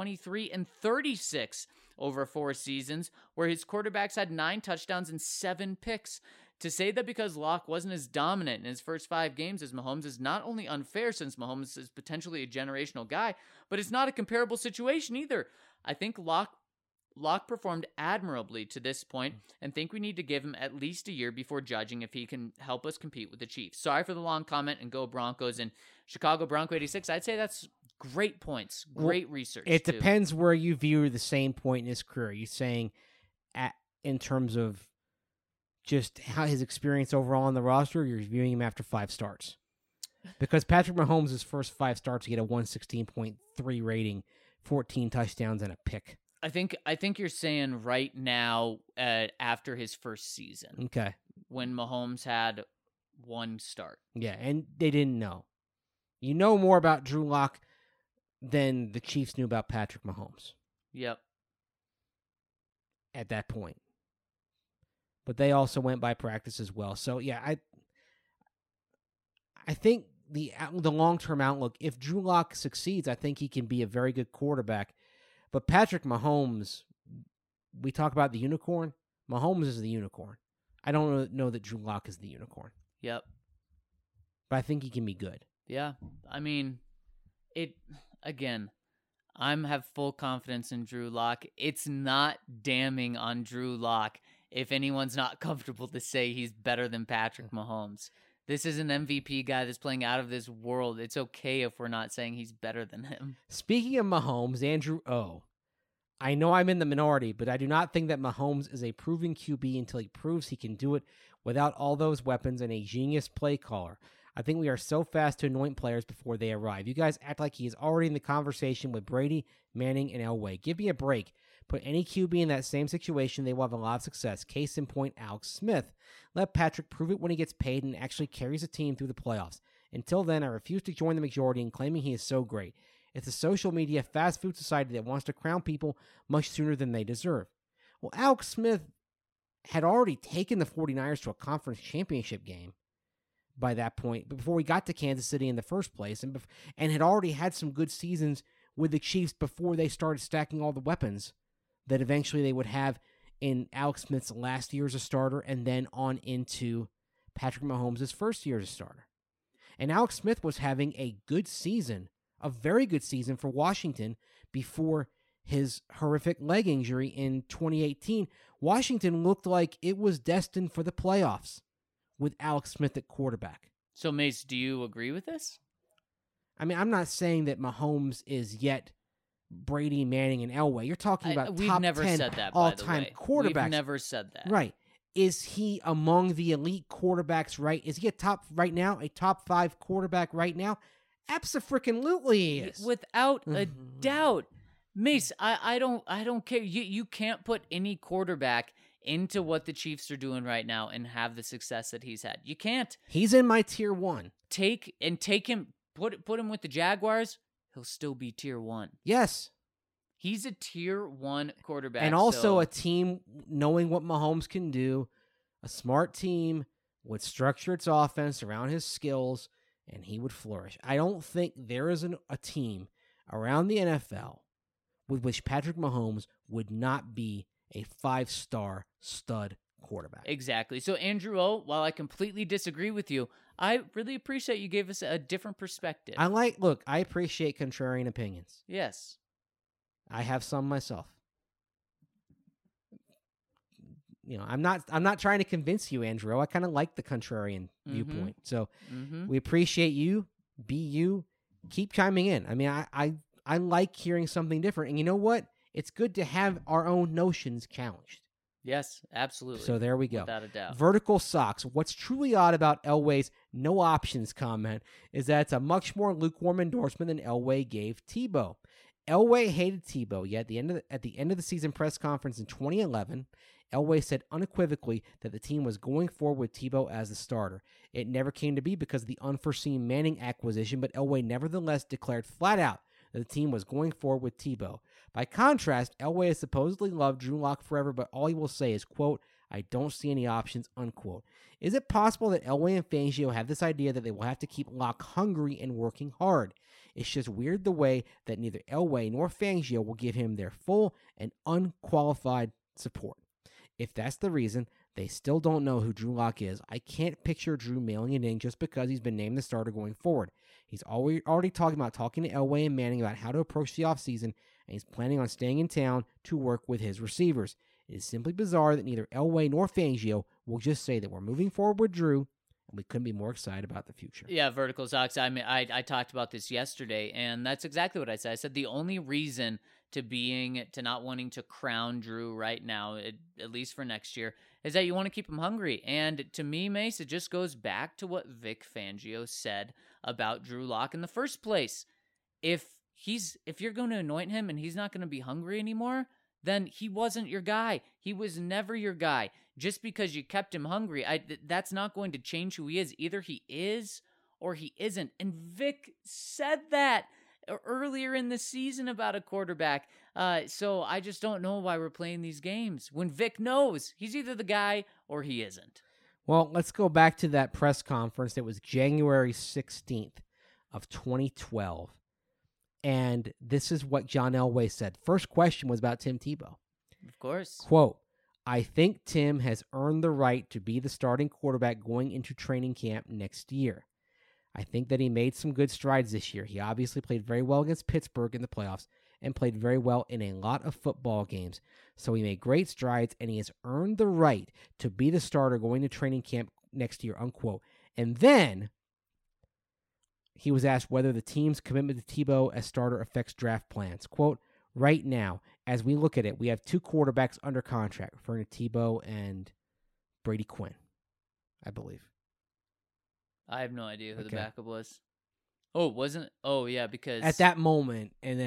23-36 over 4 seasons, where his quarterbacks had 9 touchdowns and 7 picks. To say that because Locke wasn't as dominant in his first 5 games as Mahomes is not only unfair, since Mahomes is potentially a generational guy, but it's not a comparable situation either. I think Locke performed admirably to this point and think we need to give him at least a year before judging if he can help us compete with the Chiefs. Sorry for the long comment, and go Broncos. And Chicago Bronco 86, I'd say that's great points, great research. It depends where you view the same point in his career. You're saying in terms of just how his experience overall on the roster, you're viewing him after 5 starts. Because Patrick Mahomes' first 5 starts, he get a 116.3 rating, 14 touchdowns, and a pick. I think you're saying right now after his first season. Okay. When Mahomes had 1 start. Yeah, and they didn't know. You know more about Drew Lock than the Chiefs knew about Patrick Mahomes. Yep. At that point. But they also went by practice as well. So, yeah, I think the long-term outlook, if Drew Lock succeeds, I think he can be a very good quarterback. But Patrick Mahomes, we talk about the unicorn. Mahomes is the unicorn. I don't know that Drew Lock is the unicorn. Yep. But I think he can be good. Yeah. I mean, again, I have full confidence in Drew Lock. It's not damning on Drew Lock if anyone's not comfortable to say he's better than Patrick Mahomes. This is an MVP guy that's playing out of this world. It's okay if we're not saying he's better than him. Speaking of Mahomes, Andrew O. I know I'm in the minority, but I do not think that Mahomes is a proven QB until he proves he can do it without all those weapons and a genius play caller. I think we are so fast to anoint players before they arrive. You guys act like he is already in the conversation with Brady, Manning, and Elway. Give me a break. Put any QB in that same situation, they will have a lot of success. Case in point, Alex Smith. Let Patrick prove it when he gets paid and actually carries a team through the playoffs. Until then, I refuse to join the majority in claiming he is so great. It's a social media fast food society that wants to crown people much sooner than they deserve. Well, Alex Smith had already taken the 49ers to a conference championship game by that point, before we got to Kansas City in the first place, and had already had some good seasons with the Chiefs before they started stacking all the weapons that eventually they would have in Alex Smith's last year as a starter and then on into Patrick Mahomes' first year as a starter. And Alex Smith was having a good season, a very good season for Washington before his horrific leg injury in 2018. Washington looked like it was destined for the playoffs with Alex Smith at quarterback. So, Mace, do you agree with this? I mean, I'm not saying that Mahomes is yet Brady, Manning, and Elway. You're talking about we've top never 10 said that, all-time quarterbacks. We've never said that. Right. Is he among the elite quarterbacks, right? Is he a top 5 quarterback right now? Abso-freaking-lutely he is. Without a doubt. Mace, I don't care. You can't put any quarterback into what the Chiefs are doing right now and have the success that he's had. You can't. He's in my tier 1. Take him, put him with the Jaguars, he'll still be tier 1. Yes. He's a tier 1 quarterback. And also a team knowing what Mahomes can do, a smart team would structure its offense around his skills, and he would flourish. I don't think there is a team around the NFL with which Patrick Mahomes would not be a 5-star stud quarterback. Exactly. So, Andrew O, while I completely disagree with you, I really appreciate you gave us a different perspective. I appreciate contrarian opinions. Yes. I have some myself. You know, I'm not trying to convince you, Andrew. I kind of like the contrarian viewpoint. So we appreciate you. Be you. Keep chiming in. I mean, I like hearing something different. And you know what? It's good to have our own notions challenged. Yes, absolutely. So there we go. Without a doubt. Vertical Socks. What's truly odd about Elway's no options comment is that it's a much more lukewarm endorsement than Elway gave Tebow. Elway hated Tebow, yet at the end of the season press conference in 2011, Elway said unequivocally that the team was going forward with Tebow as the starter. It never came to be because of the unforeseen Manning acquisition, but Elway nevertheless declared flat out that the team was going forward with Tebow. By contrast, Elway has supposedly loved Drew Lock forever, but all he will say is, quote, "I don't see any options," unquote. Is it possible that Elway and Fangio have this idea that they will have to keep Lock hungry and working hard? It's just weird the way that neither Elway nor Fangio will give him their full and unqualified support. If that's the reason, they still don't know who Drew Lock is. I can't picture Drew mailing it in just because he's been named the starter going forward. He's already talking to Elway and Manning about how to approach the offseason, and he's planning on staying in town to work with his receivers. It is simply bizarre that neither Elway nor Fangio will just say that we're moving forward with Drew, and we couldn't be more excited about the future. Yeah, Vertical Socks. I mean, I talked about this yesterday, and that's exactly what I said. I said the only reason to not wanting to crown Drew right now, at least for next year, is that you want to keep him hungry. And to me, Mace, it just goes back to what Vic Fangio said about Drew Lock in the first place. If you're going to anoint him and he's not going to be hungry anymore, then he wasn't your guy. He was never your guy. Just because you kept him hungry, that's not going to change who he is. Either he is or he isn't. And Vic said that earlier in the season about a quarterback. So I just don't know why we're playing these games when Vic knows he's either the guy or he isn't. Well, let's go back to that press conference. It was January 16th of 2012. And this is what John Elway said. First question was about Tim Tebow. Of course. Quote, I think Tim has earned the right to be the starting quarterback going into training camp next year. I think that he made some good strides this year. He obviously played very well against Pittsburgh in the playoffs and played very well in a lot of football games. So he made great strides, and he has earned the right to be the starter going to training camp next year, unquote. And then he was asked whether the team's commitment to Tebow as starter affects draft plans. Quote, right now, as we look at it, we have 2 quarterbacks under contract, referring to Tebow and Brady Quinn, I believe. I have no idea who the backup was. Oh, wasn't? Oh, yeah, because at that moment, and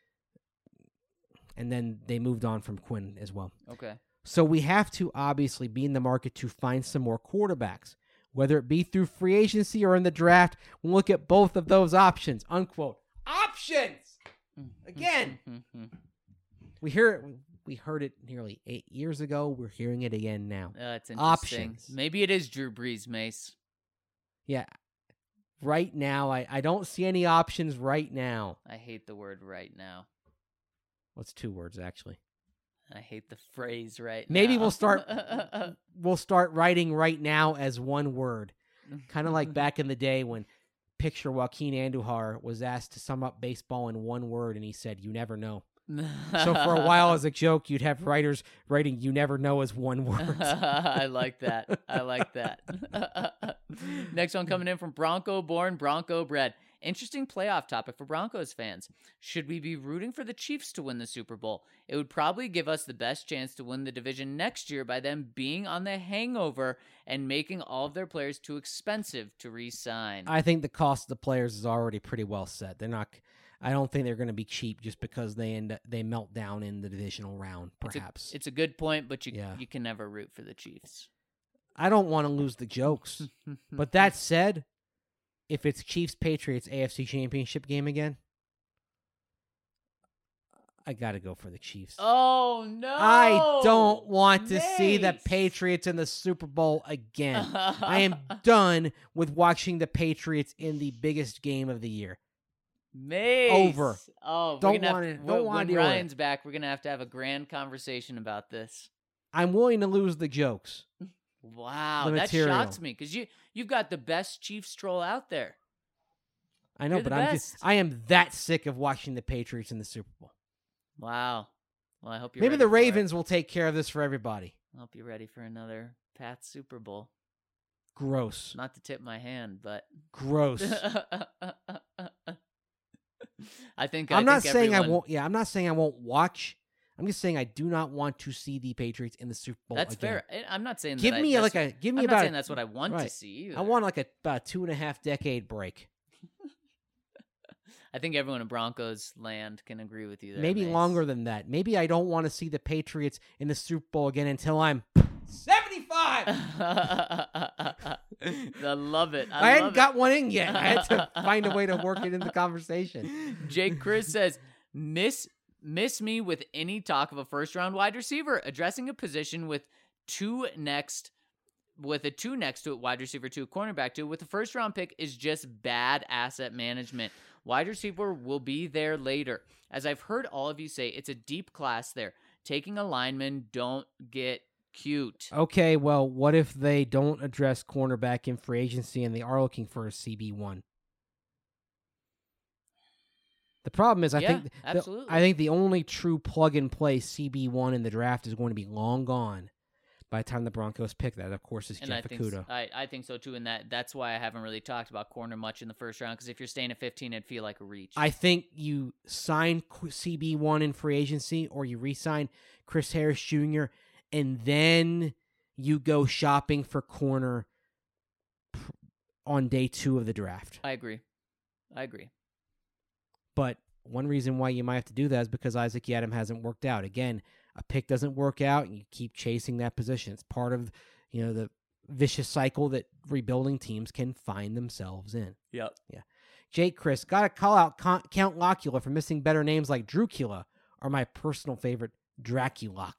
then they moved on from Quinn as well. Okay. So we have to obviously be in the market to find some more quarterbacks, whether it be through free agency or in the draft. We'll look at both of those options. Unquote. Options. Again. We heard it nearly 8 years ago. We're hearing it again now. That's interesting. Options. Maybe it is Drew Brees, Mace. Yeah. Right now, I don't see any options right now. I hate the word right now. What's 2 words, actually? I hate the phrase right Maybe now. we'll start writing right now as one word. Kind of like back in the day when picture Joaquin Andujar was asked to sum up baseball in one word, and he said, "You never know." So for a while, as a joke, you'd have writers writing "you never know" as one word. I like that. I like that. Next one coming in from Bronco born, Bronco bred. Interesting playoff topic for Broncos fans. Should we be rooting for the Chiefs to win the Super Bowl? It would probably give us the best chance to win the division next year by them being on the hangover and making all of their players too expensive to re-sign. I think the cost of the players is already pretty well set. They're not. I don't think they're going to be cheap just because they melt down in the divisional round. Perhaps it's a good point, but you can never root for the Chiefs. I don't want to lose the jokes, but that said, if it's Chiefs-Patriots AFC Championship game again, I got to go for the Chiefs. Oh, no. I don't want to see the Patriots in the Super Bowl again. I am done with watching the Patriots in the biggest game of the year. Mace. Over. Oh, don't want to. When Ryan's back, we're gonna have a grand conversation about this. I'm willing to lose the jokes. Wow, that shocks me because you've got the best Chiefs troll out there. I know, but I am that sick of watching the Patriots in the Super Bowl. Wow. Well, I hope you're maybe ready the Ravens will take care of this for everybody. I hope you're ready for another Pats Super Bowl. Gross. Not to tip my hand, but gross. I'm not saying I won't. Yeah, I'm not saying I won't watch. I'm just saying I do not want to see the Patriots in the Super Bowl. That's again. fair. I'm not saying give me about. I'm not saying that's what I want to see either. I want like about 2.5 decade break. I think everyone in Broncos land can agree with you there. Maybe Mace. longer than that. Maybe I don't want to see the Patriots in the Super Bowl again until I'm 75. I love it. I hadn't got one in yet. I had to find a way to work it in the conversation. Jake Chris says, miss me with any talk of a first-round wide receiver, addressing a position with a 2 next to it, wide receiver 2, cornerback 2, with the first-round pick is just bad asset management. Wide receiver will be there later. As I've heard all of you say, it's a deep class there. Taking a lineman, don't get cute. Okay, well, what if they don't address cornerback in free agency and they are looking for a CB1? The problem is, I think the only true plug-and-play CB1 in the draft is going to be long gone by the time the Broncos pick that. Of course, is Jeff Okudah. I think so, too, and that's why I haven't really talked about corner much in the first round, because if you're staying at 15, it'd feel like a reach. I think you sign CB1 in free agency, or you re-sign Chris Harris Jr., and then you go shopping for corner on day 2 of the draft. I agree. But one reason why you might have to do that is because Isaac Yiadom hasn't worked out. Again, a pick doesn't work out, and you keep chasing that position. It's part of, the vicious cycle that rebuilding teams can find themselves in. Yep. Yeah. Jake Chris, got to call out Count Locula for missing better names like Dracula, or my personal favorite, Draculock.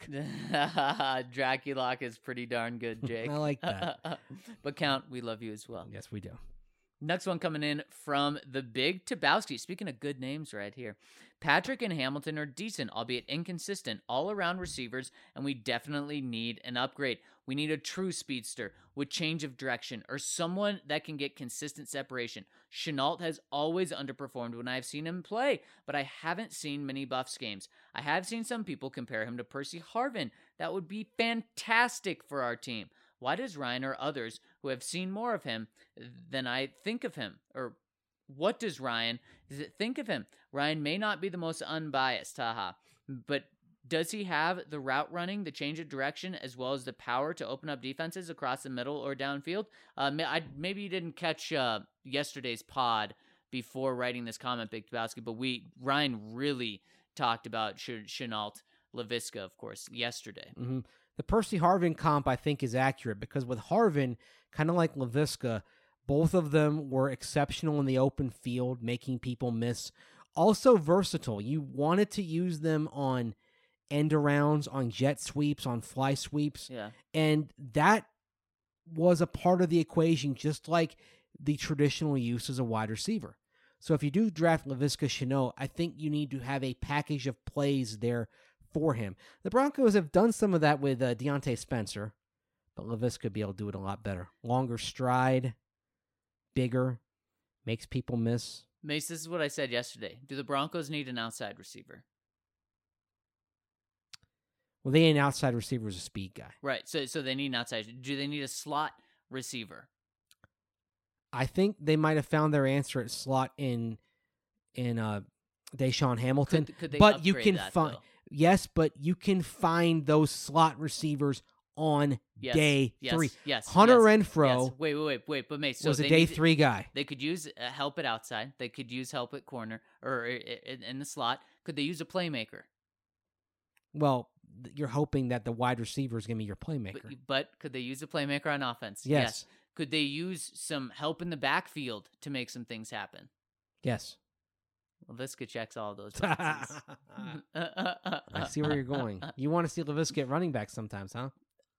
Draculock is pretty darn good, Jake. I like that. But Count, we love you as well. Yes, we do. Next one coming in from the Big Tabowski. Speaking of good names right here. Patrick and Hamilton are decent, albeit inconsistent, all-around receivers, and we definitely need an upgrade. We need a true speedster with change of direction or someone that can get consistent separation. Shenault has always underperformed when I've seen him play, but I haven't seen many Buffs games. I have seen some people compare him to Percy Harvin. That would be fantastic for our team. Why does Ryan or others who have seen more of him than I think of him? Or what does Ryan think of him? Ryan may not be the most unbiased, but does he have the route running, the change of direction, as well as the power to open up defenses across the middle or downfield? Maybe you didn't catch yesterday's pod before writing this comment, Big Tabowski, but Ryan really talked about Shenault, Laviska, of course, yesterday. Mm-hmm. The Percy Harvin comp, I think, is accurate because with Harvin, kind of like Laviska, both of them were exceptional in the open field, making people miss. Also versatile. You wanted to use them on end arounds, on jet sweeps, on fly sweeps. Yeah. And that was a part of the equation, just like the traditional use as a wide receiver. So if you do draft Laviska Shenault, I think you need to have a package of plays there for him. The Broncos have done some of that with Deontay Spencer, but Laviska would be able to do it a lot better. Longer stride, bigger, makes people miss. Mace, this is what I said yesterday. Do the Broncos need an outside receiver? Well, they need an outside receiver who's a speed guy. Right, so they need an outside. Do they need a slot receiver? I think they might have found their answer at slot in Deshaun Hamilton. Could they but you can that, find though? Yes, but you can find those slot receivers on day 3. Yes. Hunter yes, Renfrow. Yes. Wait. But Mace, so was a day 3 guy. They could use help at outside. They could use help at corner or in the slot. Could they use a playmaker? Well, you're hoping that the wide receiver is going to be your playmaker. But could they use a playmaker on offense? Yes. Could they use some help in the backfield to make some things happen? Yes. Laviska checks all those boxes. I see where you're going. You want to see Laviska at running back sometimes, huh?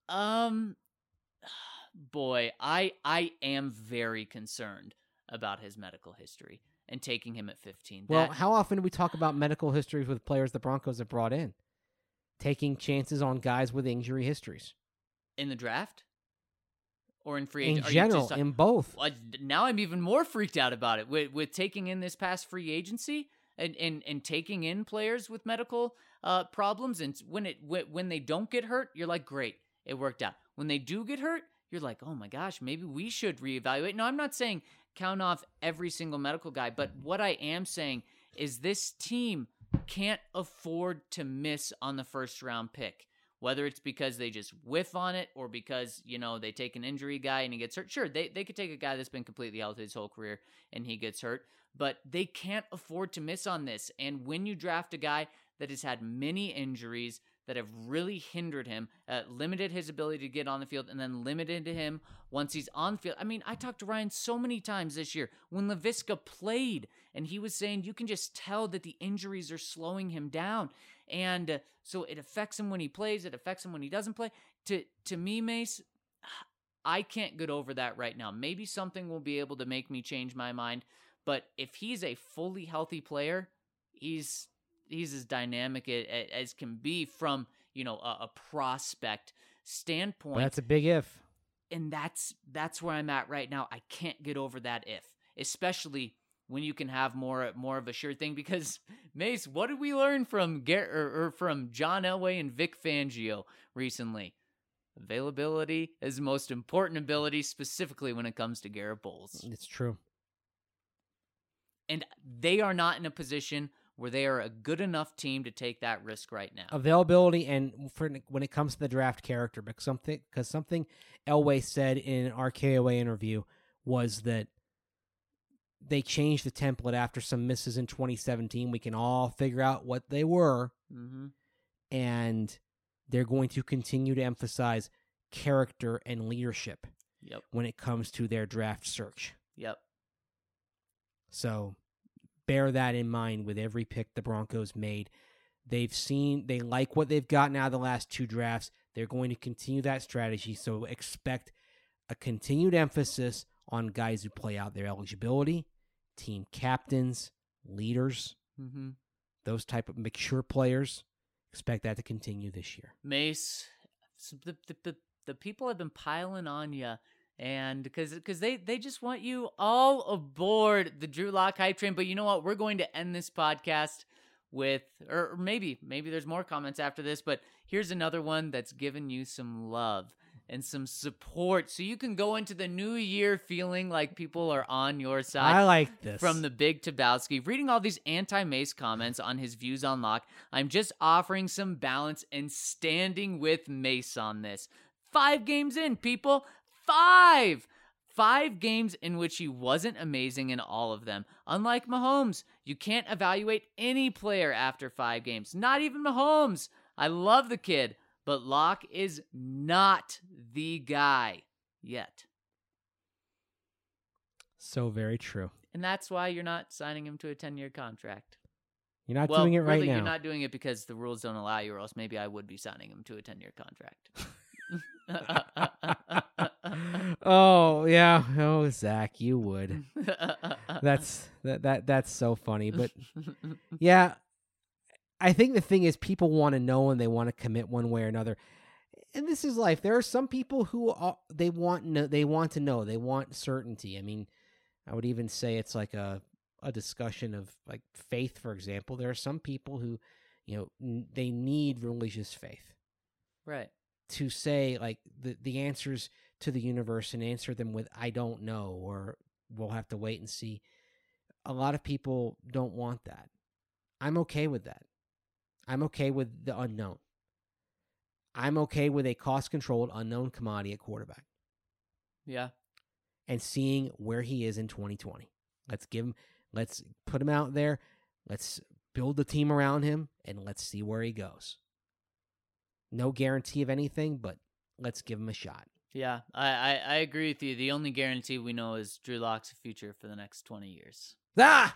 Boy, I am very concerned about his medical history and taking him at 15. Well, how often do we talk about medical histories with players the Broncos have brought in? Taking chances on guys with injury histories. In the draft? Or in free agency? In general, in both. Now I'm even more freaked out about it. With taking in this past free agency and taking in players with medical problems, and when they don't get hurt, you're like, great, it worked out. When they do get hurt, you're like, oh my gosh, maybe we should reevaluate. No, I'm not saying count off every single medical guy, but what I am saying is this team can't afford to miss on the first round pick. Whether it's because they just whiff on it or because, they take an injury guy and he gets hurt. Sure, they could take a guy that's been completely healthy his whole career and he gets hurt, but they can't afford to miss on this. And when you draft a guy that has had many injuries that have really hindered him, limited his ability to get on the field, and then limited him once he's on the field. I mean, I talked to Ryan so many times this year when Laviska played, and he was saying you can just tell that the injuries are slowing him down. And so it affects him when he plays. It affects him when he doesn't play. To me, Mace, I can't get over that right now. Maybe something will be able to make me change my mind. But if he's a fully healthy player, he's as dynamic as can be from, a prospect standpoint. But that's a big if. And that's where I'm at right now. I can't get over that if, especially when you can have more of a sure thing. Because Mace, what did we learn from from John Elway and Vic Fangio recently? Availability is the most important ability, specifically when it comes to Garrett Bowles. It's true. And they are not in a position where they are a good enough team to take that risk right now. Availability and when it comes to the draft character, because something Elway said in an RKOA interview was that they changed the template after some misses in 2017. We can all figure out what they were, and they're going to continue to emphasize character and leadership when it comes to their draft search. So bear that in mind with every pick the Broncos made. They like what they've gotten out of the last 2 drafts. They're going to continue that strategy, so expect a continued emphasis on guys who play out their eligibility, team captains, leaders, those type of mature players. Expect that to continue this year. Mace, the people have been piling on you, and because they just want you all aboard the Drew Lock hype train. But you know what? We're going to end this podcast with, or maybe there's more comments after this, but here's another one that's given you some love and some support, so you can go into the new year feeling like people are on your side. I like this. From the Big Tabowski. Reading all these anti-Mace comments on his views on Lock, I'm just offering some balance and standing with Mace on this. 5 games in, people. 5 games in which he wasn't amazing in all of them. Unlike Mahomes, you can't evaluate any player after 5 games. Not even Mahomes. I love the kid, but Lock is not the guy yet. So very true. And that's why you're not signing him to a 10-year contract. You're not doing it right really, now. You're not doing it because the rules don't allow you, or else maybe I would be signing him to a 10-year contract. Oh yeah, Zach, you would. That's so funny, but yeah, I think the thing is people want to know and they want to commit one way or another, and this is life. There are some people who they want to know, they want certainty. I mean, I would even say it's like a discussion of like faith, for example. There are some people who, they need religious faith, right? To say like the answers to the universe and answer them with I don't know, or we'll have to wait and see. A lot of people don't want that. I'm okay with that. I'm okay with the unknown. I'm okay with a cost-controlled unknown commodity at quarterback. Yeah. And seeing where he is in 2020. Let's put him out there. Let's build the team around him, and let's see where he goes. No guarantee of anything, but let's give him a shot. Yeah, I agree with you. The only guarantee we know is Drew Lock's future for the next 20 years. Ah!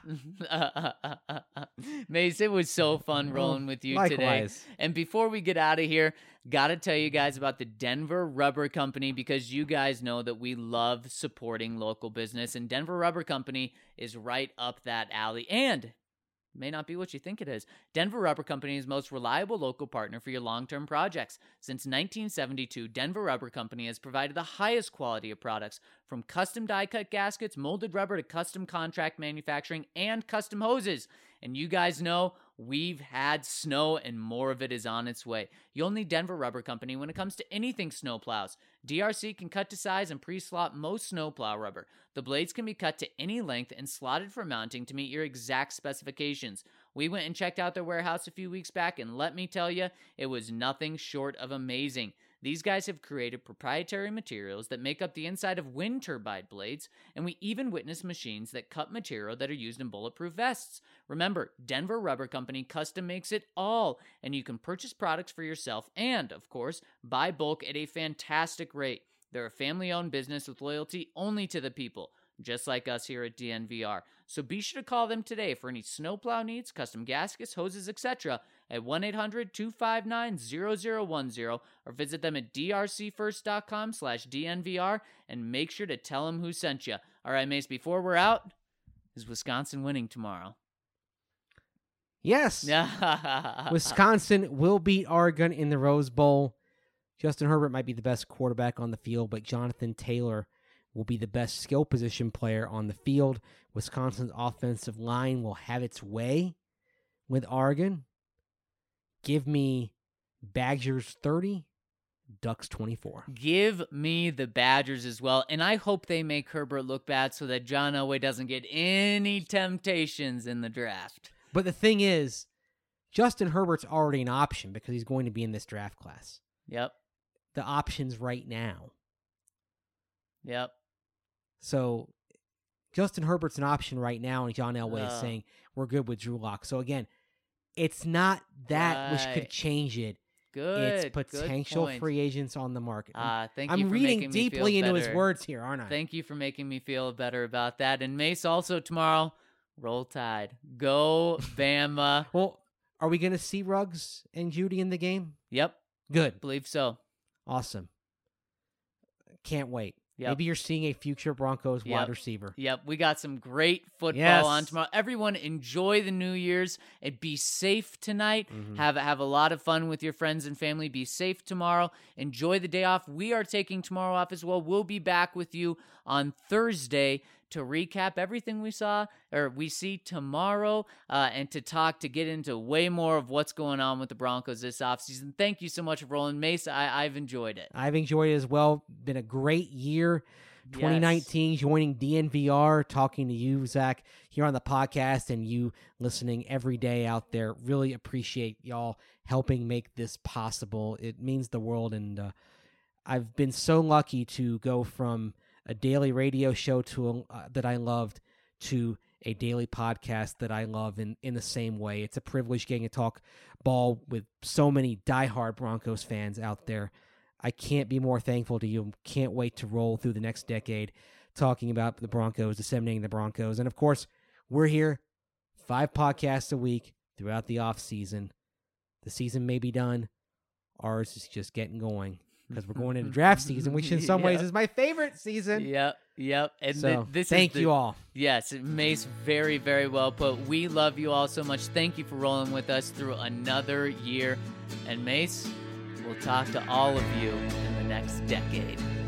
Mace, it was so fun rolling with you today. And before we get out of here, got to tell you guys about the Denver Rubber Company, because you guys know that we love supporting local business, and Denver Rubber Company is right up that alley. And may not be what you think it is. Denver Rubber Company is the most reliable local partner for your long-term projects. Since 1972, Denver Rubber Company has provided the highest quality of products, from custom die-cut gaskets, molded rubber, to custom contract manufacturing, and custom hoses. And you guys know we've had snow, and more of it is on its way. You'll need Denver Rubber Company when it comes to anything snowplows. DRC can cut to size and pre-slot most snowplow rubber. The blades can be cut to any length and slotted for mounting to meet your exact specifications. We went and checked out their warehouse a few weeks back, and let me tell you, it was nothing short of amazing. These guys have created proprietary materials that make up the inside of wind turbine blades, and we even witnessed machines that cut material that are used in bulletproof vests. Remember, Denver Rubber Company custom makes it all, and you can purchase products for yourself and, of course, buy bulk at a fantastic rate. They're a family-owned business with loyalty only to the people, just like us here at DNVR. So be sure to call them today for any snowplow needs, custom gaskets, hoses, etc. at 1-800-259-0010, or visit them at drcfirst.com/DNVR and make sure to tell them who sent you. All right, Mace, before we're out, is Wisconsin winning tomorrow? Yes. Wisconsin will beat Oregon in the Rose Bowl. Justin Herbert might be the best quarterback on the field, but Jonathan Taylor will be the best skill position player on the field. Wisconsin's offensive line will have its way with Oregon. Give me Badgers 30, Ducks 24. Give me the Badgers as well, and I hope they make Herbert look bad so that John Elway doesn't get any temptations in the draft. But the thing is, Justin Herbert's already an option because he's going to be in this draft class. Yep. The options right now. Yep. So Justin Herbert's an option right now, and John Elway is saying we're good with Drew Lock. So again, it's not that which could change it. Good. It's potential free agents on the market. Thank you I'm for reading making deeply me feel into better. his words here, aren't I? Thank you for making me feel better about that. And Mace, also tomorrow, Roll Tide. Go Bama. Well, are we going to see Ruggs and Judy in the game? Yep. Good. Believe so. Awesome. Can't wait. Yep. Maybe you're seeing a future Broncos wide receiver. Yep, we got some great football on tomorrow. Everyone enjoy the New Year's and be safe tonight. Mm-hmm. Have a lot of fun with your friends and family. Be safe tomorrow. Enjoy the day off. We are taking tomorrow off as well. We'll be back with you on Thursday to recap everything we see tomorrow and to get into way more of what's going on with the Broncos this offseason. Thank you so much for rolling. Mace, I've enjoyed it. I've enjoyed it as well. Been a great year. 2019, joining DNVR, talking to you, Zach, here on the podcast, and you listening every day out there. Really appreciate y'all helping make this possible. It means the world, and I've been so lucky to go from a daily radio show that I loved to a daily podcast that I love in the same way. It's a privilege getting to talk ball with so many diehard Broncos fans out there. I can't be more thankful to you. Can't wait to roll through the next decade talking about the Broncos, disseminating the Broncos. And, of course, we're here 5 podcasts a week throughout the off season. The season may be done. Ours is just getting going because we're going into draft season, which in some ways is my favorite season. Yep. And so, thank you all. Yes, Mace, very, very well put. We love you all so much. Thank you for rolling with us through another year. And Mace, we'll talk to all of you in the next decade.